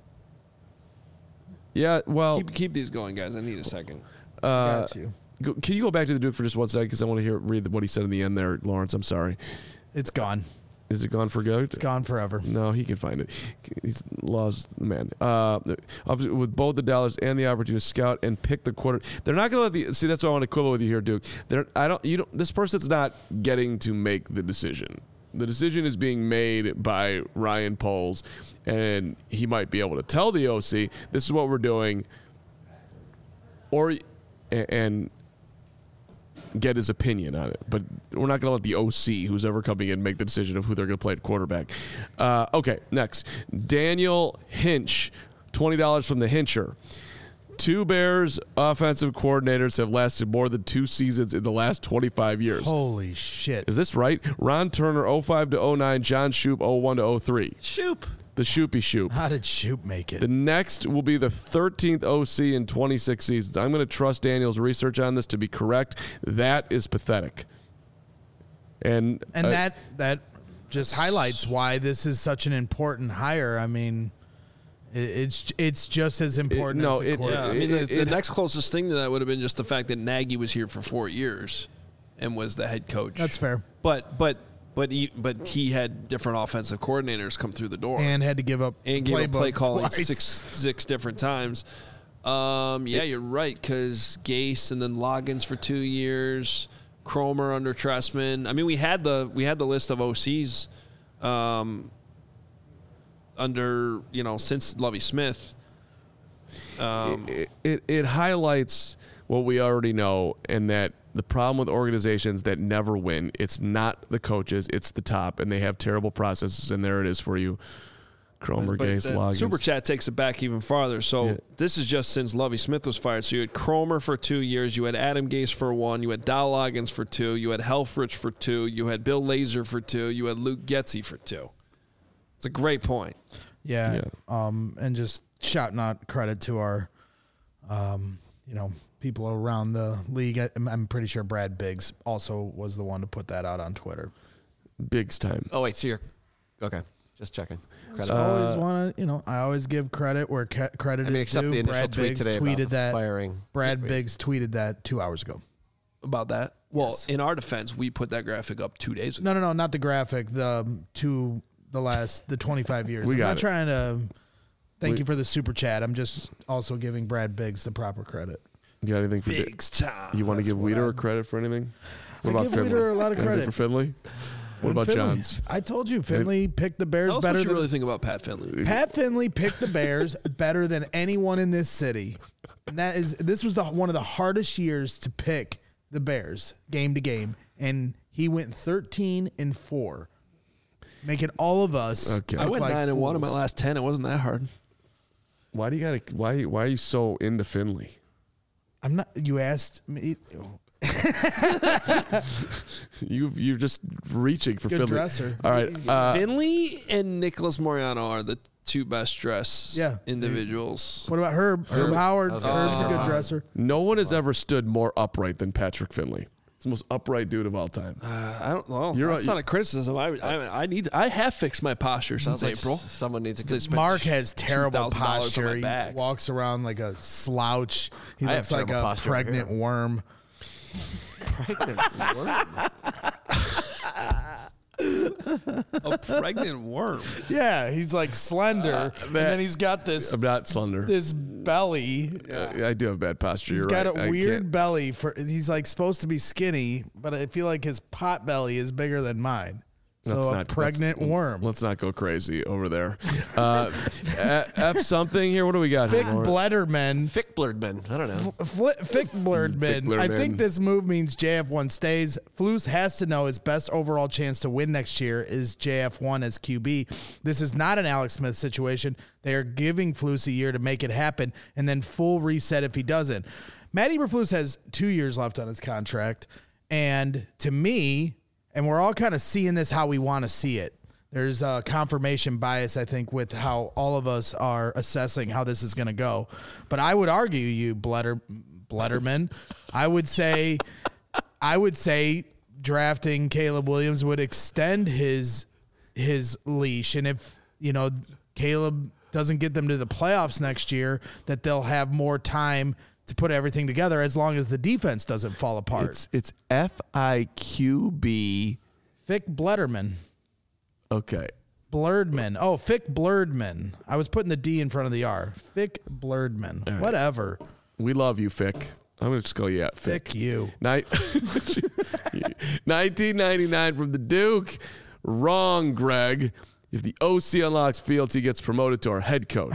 Yeah, well, Keep keep these going, guys. I need a second. uh, Got you. go, can you go back to the Duke for just one second? Because I want to hear read what he said in the end there, Lawrence. I'm sorry. It's gone. Is it gone for good? It's gone forever. No, he can find it. He's lost man. Uh, obviously with both the dollars and the opportunity to scout and pick the quarter, they're not going to let the see. That's why I want to quibble with you here, Duke. They're I don't you don't. This person's not getting to make the decision. The decision is being made by Ryan Poles, and he might be able to tell the O C, "This is what we're doing," or and get his opinion on it. But we're not going to let the O C, who's ever coming in, make the decision of who they're going to play at quarterback. Uh, okay, next. Daniel Hinch, twenty dollars from the Hincher. Two Bears offensive coordinators have lasted more than two seasons in the last twenty-five years. Holy shit. Is this right? Ron Turner, oh five to oh nine, John Shoop, oh one to oh three. Shoop. The Shoopy Shoop. How did Shoop make it? The next will be the thirteenth O C in twenty-six seasons. I'm going to trust Daniel's research on this to be correct. That is pathetic. And and uh, that that just highlights why this is such an important hire. I mean, it, it's it's just as important no, as the it- quarterback. Yeah, I mean, it- the, it- the next closest thing to that would have been just the fact that Nagy was here for four years and was the head coach. That's fair. But but but he but he had different offensive coordinators come through the door And had to give up and gave a play playbook calling twice. six six different times. Um, yeah, you're right, because Gase and then Loggins for two years, Cromer under Tressman. I mean, we had the we had the list of O Cs um, under you know since Lovie Smith. Um, it, it, it highlights what we already know, and that the problem with organizations that never win, it's not the coaches, it's the top, and they have terrible processes, and there it is for you. Cromer, But Gase, the Loggins. Super Chat takes it back even farther. So Yeah. this is just since Lovie Smith was fired. So you had Cromer for two years. You had Adam Gase for one. You had Dow Loggins for two. You had Helfrich for two. You had Bill Lazor for two. You had Luke Getsy for two. It's a great point. Yeah. Yeah. Um, and just shouting out credit to our um, you know, people around the league. I, I'm pretty sure Brad Biggs also was the one to put that out on Twitter. Biggs time. Oh wait, so you're okay. Just checking. Credit. I always want to, you know, I always give credit where ca- credit I mean, is except due. the initial Brad tweet Biggs today about tweeted the that. firing. Brad Wait. Biggs tweeted that two hours ago. About that? Well, Yes. in our defense, we put that graphic up two days ago. No, no, no, not the graphic. The um, two, the last, the twenty-five years. We I'm got not it. trying to. Thank We- you for the super chat. I'm just also giving Brad Biggs the proper credit. You got anything for Di- Biggs time. You want to That's give what Weeder I- a credit for anything? What I about give Finley? Weeder a lot of Anything credit. for Finley. What And about Finley- Johns? I told you, Finley picked the Bears Tell us better what you than really think about Pat Finley. Pat Finley picked the Bears better than anyone in this city. And that is this was the one of the hardest years to pick the Bears game to game, and he went thirteen and four, making all of us. Okay. I look went like nine and one in my fools. last ten. It wasn't that hard. Why do you got to? Why? Why are you so into Finley? I'm not. You asked me. You you're just reaching for Good Finley. dresser. All right. Uh, Finley and Nicholas Moriano are the two best dressed Yeah. individuals. What about Herb? Herb, Herb. Howard. I was gonna Herb's say a good Herb. dresser. no one has ever stood more upright than Patrick Finley. He's the most upright dude of all time. Uh, I don't know. You're That's right. not a criticism. I, I I need. I have fixed my posture since Sounds like April. s- someone needs to Since I get spent Mark has terrible two thousand dollars on posture. my He back. walks around like a slouch. He I have looks like terrible a posture over pregnant here. worm. a pregnant worm. Yeah, he's like slender, and then he's got this I'm not slender. this belly. Uh, I do have bad posture. He's You're got right. a I weird can't- belly for. He's like supposed to be skinny, but I feel like his pot belly is bigger than mine. So Let's a not- pregnant let's- worm. Let's not go crazy over there. Uh, F something here. What do we got Fick here? Lauren? Blederman. Fick Blerdman. I don't know. Fli Fick Blerdman. I Blerdman. think this move means J F one stays. Flus has to know his best overall chance to win next year is J F one as Q B. This is not an Alex Smith situation. They are giving Flus a year to make it happen and then full reset if he doesn't. Matt Eberflus has two years left on his contract. And to me, and we're all kind of seeing this how we want to see it. There's a confirmation bias, I think, with how all of us are assessing how this is going to go. But I would argue, you Bleder, Blederman, I would say, I would say drafting Caleb Williams would extend his his leash, and if you know Caleb doesn't get them to the playoffs next year, that they'll have more time to put everything together as long as the defense doesn't fall apart. It's it's F I Q B. Fick Blederman. Okay. Blerdman. Oh, Fick Blerdman. I was putting the D in front of the R. Fick Blerdman. right. Whatever. We love you, Fick. I'm gonna just call you out, Fick. Fick you. Ni- nineteen ninety-nine from the Duke. Wrong, Greg. If the O C unlocks Fields, he gets promoted to our head coach.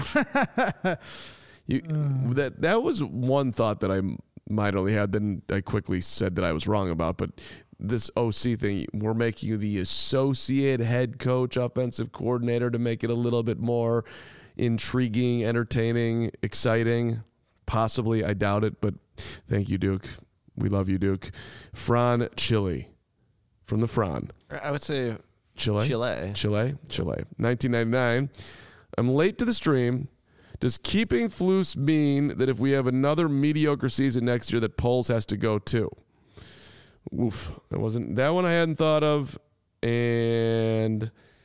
you, that that was one thought that I might only had. Then I quickly said that I was wrong about. But this O C thing, we're making you the associate head coach, offensive coordinator, to make it a little bit more intriguing, entertaining, exciting. Possibly, I doubt it, but thank you, Duke. We love you, Duke. Fran Chile from the Fran. I would say Chile? Chile. Chile? Chile. nineteen ninety-nine. I'm late to the stream. Does keeping Flus mean that if we have another mediocre season next year that Poles has to go too? Oof. That wasn't that one I hadn't thought of. And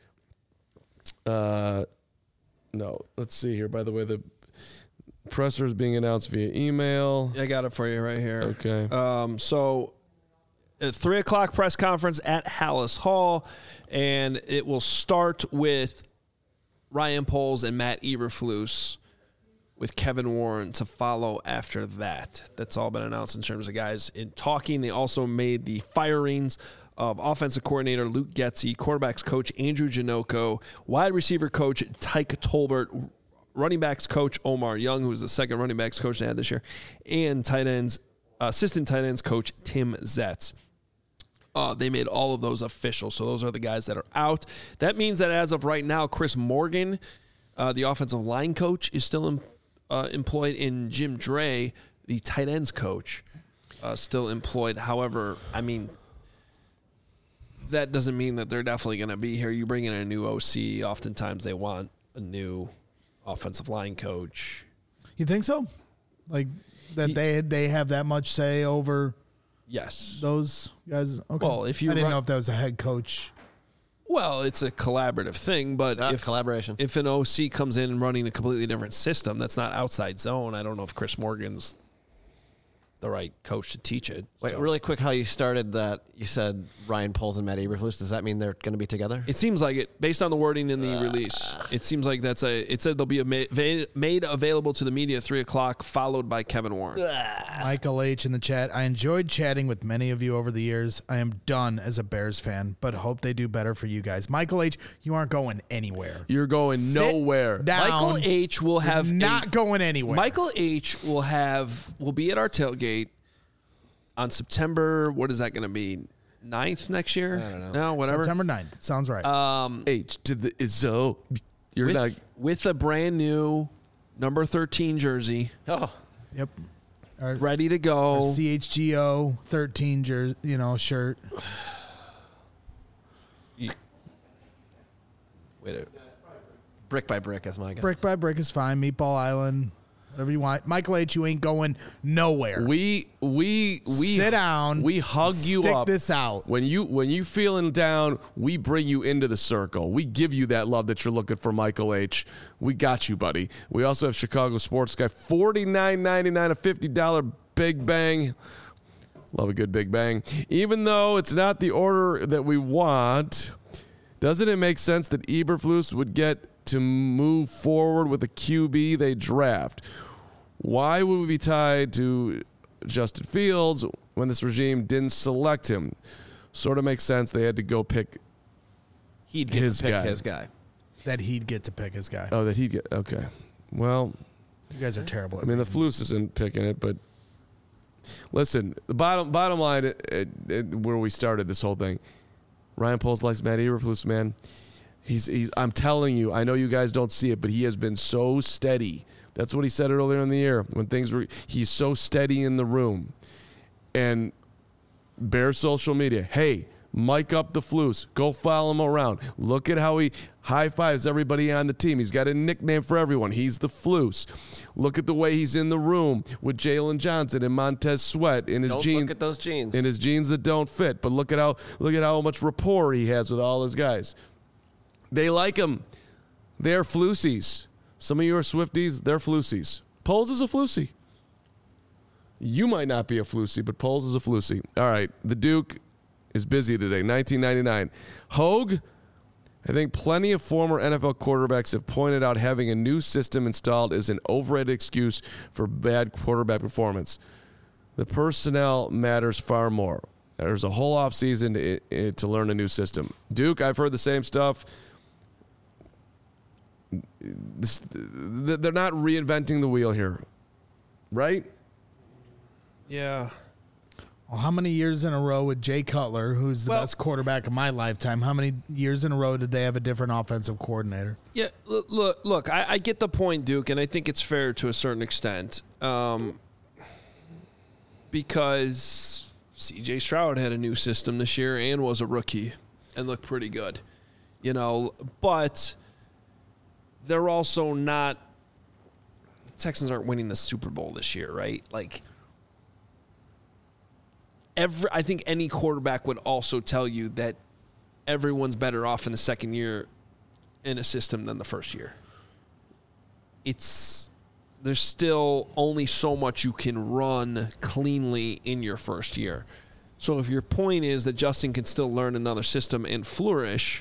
uh no. Let's see here. By the way, the presser is being announced via email. I got it for you right here. Okay. Um, so, a three o'clock press conference at Hallis Hall, and it will start with Ryan Poles and Matt Eberflus, with Kevin Warren to follow after that. That's all been announced in terms of guys in talking. They also made the firings of offensive coordinator Luke Getsy, quarterbacks coach Andrew Janocko, wide receiver coach Tyke Tolbert, running backs coach Omar Young, who was the second running backs coach they had this year, and tight ends, assistant tight ends coach Tim Zetz. Uh, they made all of those official, so those are the guys that are out. That means that as of right now, Chris Morgan, uh, the offensive line coach, is still in, uh, employed, in Jim Dre, the tight ends coach, uh, still employed. However, I mean, that doesn't mean that they're definitely going to be here. You bring in a new O C, oftentimes they want a new offensive line coach. You think so? Like, that He- they they have that much say over Yes. those guys? Okay. Well, if you I didn't run- know if that was a head coach. Well, it's a collaborative thing, but Ah, if collaboration. if an O C comes in and running a completely different system that's not outside zone, I don't know if Chris Morgan's the right coach to teach it. Wait, So- really quick, how you started that? You said Ryan Poles and Matt Eberflus. Does that mean they're going to be together? It seems like it, based on the wording in the release. It seems like that's a. It said they'll be a ma- va- made available to the media at three o'clock, followed by Kevin Warren. Michael H. in the chat. I enjoyed chatting with many of you over the years. I am done as a Bears fan, but hope they do better for you guys. Michael H., you aren't going anywhere. You're going Sit nowhere. Down. Michael H. will have not a- going anywhere. Michael H. will have will be at our tailgate on September. What is that going to be? ninth next year? I don't know. No, whatever. September ninth. Sounds right. Um, H to the Izzo. You're with, not. with a brand new number thirteen jersey, Oh, yep. Our, ready to our go. C H G O thirteen jersey, you know, shirt. Wait a brick by brick, as my guy. Brick by brick is fine. Meatball Island, whatever you want. Michael H., you ain't going nowhere. We we we Sit down. We hug you stick up. this out. When you when you feeling down, we bring you into the circle. We give you that love that you're looking for, Michael H. We got you, buddy. We also have Chicago Sports Guy, forty-nine ninety-nine, a fifty dollar Big Bang. Love a good Big Bang. Even though it's not the order that we want, doesn't it make sense that Eberflus would get to move forward with a Q B they draft? Why would we be tied to Justin Fields when this regime didn't select him? Sort of makes sense. They had to go pick. He'd get His to pick guy. his guy. That he'd get to pick his guy. Oh, that he'd get. Okay. Well, You guys are terrible. I mean, the Flus isn't picking it, but listen, the bottom bottom line, it, it, it, where we started this whole thing, Ryan Poles likes Matt Eberflus, man. He's, he's, I'm telling you, I know you guys don't see it, but he has been so steady. That's what he said earlier in the year when things were, he's so steady in the room. And Bear social media, hey, mic up the Flus. Go follow him around. Look at how he high fives everybody on the team. He's got a nickname for everyone. He's the Flus. Look at the way he's in the room with Jalen Johnson and Montez Sweat in his Don't jeans. look at those jeans. In his jeans that don't fit. But look at how look at how much rapport he has with all his guys. They like him. They're Flusies. Some of you are Swifties. They're Flusies. Poles is a Flusie. You might not be a Flusie, but Poles is a Flusie. All right. The Duke is busy today. nineteen ninety-nine. Hogue, I think plenty of former N F L quarterbacks have pointed out having a new system installed is an overrated excuse for bad quarterback performance. The personnel matters far more. There's a whole offseason to, to learn a new system. Duke, I've heard the same stuff. This, they're not reinventing the wheel here, right? Yeah. Well, how many years in a row with Jay Cutler, who's the Well- best quarterback of my lifetime, how many years in a row did they have a different offensive coordinator? Yeah, look, look, look I, I get the point, Duke, and I think it's fair to a certain extent. Um, because C J Stroud had a new system this year and was a rookie and looked pretty good. You know, but they're also not – the Texans aren't winning the Super Bowl this year, right? Like – Every, I think any quarterback would also tell you that everyone's better off in the second year in a system than the first year. It's there's still only so much you can run cleanly in your first year. So if your point is that Justin can still learn another system and flourish,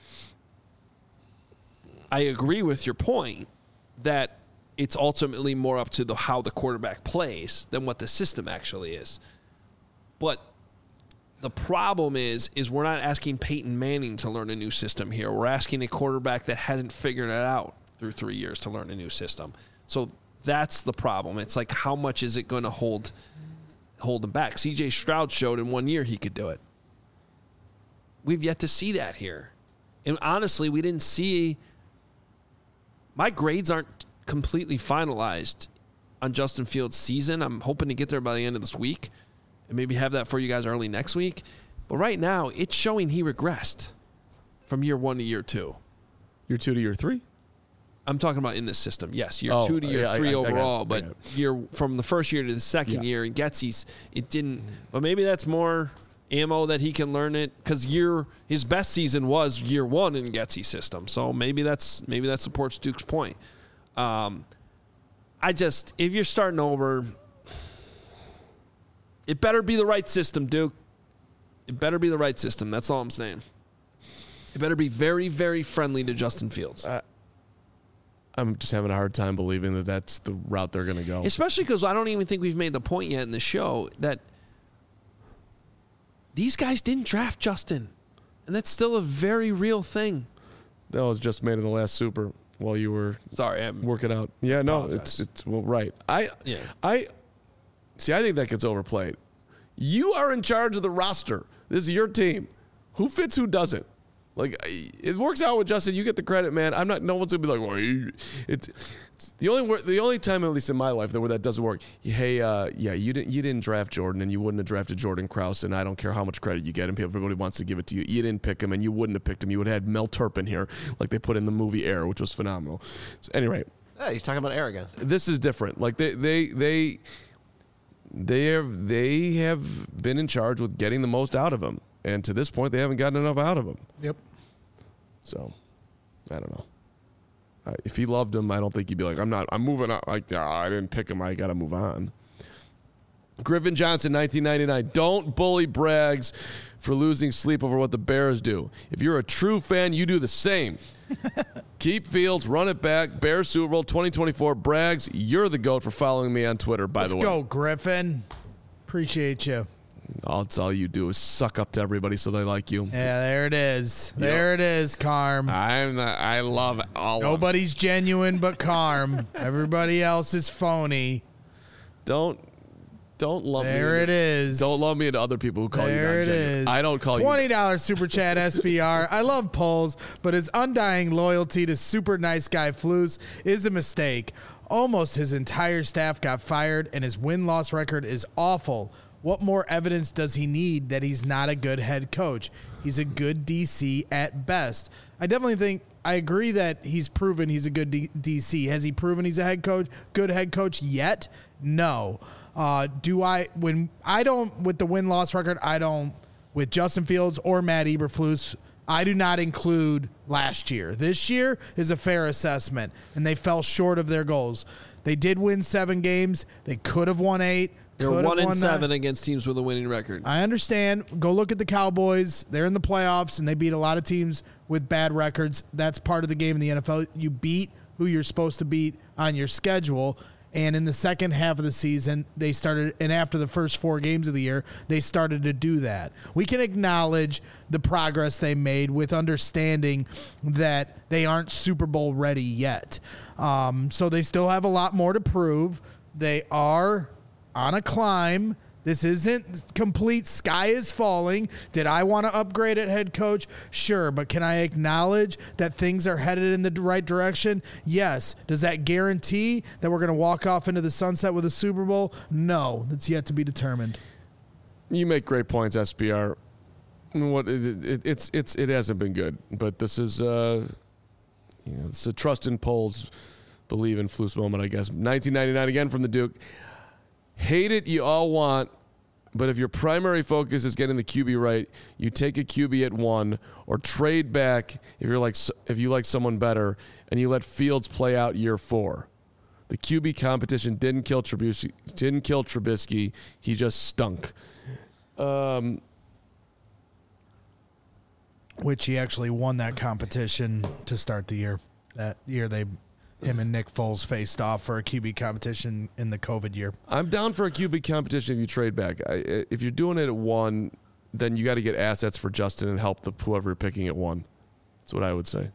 I agree with your point that it's ultimately more up to the how the quarterback plays than what the system actually is. But the problem is, is we're not asking Peyton Manning to learn a new system here. We're asking a quarterback that hasn't figured it out through three years to learn a new system. So that's the problem. It's like, how much is it going to hold hold him back? C J Stroud showed in one year he could do it. We've yet to see that here. And honestly, we didn't see – my grades aren't completely finalized on Justin Fields' season. I'm hoping to get there by the end of this week. And maybe have that for you guys early next week. But right now, it's showing he regressed from year one to year two. Year two to year three? I'm talking about in this system. Yes, year Oh, two to year yeah, I- three I- I got it. overall, I but got it. year from the first year to the second Yeah. year in Getsy's, it didn't. But maybe that's more ammo that he can learn it because year his best season was year one in Getsy's system. So maybe that's maybe that supports Duke's point. Um, I just if you're starting over, it better be the right system, Duke. It better be the right system. That's all I'm saying. It better be very, very friendly to Justin Fields. Uh, I'm just having a hard time believing that that's the route they're going to go. Especially because I don't even think we've made the point yet in the show that these guys didn't draft Justin. And that's still a very real thing. That was just made in the last Super while you were Sorry, I'm working out. Yeah, no, apologize. it's it's well right. I Yeah. I see. I think that gets overplayed. You are in charge of the roster. This is your team. Who fits? Who doesn't? Like it works out with Justin. You get the credit, man. I'm not. No one's gonna be like, well, you, it's, it's the only wor- the only time, at least in my life, that where that doesn't work. Hey, uh, yeah, you didn't you didn't draft Jordan, and you wouldn't have drafted Jordan Krause, and I don't care how much credit you get him. Everybody wants to give it to you. You didn't pick him, and you wouldn't have picked him. You would have had Mel Turpin here, like they put in the movie Air, which was phenomenal. So, anyway, Hey, you're talking about arrogance. this is different. Like they they they they have they have been in charge with getting the most out of him, and to this point, they haven't gotten enough out of him. Yep. So, I don't know. Uh, if he loved him, I don't think he'd be like, I'm not, I'm moving on. Like, oh, I didn't pick him. I got to move on. Griffin Johnson, nineteen ninety-nine. Don't bully Braggs for losing sleep over what the Bears do. If you're a true fan, you do the same. Keep Fields, run it back. Bears Super Bowl twenty twenty-four. Braggs, you're the GOAT for following me on Twitter, by Let's the way. go, Griffin. Appreciate you. All, it's all you do is suck up to everybody so they like you. Yeah, there it is. There it is, Carm. I'm the, I love all of them. Nobody's genuine but Carm. Everybody else is phony. Don't don't lump me. There into- it is. Don't lump me into other people who call you There it non-genuine. is. I don't call twenty you. dollars super chat S B R. I love polls, but his undying loyalty to super nice guy Flus is a mistake. Almost his entire staff got fired, and his win-loss record is awful. What more evidence does he need that he's not a good head coach? He's a good D C at best. I definitely think I agree that he's proven he's a good D- DC. Has he proven he's a head coach, good head coach yet? No. Uh, do I, when I don't, with the win-loss record, I don't, with Justin Fields or Matt Eberflus, I do not include last year. This year is a fair assessment, and they fell short of their goals. They did win seven games. They could have won eight. They're could have one and won seven nine. against teams with a winning record. I understand. Go look at the Cowboys. They're in the playoffs, and they beat a lot of teams with bad records. That's part of the game in the N F L. You beat who you're supposed to beat on your schedule. And in the second half of the season, they started, and after the first four games of the year, they started to do that. We can acknowledge the progress they made with understanding that they aren't Super Bowl ready yet. Um, so they still have a lot more to prove. They are on a climb. This isn't complete sky is falling. Did I want to upgrade at head coach? Sure, but can I acknowledge that things are headed in the right direction? Yes. Does that guarantee that we're going to walk off into the sunset with a Super Bowl? No, that's yet to be determined. You make great points, S B R. What it, it, it's it's it hasn't been good, but this is uh, you know, it's a trust in polls, believe in Flus moment, I guess. nineteen ninety-nine again from the Duke. Hate it, you all want, but if your primary focus is getting the Q B right, you take a Q B at one or trade back if you're like if you like someone better, and you let Fields play out year four. The Q B competition didn't kill Trubisky. Didn't kill Trubisky. He just stunk. Um, Which he actually won that competition to start the year. That year they, him and Nick Foles faced off for a Q B competition in the COVID year. I'm down for a Q B competition if you trade back. I, if you're doing it at one, then you got to get assets for Justin and help the whoever you're picking at one. That's what I would say.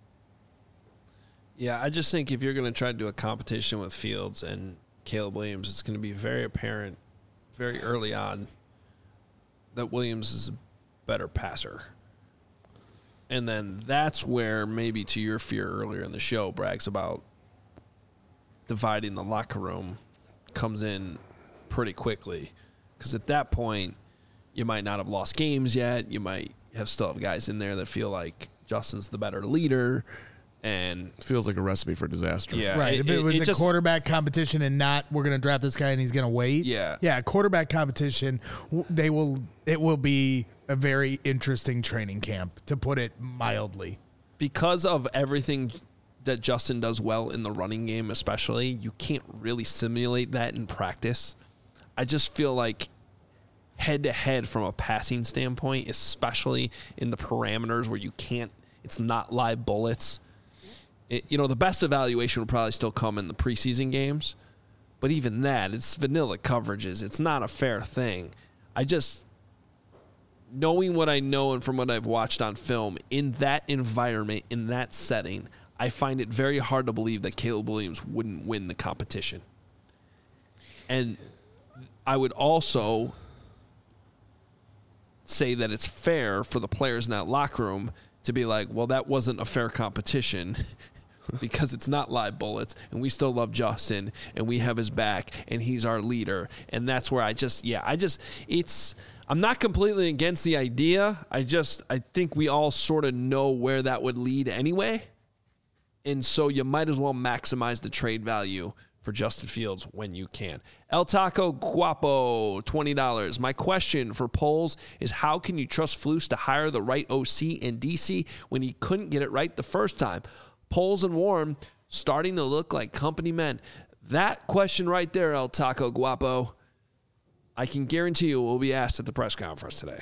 Yeah, I just think if you're going to try to do a competition with Fields and Caleb Williams, it's going to be very apparent very early on that Williams is a better passer. And then that's where maybe to your fear earlier in the show brags about dividing the locker room comes in pretty quickly. Because at that point, you might not have lost games yet. You might have still have guys in there that feel like Justin's the better leader. And It feels like a recipe for disaster. yeah, Right. if it, was it a just- quarterback competition and not we're going to draft this guy and he's going to wait. Yeah. Yeah. Quarterback competition. w- They will. It will be a very interesting training camp, to put it mildly. because of everything that Justin does well in the running game, especially, you can't really simulate that in practice. I just feel like head to head from a passing standpoint, especially in the parameters where you can't, it's not live bullets. It, you know, the best evaluation would probably still come in the preseason games, but even that, it's vanilla coverages. It's not a fair thing. I just, knowing what I know and from what I've watched on film, in that environment, in that setting, I find it very hard to believe that Caleb Williams wouldn't win the competition. And I would also say that it's fair for the players in that locker room to be like, well, that wasn't a fair competition because it's not live bullets, and we still love Justin, and we have his back, and he's our leader. And that's where I just, yeah, I just, it's, I'm not completely against the idea. I just, I think we all sort of know where that would lead anyway. And so you might as well maximize the trade value for Justin Fields when you can. El Taco Guapo, twenty dollars. My question for Poles is, how can you trust Flus to hire the right O C in D C when he couldn't get it right the first time? Poles and Warren starting to look like company men. That question right there, El Taco Guapo, I can guarantee you will be asked at the press conference today.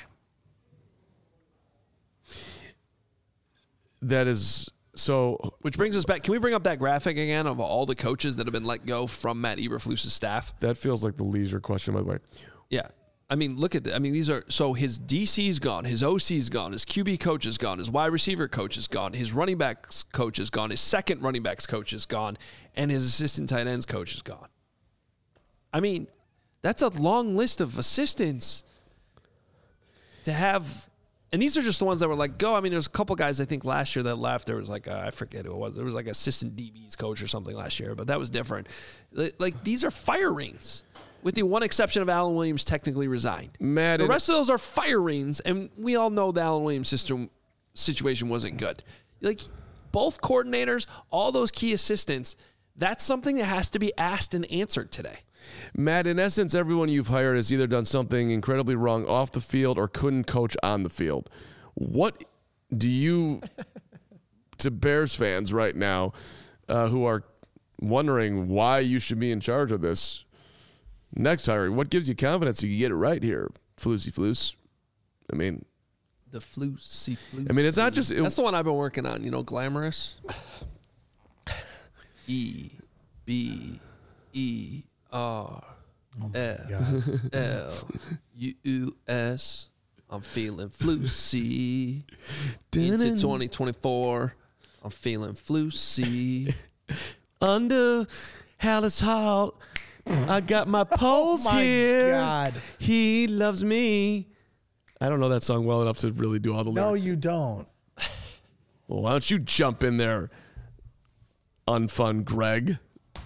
That is so. Which brings us back. Can we bring up that graphic again of all the coaches that have been let go from Matt Eberflus's staff? That feels like the leisure question, by the way. Yeah. I mean, look at that. I mean, these are, so his D C's gone, his O C's gone, his Q B coach is gone, his wide receiver coach is gone, his running backs coach is gone, his second running backs coach is gone, and his assistant tight ends coach is gone. I mean, that's a long list of assistants to have. And these are just the ones that were like, go. I mean, there's a couple guys I think last year that left. There was like, a, I forget who it was. There was like assistant D B's coach or something last year, but that was different. Like, these are firings, with the one exception of Alan Williams technically resigned. Matt, the rest of those are firings, and we all know the Alan Williams system situation wasn't good. Like, both coordinators, all those key assistants, that's something that has to be asked and answered today. Matt, in essence, everyone you've hired has either done something incredibly wrong off the field or couldn't coach on the field. What do you, to Bears fans right now, uh, who are wondering why you should be in charge of this next hiring, what gives you confidence you can get it right here, Flusy Flus? I mean, The Flusy Flus. I mean, it's not just it, That's the one I've been working on, you know, Glamorous. E B E R L L U S. I'm feeling flusy. Into twenty twenty-four, I'm feeling flusy. under Hallis Hall. I got my poles Oh my here. God. He loves me. I don't know that song well enough to really do all the No, lyrics. you don't. Well, why don't you jump in there, unfun Greg?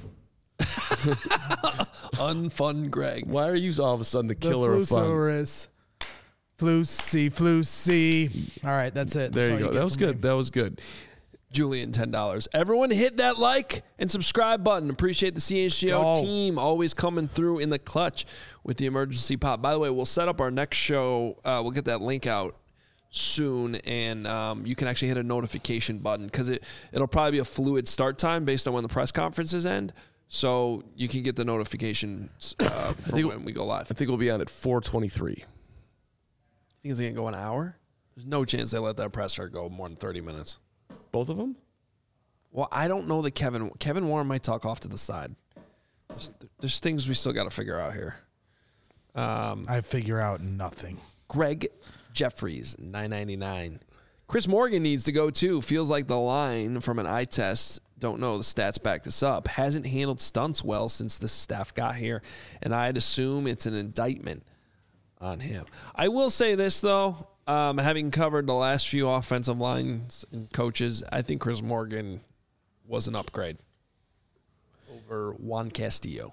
Unfun Greg. Why are you all of a sudden the killer the of fun? Flusaurus. Flusy, Flusy. All right, that's it. There That's you all go. get That was from good. me. That was good. Julian, ten dollars. Everyone hit that like and subscribe button. Appreciate the C H G O Go. team always coming through in the clutch with the emergency pop. By the way, we'll set up our next show. Uh, we'll get that link out soon, and um, you can actually hit a notification button because it, it'll probably be a fluid start time based on when the press conferences end. So you can get the notifications uh, for think- when we go live. I think we'll be on at four twenty-three. Think it's going to go an hour? There's no chance they let that presser go more than thirty minutes. Both of them? Well, I don't know that Kevin Kevin Warren might talk off to the side. There's, there's things we still got to figure out here. Um, I figure out nothing. Greg Jeffries, nine ninety-nine. Chris Morgan needs to go too. Feels like the line from an eye test, don't know, the stats back this up, hasn't handled stunts well since the staff got here, and I'd assume it's an indictment on him. I will say this, though, um, having covered the last few offensive lines and coaches, I think Chris Morgan was an upgrade over Juan Castillo.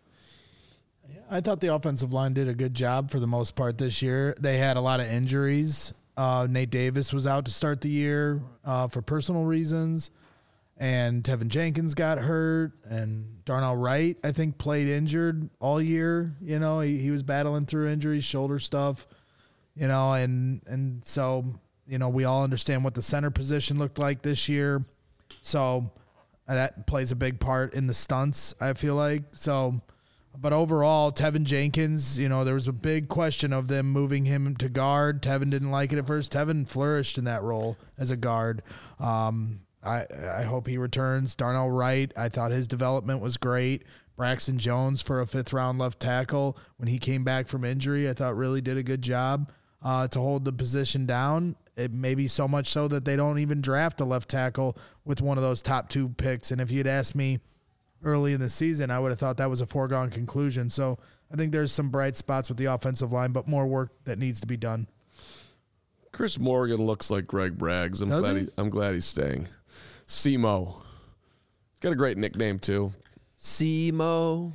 I thought the offensive line did a good job for the most part this year. They had a lot of injuries. Uh, Nate Davis was out to start the year uh, for personal reasons. and Tevin Jenkins got hurt, and Darnell Wright, I think, played injured all year. You know, he, he was battling through injuries, shoulder stuff, you know, and, and so, you know, we all understand what the center position looked like this year. So that plays a big part in the stunts, I feel like. So, but overall, Tevin Jenkins, you know, there was a big question of them moving him to guard. Tevin didn't like it at first. Tevin flourished in that role as a guard. Um, I, I hope he returns. Darnell Wright, I thought his development was great. Braxton Jones for a fifth round left tackle when he came back from injury, I thought really did a good job uh, to hold the position down. It may be so much so that they don't even draft a left tackle with one of those top two picks. And if you'd asked me early in the season, I would have thought that was a foregone conclusion. So I think there's some bright spots with the offensive line, but more work that needs to be done. Chris Morgan looks like Greg Braggs. I'm Does glad he? he, I'm glad he's staying. Simo. He's got a great nickname too. Simo.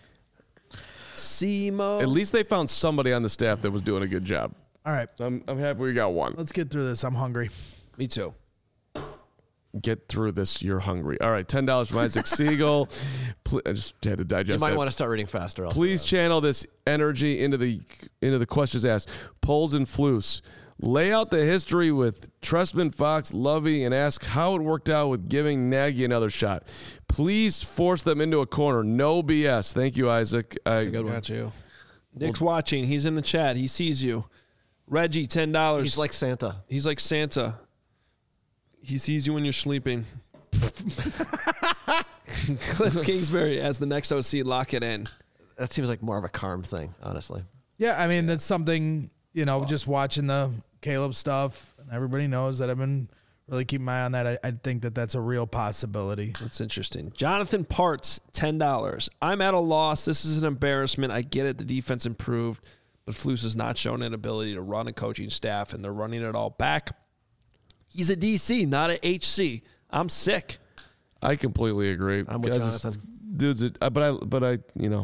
Simo. At least they found somebody on the staff that was doing a good job. All right, So I'm I'm happy we got one. let's get through this. I'm hungry. Me too. Get through this. You're hungry. All right, ten dollars from Isaac Siegel. Pl- I just had to You digest might that. want to start reading faster. I'll Please say channel this energy into the into the questions asked. Poles and Flus. Lay out the history with Trestman, Fox, Lovey, and ask how it worked out with giving Nagy another shot. Please force them into a corner. No B S. Thank you, Isaac. I, Got you. Nick's watching. He's in the chat. He sees you. Reggie, ten dollars. He's like Santa. He's like Santa. He sees you when you're sleeping. Cliff Kingsbury as the next O C, lock it in. That seems like more of a Carm thing, honestly. Yeah, I mean, that's something, you know, just watching the Caleb stuff, and everybody knows that I've been really keeping my eye on that. I, I think that that's a real possibility. That's interesting. Jonathan Parts, ten dollars. I'm at a loss. This is an embarrassment. I get it. The defense improved, but Flus has not shown an ability to run a coaching staff, and they're running it all back. He's a D C, not a H C. I'm sick. I completely agree. I'm with Guys, Jonathan. Dude's, a, uh, but I, but I, you know,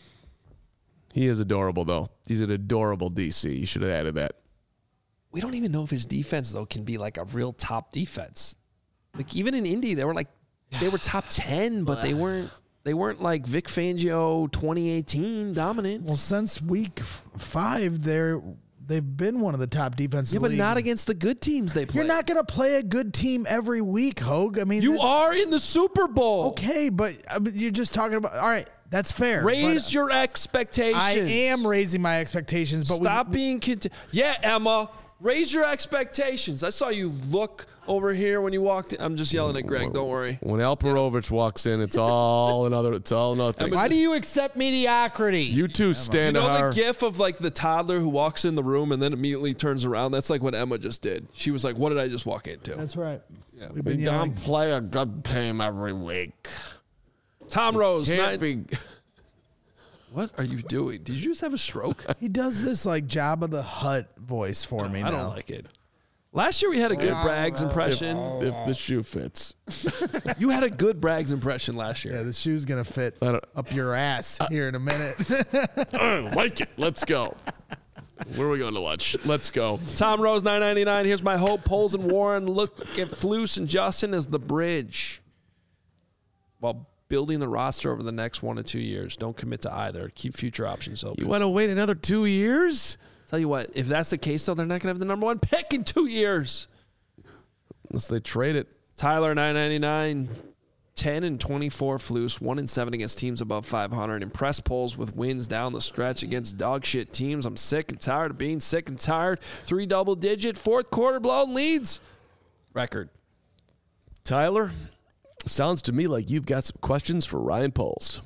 he is adorable though. He's an adorable D C. You should have added that. We don't even know if his defense, though, can be like a real top defense. Like, even in Indy, they were like, they were top ten, but they weren't, they weren't like Vic Fangio twenty eighteen dominant. Well, since week f- five, they're they've been one of the top defenses. Yeah, in the but league. not against the good teams they play. You're not going to play a good team every week, Hogue. I mean, You that's- are in the Super Bowl. okay, but uh, but you're just talking about. All right, that's fair. Raise but your expectations. I am raising my expectations, but Stop we, being conti- Yeah, Emma. Raise your expectations. I saw you look over here when you walked in. I'm just yelling at Greg. Don't worry. When Alperovich walks in, it's all another. It's all another thing. Why do you accept mediocrity? You two You stand know our. the gif of like the toddler who walks in the room and then immediately turns around? That's like what Emma just did. She was like, what did I just walk into? That's right. Yeah. We've We been don't yelling. play a good team every week. Tom Rose. Can't nine- be. What are you doing? Did you just have a stroke? He does this like Jabba the Hutt voice for me. I now. don't like it. Last year we had a good Braggs impression. If the shoe fits. You had a good Braggs impression last year. Yeah, the shoe's gonna fit I don't- up your ass here in a minute. I like it. Let's go. Where are we going to lunch? Let's go. Tom Rose, nine ninety-nine. Here's my hope. Poles and Warren look at Flus and Justin as the bridge while building the roster over the next one to two years. Don't commit to either. Keep future options open. You want to wait another two years? Tell you what, if that's the case, though, they're not going to have the number one pick in two years. Unless they trade it. Tyler, nine ninety-nine. ten and twenty-four Flus, one and seven against teams above five hundred. Impress polls with wins down the stretch against dog shit teams. I'm sick and tired of being sick and tired. Three double digit, fourth quarter blown leads. Record. Tyler, sounds to me like you've got some questions for Ryan Poles.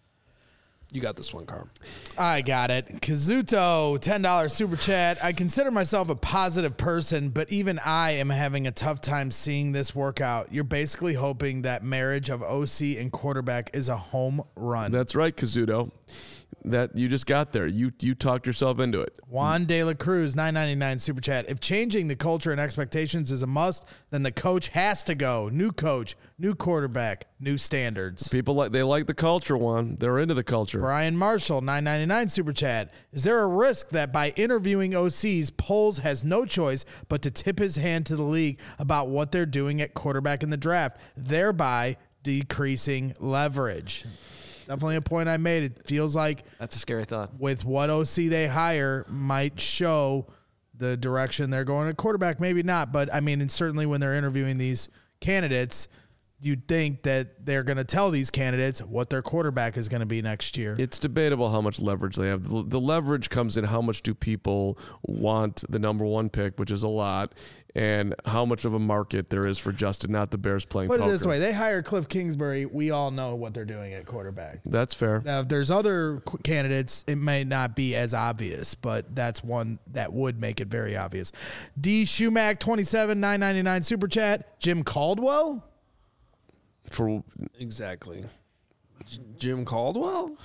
You got this one, Carm. I got it. Kazuto, ten dollars super chat. I consider myself a positive person, but even I am having a tough time seeing this work out. You're basically hoping that marriage of O C and quarterback is a home run. That's right, Kazuto. that you just got there. You you talked yourself into it. Juan De La Cruz, nine ninety-nine super chat. If changing the culture and expectations is a must, then the coach has to go. New coach, new quarterback, new standards. People like they like the culture, Juan. They're into the culture. Brian Marshall, nine ninety-nine super chat. Is there a risk that by interviewing O Cs, Poles has no choice but to tip his hand to the league about what they're doing at quarterback in the draft, thereby decreasing leverage? Definitely a point I made. It feels like That's a scary thought. with what O C they hire might show the direction they're going at quarterback. Maybe not, but I mean, and certainly when they're interviewing these candidates, you'd think that they're going to tell these candidates what their quarterback is going to be next year. It's debatable how much leverage they have. The, the leverage comes in how much do people want the number one pick, which is a lot, and how much of a market there is for Justin, not the Bears playing Put it poker. this way, they hire Cliff Kingsbury. We all know what they're doing at quarterback. That's fair. Now, if there's other qu- candidates, it may not be as obvious, but that's one that would make it very obvious. D. Schumack, twenty-seven, nine ninety-nine super chat. Jim Caldwell? For Exactly. J- Jim Caldwell?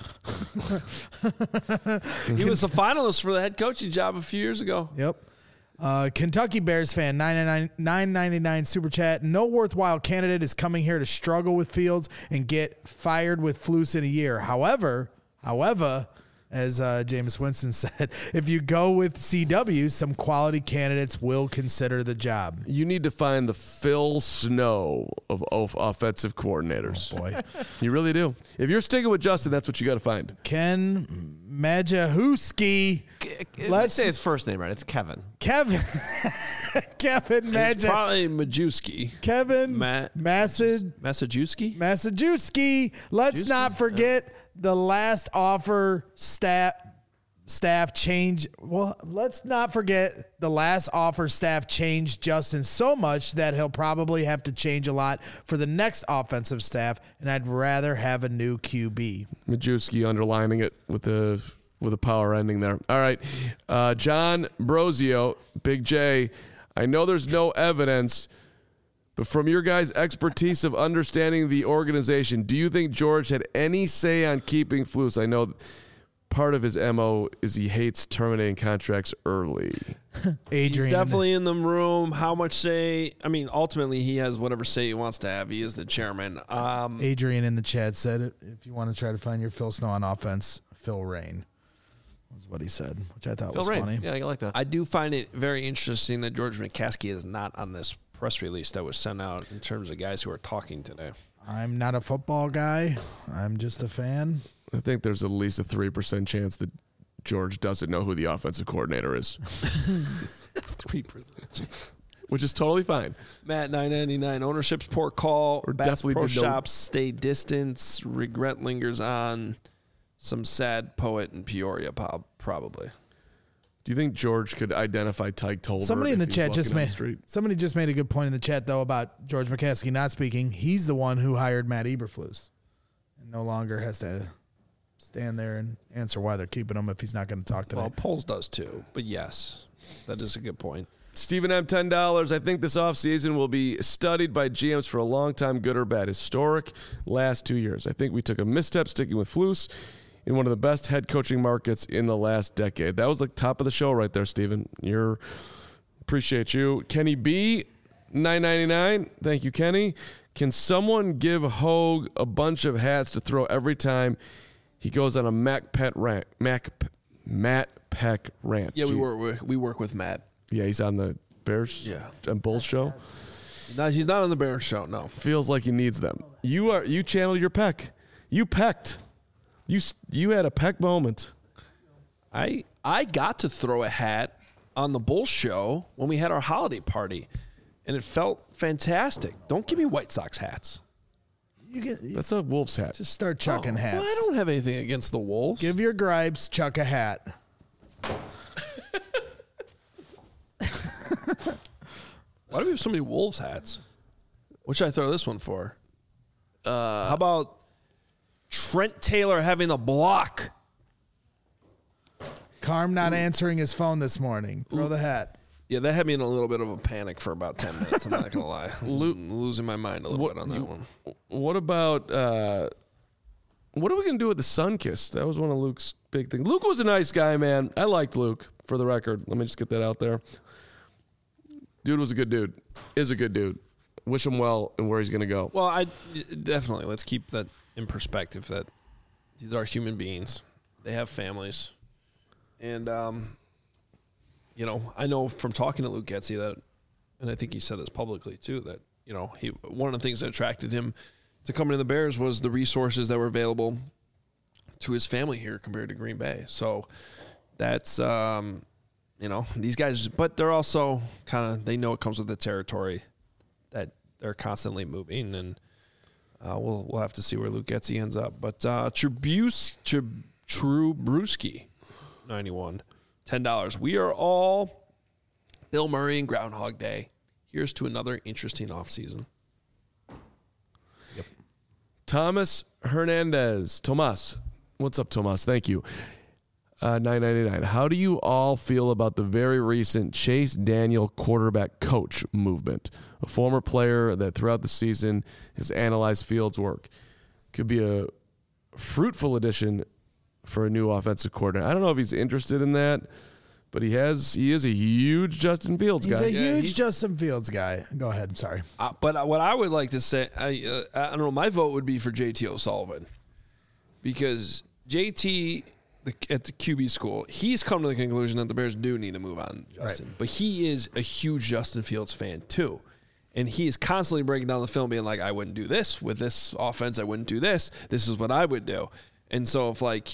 He was the finalist for the head coaching job a few years ago. Yep. Uh, Kentucky Bears fan, nine ninety-nine super chat. No worthwhile candidate is coming here to struggle with Fields and get fired with Flus in a year. However, however, as uh, Jameis Winston said, if you go with C W, some quality candidates will consider the job. you need to find the Phil Snow of, of offensive coordinators. Oh, boy. You really do. If you're sticking with Justin, that's what you got to find. Ken Majahowski. Let's Let's say his first name right. It's Kevin. Kevin. Kevin It's Majah. probably Majewski. Kevin Ma- Massad. Massajuski? Massajuski. Let's Juski? not forget the last offer staff staff change. Well, let's not forget the last offer staff changed Justin so much that he'll probably have to change a lot for the next offensive staff, and I'd rather have a new Q B. Majewski underlining it with the with a power ending there. All right. Uh, John Brosio, Big J, I know there's no evidence, but from your guys' expertise of understanding the organization, do you think George had any say on keeping Flus? I know part of his M O is he hates terminating contracts early. Adrian. He's definitely in the room. How much say? I mean, ultimately, he has whatever say he wants to have. He is the chairman. Um, Adrian in the chat said, if you want to try to find your Phil Snow on offense, Phil Rain was what he said, which I thought Phil was Rain. funny. Yeah, I like that. I do find it very interesting that George McCaskey is not on this press release that was sent out in terms of guys who are talking today. I'm not a football guy. I'm just a fan. I think there's at least a three percent chance that George doesn't know who the offensive coordinator is, Three percent. which is totally fine. Matt nine ninety-nine. Ownership's poor call. Or Bass definitely Pro did no- Shops stay distance. Regret lingers on. Some sad poet in Peoria, prob- probably. Do you think George could identify Tyke Tolbert? Somebody in if the he's chat walking just down the made street? somebody just made a good point in the chat though about George McCaskey not speaking. He's the one who hired Matt Eberflus, and no longer has to stand there and answer why they're keeping him if he's not going to talk today. Well, Poles does too, but yes, that is a good point. Stephen M, ten dollars. I think this offseason will be studied by G Ms for a long time, good or bad. Historic last two years. I think we took a misstep sticking with Flus in one of the best head coaching markets in the last decade. That was the top of the show right there, Stephen. You're appreciate you. Kenny B, nine ninety-nine. Thank you, Kenny. Can someone give Hogue a bunch of hats to throw every time he goes on a Mac Pet rant? Mac Matt Peck rant. Yeah, we Gee. work we work with Matt. Yeah, he's on the Bears Yeah. and Bulls show. No, he's not on the Bears show. No, Feels like he needs them. You are you channeled your peck. You pecked. You s- you had a peck moment. I I got to throw a hat on the Bulls show when we had our holiday party, and it felt fantastic. Don't give me White Sox hats. You get, you That's a Wolves hat. just start chucking Oh, hats. well, I don't have anything against the Wolves. Give your gripes, chuck a hat. Why do we have so many Wolves hats? What should I throw this one for? Uh, How about Trent Taylor having the block? Carm not answering his phone this morning. Throw the hat. Yeah, that had me in a little bit of a panic for about ten minutes. I'm not going to lie. Lo- losing my mind a little What- bit on that you- one. What about uh, what are we going to do with the Sunkist? That was one of Luke's big things. Luke was a nice guy, man. I liked Luke, for the record. Let me just get that out there. Dude was a good dude. Is a good dude. Wish him well and where he's going to go. Well, I definitely, let's keep that in perspective that these are human beings. They have families. And, um, you know, I know from talking to Luke Getsy that, and I think he said this publicly too, that, you know, he one of the things that attracted him to coming to the Bears was the resources that were available to his family here compared to Green Bay. So that's, um, you know, these guys, but they're also kind of, they know it comes with the territory that they're constantly moving, and uh, we'll we'll have to see where Luke Getsy ends up. But uh, Trubus, Trub, Trubruski, ninety-one, ten dollars. We are all Bill Murray and Groundhog Day. Here's to another interesting offseason. Yep. Thomas Hernandez. Tomas. What's up, Tomas? Thank you. Uh, nine ninety-nine. How do you all feel about the very recent Chase Daniel quarterback coach movement? A former player that throughout the season has analyzed Fields' work. Could be a fruitful addition for a new offensive coordinator. I don't know if he's interested in that, but he has. He is a huge Justin Fields He's guy. a Yeah, huge he's- Justin Fields guy. Go ahead. I'm sorry. Uh, but what I would like to say, I, uh, I don't know, my vote would be for J T O'Sullivan, because J T the, at the Q B school, he's come to the conclusion that the Bears do need to move on Justin. Right. But he is a huge Justin Fields fan too. And he is constantly breaking down the film, being like, I wouldn't do this with this offense. I wouldn't do this. This is what I would do. And so if like,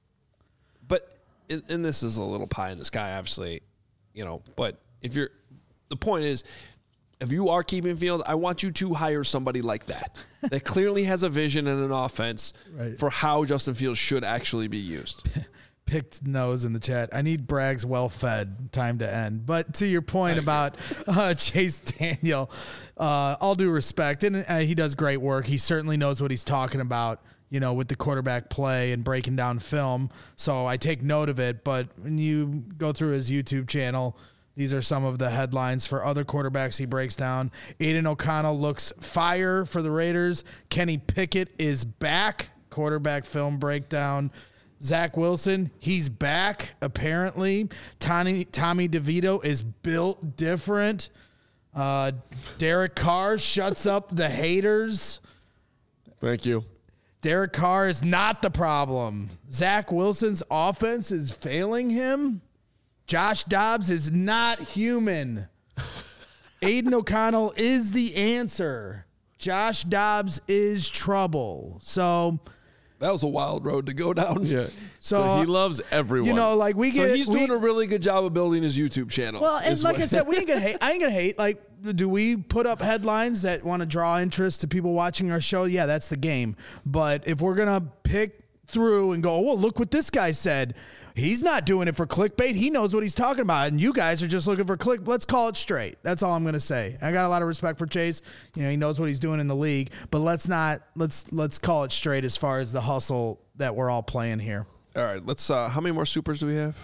but, and this is a little pie in the sky, obviously, you know, but if you're, the point is, if you are keeping Fields, I want you to hire somebody like that, that clearly has a vision and an offense Right. for how Justin Fields should actually be used. Picked nose in the chat. I need Bragg's well fed. Time to end. But to your point about uh, Chase Daniel, uh, all due respect, and uh, he does great work. He certainly knows what he's talking about, you know, with the quarterback play and breaking down film. So I take note of it. But when you go through his YouTube channel, these are some of the headlines for other quarterbacks he breaks down. Aiden O'Connell looks fire for the Raiders. Kenny Pickett is back. Quarterback film breakdown. Zach Wilson, he's back, apparently. Tommy, Tommy DeVito is built different. Uh, Derek Carr shuts up the haters. Thank you. Derek Carr is not the problem. Zach Wilson's offense is failing him. Josh Dobbs is not human. Aiden O'Connell is the answer. Josh Dobbs is trouble. So... That was a wild road to go down. Yeah. So, So, he loves everyone. You know, like we get. So he's we, doing a really good job of building his YouTube channel. well, and is like what- I said, we ain't gonna hate. I ain't gonna hate. Like, do we put up headlines that want to draw interest to people watching our show? Yeah, that's the game. But if we're gonna pick through and go, well, look what this guy said. He's not doing it for clickbait. He knows what he's talking about, and you guys are just looking for click. Let's call it straight. That's all I'm gonna say. I got a lot of respect for Chase. You know, he knows what he's doing in the league. But let's not let's let's call it straight as far as the hustle that we're all playing here. All right, let's. Uh, how many more supers do we have?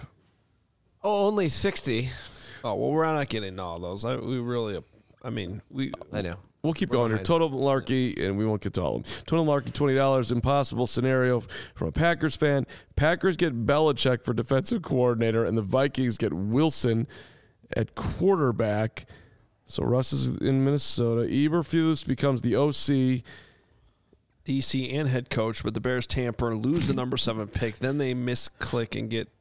Oh, only sixty. Oh well, we're not getting all those. I, we really, I mean, we. I know. We'll keep going here. behind. Total Malarkey, and we won't get to all of them. Total Malarkey, twenty dollars. Impossible scenario from a Packers fan. Packers get Belichick for defensive coordinator, and the Vikings get Wilson at quarterback. So Russ is in Minnesota. Eberflus becomes the O C. D C and head coach, but the Bears tamper, lose the number seven pick. Then they misclick and get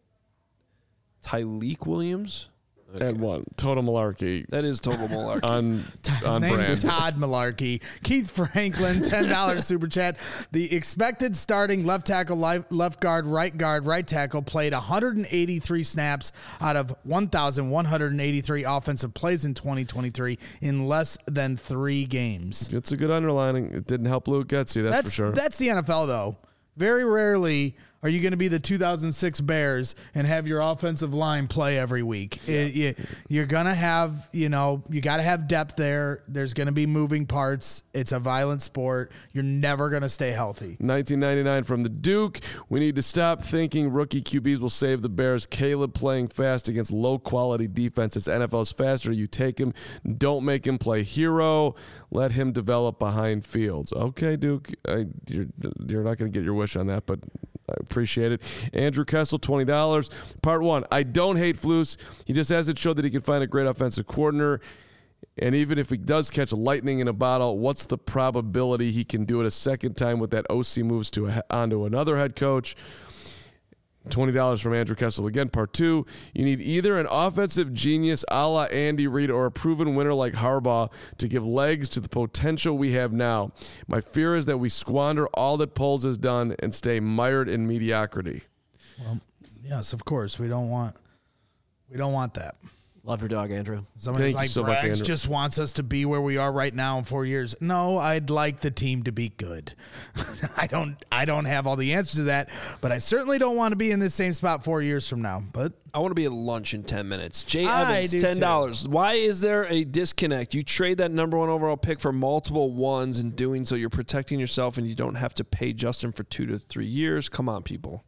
Tyleek Williams. And one. Total Malarkey. That is total malarkey. On, His on name's brand. Todd Malarkey. Keith Franklin, ten dollars super chat. The expected starting left tackle, left guard, right guard, right tackle played one hundred eighty-three snaps out of one thousand one hundred eighty-three offensive plays in twenty twenty-three in less than three games. It's a good underlining. It didn't help Luke Getsy, that's, That's for sure. That's the N F L, though. Very rarely are you going to be the two thousand six Bears and have your offensive line play every week? Yeah. It, you, you're going to have, you know, you got to have depth there. There's going to be moving parts. It's a violent sport. You're never going to stay healthy. nineteen ninety-nine from the Duke. We need to stop thinking rookie Q Bs will save the Bears. Caleb playing fast against low-quality defenses. N F L's faster. You take him. Don't make him play hero. Let him develop behind Fields. Okay, Duke. I, you're, you're not going to get your wish on that, but I appreciate it. Andrew Kessel, twenty dollars. Part one, I don't hate Flus. He just hasn't showed that he can find a great offensive coordinator. And even if he does catch lightning in a bottle, what's the probability he can do it a second time with that O C moves to a, onto another head coach? twenty dollars from Andrew Kessel again. Part two, you need either an offensive genius a la Andy Reid or a proven winner like Harbaugh to give legs to the potential we have now. My fear is that we squander all that Poles has done and stay mired in mediocrity. Well, yes, of course. We don't want we don't want that. Love your dog, Andrew. Somebody's Thank like, you so much, Braggs Andrew. just wants us to be where we are right now in four years. No, I'd like the team to be good. I don't I don't have all the answers to that, but I certainly don't want to be in this same spot four years from now. But I want to be at lunch in ten minutes. Jay I Evans, do ten dollars. Why is there a disconnect? You trade that number one overall pick for multiple ones. In doing so, you're protecting yourself, and you don't have to pay Justin for two to three years. Come on, people.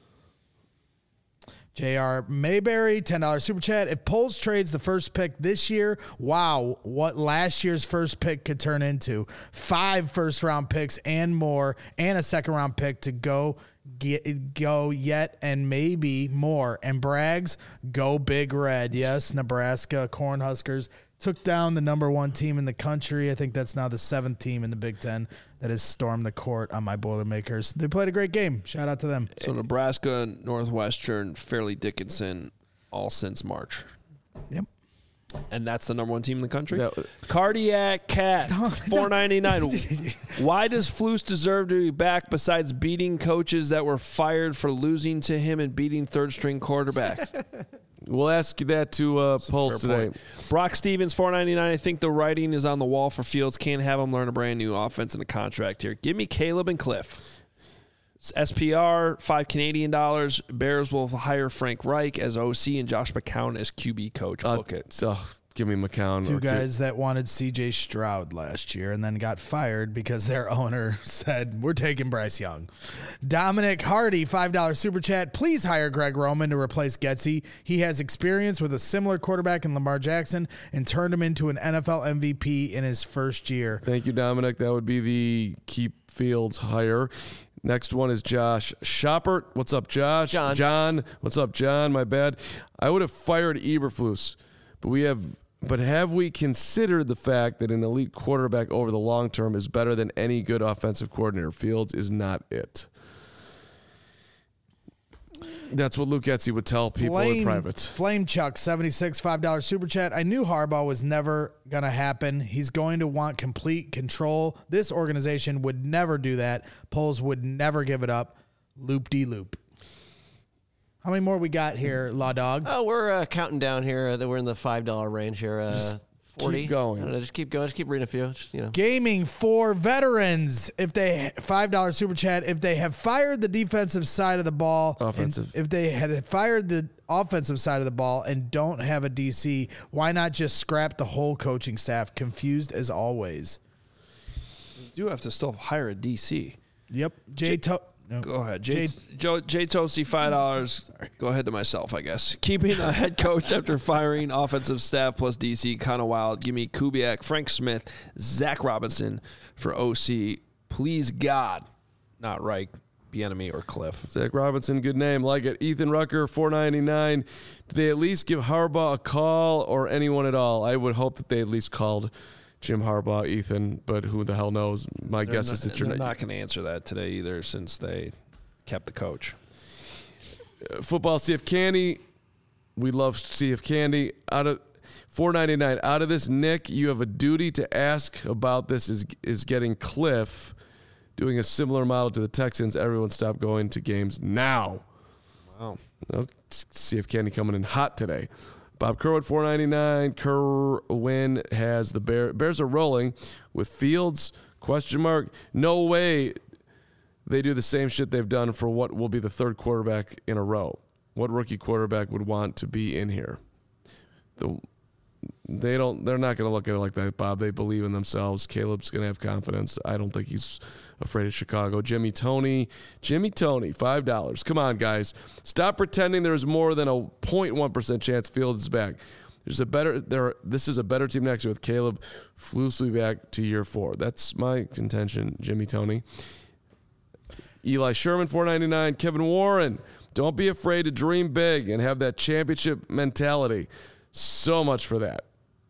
J R Mayberry, ten dollars super chat. If Poles trades the first pick this year, wow, what last year's first pick could turn into. Five first-round picks and more, and a second-round pick to go get go yet and maybe more. And Braggs, go Big Red. Yes, Nebraska Cornhuskers took down the number one team in the country. I think that's now the seventh team in the Big Ten that has stormed the court on my Boilermakers. They played a great game. Shout out to them. So Nebraska, Northwestern, Fairleigh Dickinson, all since March. Yep. And that's the number one team in the country? That- Cardiac Cat, four ninety-nine. Why does Flus deserve to be back besides beating coaches that were fired for losing to him and beating third-string quarterback? We'll ask you that to uh, Poles today. Point. Brock Stevens, four ninety-nine. I think the writing is on the wall for Fields. Can't have him learn a brand new offense and a contract here. Give me Caleb and Cliff. It's S P R, five Canadian dollars. Bears will hire Frank Reich as O C and Josh McCown as Q B coach. Uh, Book it. So give me McCown. Two or guys that wanted C J Stroud last year and then got fired because their owner said, we're taking Bryce Young. Dominic Hardy, five dollars super chat. Please hire Greg Roman to replace Getsy. He has experience with a similar quarterback in Lamar Jackson and turned him into an N F L M V P in his first year. Thank you, Dominic. That would be the keep Fields hire. Next one is Josh Shoppert. What's up, Josh? John. John. What's up, John? My bad. I would have fired Eberflus, but we have. But have we considered the fact that an elite quarterback over the long term is better than any good offensive coordinator? Fields is not it. That's what Luke Getsy would tell people Flame, in private. Flame Chuck, seventy-six, five dollars super chat. I knew Harbaugh was never going to happen. He's going to want complete control. This organization would never do that. Poles would never give it up. Loop-de-loop. How many more we got here, Law Dog? Oh, we're uh, counting down here. Uh, we're in the five dollar range here. Uh, forty. keep going. I don't know, just keep going. Just keep reading a few. Just, you know. Gaming for veterans. If they five dollars super chat. If they have fired the defensive side of the ball, Offensive. and if they had fired the offensive side of the ball and don't have a D C, why not just scrap the whole coaching staff? Confused as always. You do have to still hire a D C. Yep. Jay. To- no. Go ahead. Jay, Jay- Joe, Jay Toasty, five dollars. Go ahead to myself, I guess. Keeping a head coach after firing offensive staff plus D C, kind of wild. Give me Kubiak, Frank Smith, Zach Robinson for O C. Please, God, not Reich, Bieniemy, or Cliff. Zach Robinson, good name. Like it. Ethan Rucker, four ninety-nine. Do they at least give Harbaugh a call or anyone at all? I would hope that they at least called Jim Harbaugh, Ethan, but who the hell knows? My They're guess not, is that you're they're not. not going to answer that today either since they kept the coach. Uh, football, C F Candy. We love C F Candy. Out of four ninety-nine. Out of this, Nick, you have a duty to ask about this. Is is getting Cliff doing a similar model to the Texans? Everyone stop going to games now. Wow. No, C F Candy coming in hot today. Bob Kerwin, four ninety-nine. Kerwin has the Bear, Bears are rolling with Fields, question mark. No way they do the same shit they've done for what will be the third quarterback in a row. What rookie quarterback would want to be in here? The, they don't. They're not going to look at it like that, Bob. They believe in themselves. Caleb's going to have confidence. I don't think he's afraid of Chicago. Jimmy Toney, Jimmy Toney, five dollars. Come on, guys. Stop pretending there's more than a zero point one percent chance Fields is back. There's a better. There. This is a better team next year with Caleb Flus back to year four. That's my contention. Jimmy Toney, Eli Sherman, four ninety-nine. Kevin Warren. Don't be afraid to dream big and have that championship mentality. So much for that.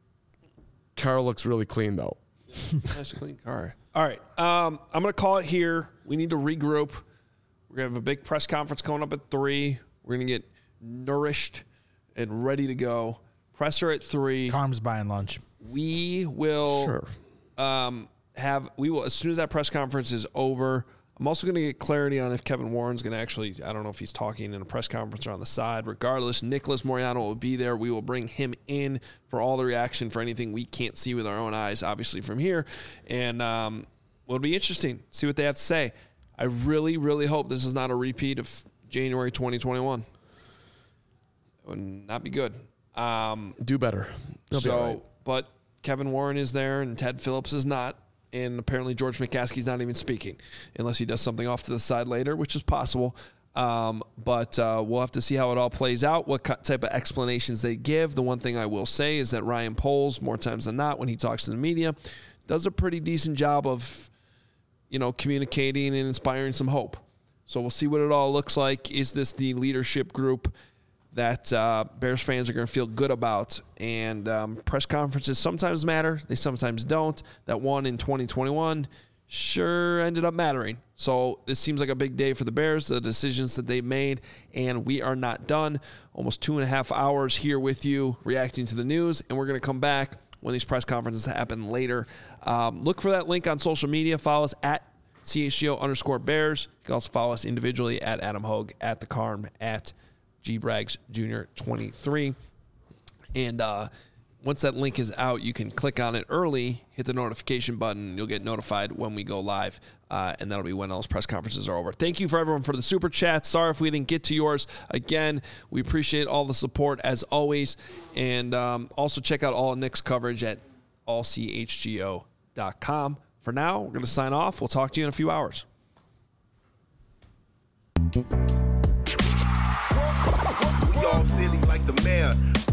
Car looks really clean, though. Nice, clean car. All right. Um, I'm going to call it here. We need to regroup. We're going to have a big press conference coming up at three. We're going to get nourished and ready to go. Presser at three. Carm's buying lunch. We will Sure. um, have, we will, as soon as that press conference is over, I'm also going to get clarity on if Kevin Warren's going to actually, I don't know if he's talking in a press conference or on the side. Regardless, Nicholas Moreano will be there. We will bring him in for all the reaction for anything we can't see with our own eyes, obviously, from here. And um, it'll be interesting. See what they have to say. I really, really hope this is not a repeat of January twenty twenty-one. It would not be good. Um, Do better. They'll be so, all right. but Kevin Warren is there and Ted Phillips is not. And apparently George McCaskey's not even speaking unless he does something off to the side later, which is possible. Um, but uh, we'll have to see how it all plays out, what type of explanations they give. The one thing I will say is that Ryan Poles, more times than not, when he talks to the media, does a pretty decent job of, you know, communicating and inspiring some hope. So we'll see what it all looks like. Is this the leadership group that uh, Bears fans are going to feel good about? And um, press conferences sometimes matter. They sometimes don't. That one in twenty twenty-one sure ended up mattering. So this seems like a big day for the Bears, the decisions that they made, and we are not done. Almost two and a half hours here with you reacting to the news, and we're going to come back when these press conferences happen later. Um, look for that link on social media. Follow us at C H G O underscore Bears. You can also follow us individually at Adam Hogue, at The Carm, at G Braggs Junior twenty-three. And uh, once that link is out, you can click on it early, hit the notification button, and you'll get notified when we go live. Uh, and that'll be when those press conferences are over. Thank you for everyone for the super chat. Sorry if we didn't get to yours. Again, we appreciate all the support as always. And um, also check out all of Nick's coverage at all c h g o dot com. For now, we're going to sign off. We'll talk to you in a few hours. We all silly like the mayor.